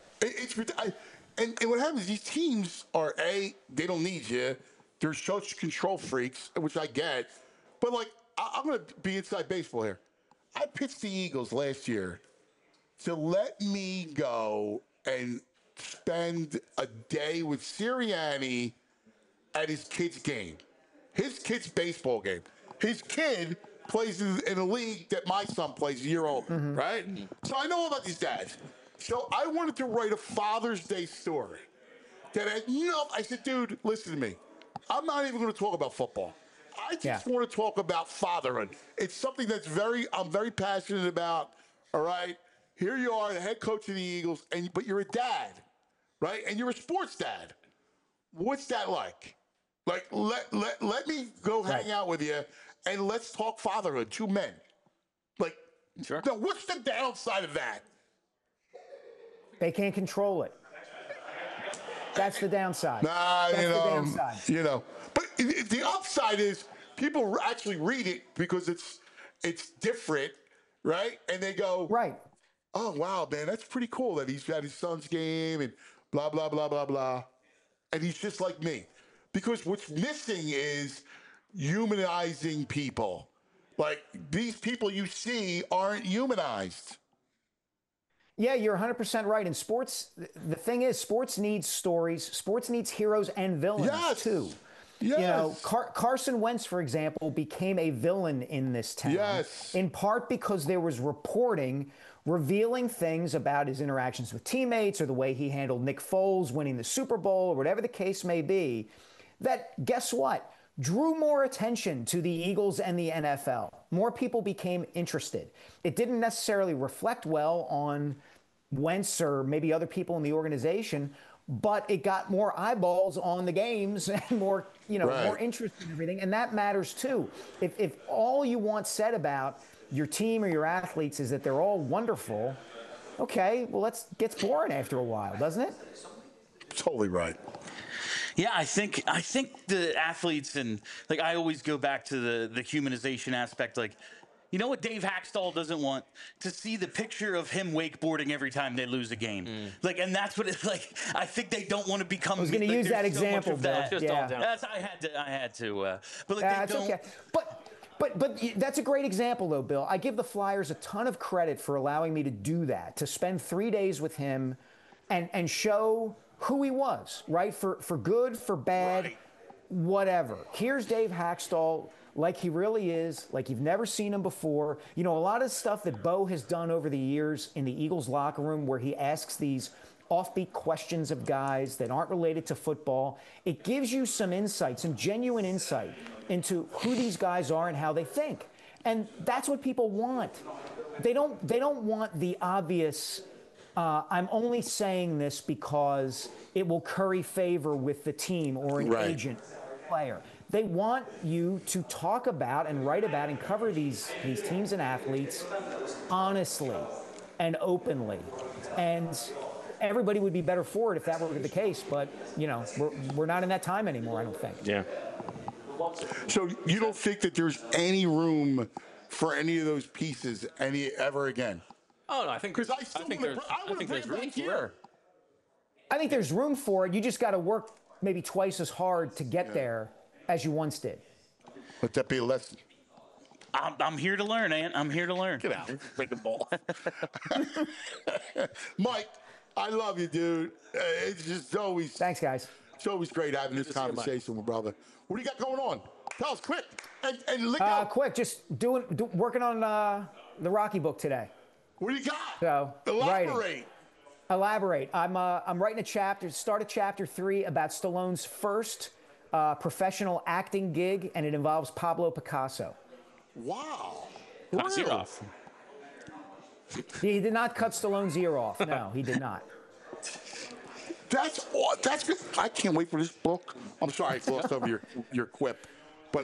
And what happens is these teams are, they don't need you. They're such control freaks, which I get. But, like, I'm going to be inside baseball here. I pitched the Eagles last year to let me go and spend a day with Sirianni at his kid's game. His kid's baseball game. His kid plays in a league that my son plays, a year old, right? So I know all about these dads. So I wanted to write a Father's Day story. I said, dude, listen to me. I'm not even going to talk about football. I just want to talk about fatherhood. It's something I'm very passionate about. All right, here you are, the head coach of the Eagles, but you're a dad, right? And you're a sports dad. What's that like? Like, let me go hang out with you, and let's talk fatherhood. Two men. Like, now, what's the downside of that? They can't control it. That's the downside. But the upside is people actually read it because it's different, right? And they go, oh, wow, man, that's pretty cool that he's at his son's game and blah, blah, blah, blah, blah. And he's just like me. Because what's missing is humanizing people. Like, these people you see aren't humanized. Yeah, you're 100% right. In sports, the thing is, sports needs stories. Sports needs heroes and villains, too. Yes. You know, Carson Wentz, for example, became a villain in this town. Yes. In part because there was reporting revealing things about his interactions with teammates or the way he handled Nick Foles winning the Super Bowl or whatever the case may be, that, guess what? Drew more attention to the Eagles and the NFL. More people became interested. It didn't necessarily reflect well on Wentz or maybe other people in the organization, but it got more eyeballs on the games and more, more interest in everything. And that matters too. If all you want said about your team or your athletes is that they're all wonderful, okay, well, that gets boring after a while, doesn't it? Totally right. Yeah, I think the athletes, and like I always go back to the humanization aspect. Like, you know what Dave Hackstall doesn't want? To see the picture of him wakeboarding every time they lose a game. Like, and that's what it's like. I think they don't want to become. I was going to use that example, Bill. I had to. But like, that's okay. But that's a great example, though, Bill. I give the Flyers a ton of credit for allowing me to do that, to spend 3 days with him and show who he was, right? For good, for bad, whatever. Here's Dave Hackstall like he really is, like you've never seen him before. You know, a lot of stuff that Bo has done over the years in the Eagles locker room where he asks these offbeat questions of guys that aren't related to football, it gives you some insight, some genuine insight into who these guys are and how they think. And that's what people want. They don't want the obvious I'm only saying this because it will curry favor with the team or an agent player. They want you to talk about and write about and cover these teams and athletes honestly and openly. And everybody would be better for it if that were the case. But, we're not in that time anymore, I don't think. Yeah. So you don't think that there's any room for any of those pieces ever again? Oh, no, I think there's room for it. I think there's room for it. You just got to work maybe twice as hard to get there as you once did. Let that be a lesson. I'm here to learn, Ant. I'm here to learn. Get out. Break the ball. Mike, I love you, dude. It's just always... Thanks, guys. It's always great having this conversation with brother. What do you got going on? Tell us quick. And look out. Quick, just working on the Rocky book today. What do you got? So, Elaborate. Elaborate. I'm writing start a chapter 3 about Stallone's first professional acting gig, and it involves Pablo Picasso. Wow. Cut his ear off. He did not cut Stallone's ear off. No, he did not. That's good. I can't wait for this book. I'm sorry I glossed over your quip, but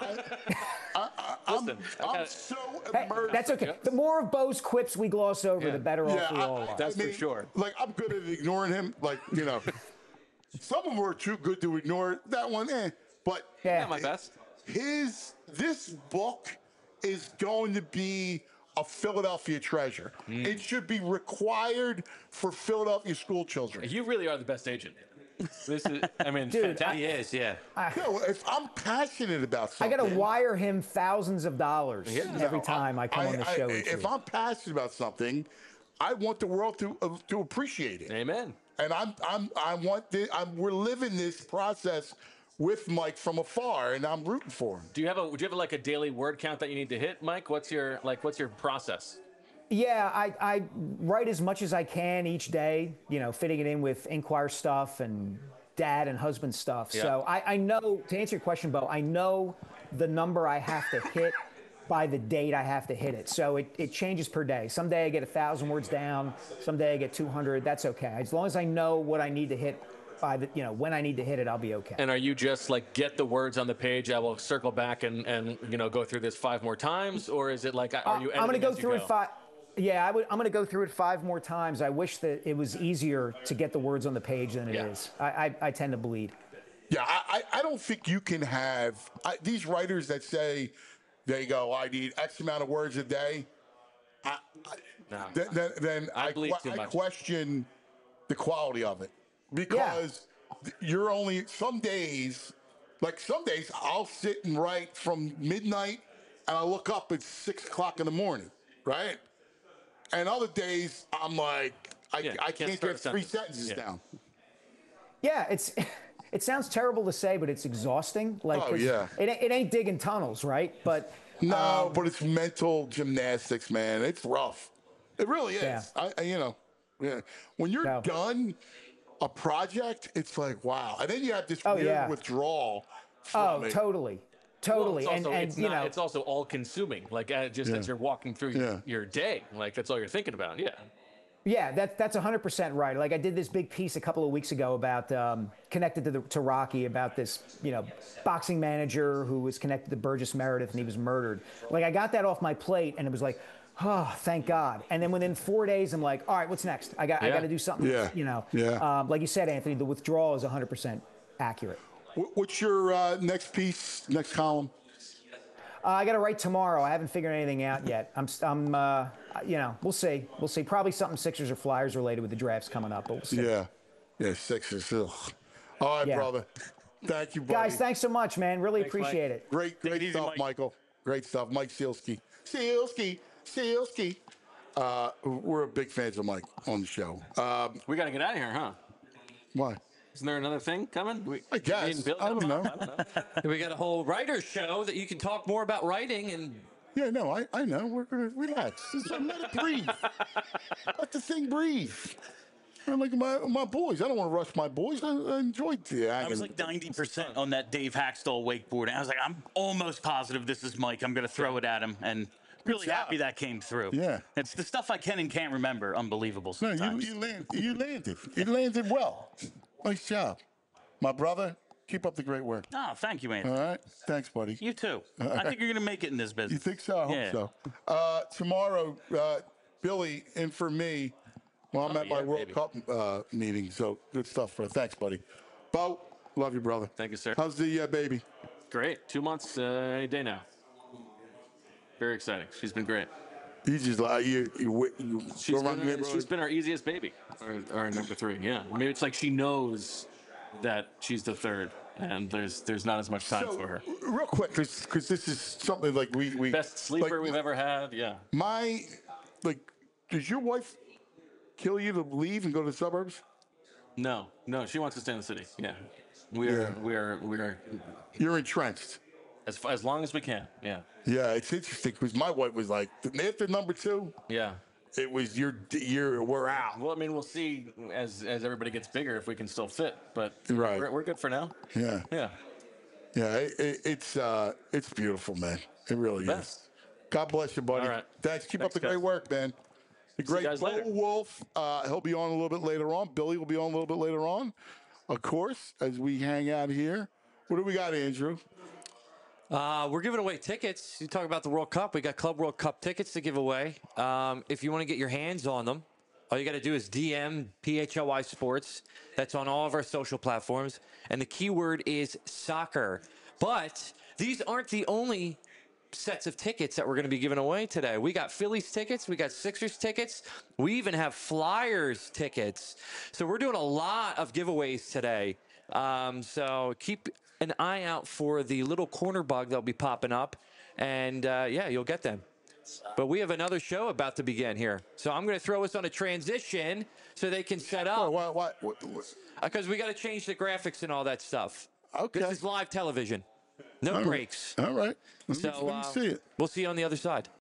I'm so immersed. That's okay. The more of Bo's quips we gloss over, the better off we all are. That's for sure. Like, I'm good at ignoring him. Like, some of them are too good to ignore. That one, But not my best. This book is going to be a Philadelphia treasure. It should be required for Philadelphia school children. You really are the best agent. This is, Dude, he is, yeah. If I'm passionate about something, I got to wire him thousands of dollars every time I come on the show. If I'm passionate about something, I want the world to appreciate it. Amen. And we're living this process with Mike from afar, and I'm rooting for him. Do you have a daily word count that you need to hit, Mike? What's your process? Yeah, I write as much as I can each day, fitting it in with Inquirer stuff and dad and husband stuff. Yeah. So I know, to answer your question, Bo, I know the number I have to hit by the date I have to hit it. So it changes per day. Some day I get 1,000 words down. Some day I get 200. That's okay. As long as I know what I need to hit by the, when I need to hit it, I'll be okay. And are you just get the words on the page? I will circle back and go through this 5 more times, or is it are you? I'm going to go through it 5. Yeah, I'm going to go through it 5 more times. I wish that it was easier to get the words on the page than it is. I tend to bleed. Yeah, I don't think you can have these writers that say they go, I need X amount of words a day. Then I question the quality of it, because you're only some days I'll sit and write from midnight and I look up at 6 o'clock in the morning, right? And other days I'm like, I can't get 3 sentences down. Yeah, it sounds terrible to say, but it's exhausting. It ain't digging tunnels, right? But but it's mental gymnastics, man. It's rough. It really is. Yeah. When you're done a project, it's like, wow. And then you have this weird withdrawal from it. Totally. Well, it's also all consuming. As you're walking through your day, that's all you're thinking about. Yeah. Yeah, that's 100% right. I did this big piece a couple of weeks ago about connected to Rocky, about this boxing manager who was connected to Burgess Meredith and he was murdered. I got that off my plate and it was like, oh, thank God. And then within 4 days, I'm like, all right, what's next? I got to do something. Like you said, Anthony, the withdrawal is 100% accurate. What's your next piece, next column? I got to write tomorrow. I haven't figured anything out yet. We'll see. We'll see. Probably something Sixers or Flyers related with the drafts coming up, but we'll see. Yeah, Sixers. Ugh. All right, brother. Thank you, buddy. Guys, thanks so much, man. Really appreciate it. Great stuff, Mike. Michael. Great stuff. Mike Sielski. We're big fans of Mike on the show. We got to get out of here, huh? Why? Isn't there another thing coming? I guess. I don't know. We got a whole writer's show that you can talk more about writing and. Yeah, no, I know. We're going to relax. Let it breathe. Let the thing breathe. I'm like my boys. I don't want to rush my boys. I enjoyed the I was 90% on that Dave Hackstall wakeboard. I was like, I'm almost positive this is Mike. I'm going to throw it at him. And really happy that came through. Yeah. It's the stuff I can and can't remember. Unbelievable No, sometimes. you landed. You landed well. Nice job. My brother, keep up the great work. Oh, thank you, Anthony. All right. Thanks, buddy. You too. I think you're going to make it in this business. You think so? I hope so. Tomorrow, Billy, in for me. Well, I'm at my World Cup meeting, so good stuff, bro. Thanks, buddy. Bo, love you, brother. Thank you, sir. How's the baby? Great. 2 months any day now. Very exciting. She's been great. You just She's been our easiest baby, our number 3. Yeah, I mean, it's like she knows that she's the third, and there's not as much time for her. Real quick, because this is something like we best sleeper we've ever had. Yeah. Does your wife kill you to leave and go to the suburbs? No, she wants to stay in the city. Yeah, we are. You're entrenched. As long as we can. Yeah. Yeah, it's interesting because my wife was like, after number 2. Yeah. It was we're out. Well, I mean, we'll see as everybody gets bigger if we can still fit, but we're good for now. Yeah. Yeah. Yeah, it's beautiful, man. It really is. God bless you, buddy. All right. Thanks. Keep up the great work, man. The great Bo Wolf. He'll be on a little bit later on. Billy will be on a little bit later on, of course, as we hang out here. What do we got, Andrew? We're giving away tickets. You talk about the World Cup. We got Club World Cup tickets to give away. If you want to get your hands on them, all you got to do is DM PHLY Sports. That's on all of our social platforms. And the keyword is soccer. But these aren't the only sets of tickets that we're going to be giving away today. We got Phillies tickets. We got Sixers tickets. We even have Flyers tickets. So we're doing a lot of giveaways today. So keep an eye out for the little corner bug that'll be popping up. And, you'll get them. But we have another show about to begin here. So I'm going to throw us on a transition so they can set up. What? Because we got to change the graphics and all that stuff. Okay. This is live television. No breaks. All right. Let me see it. We'll see you on the other side.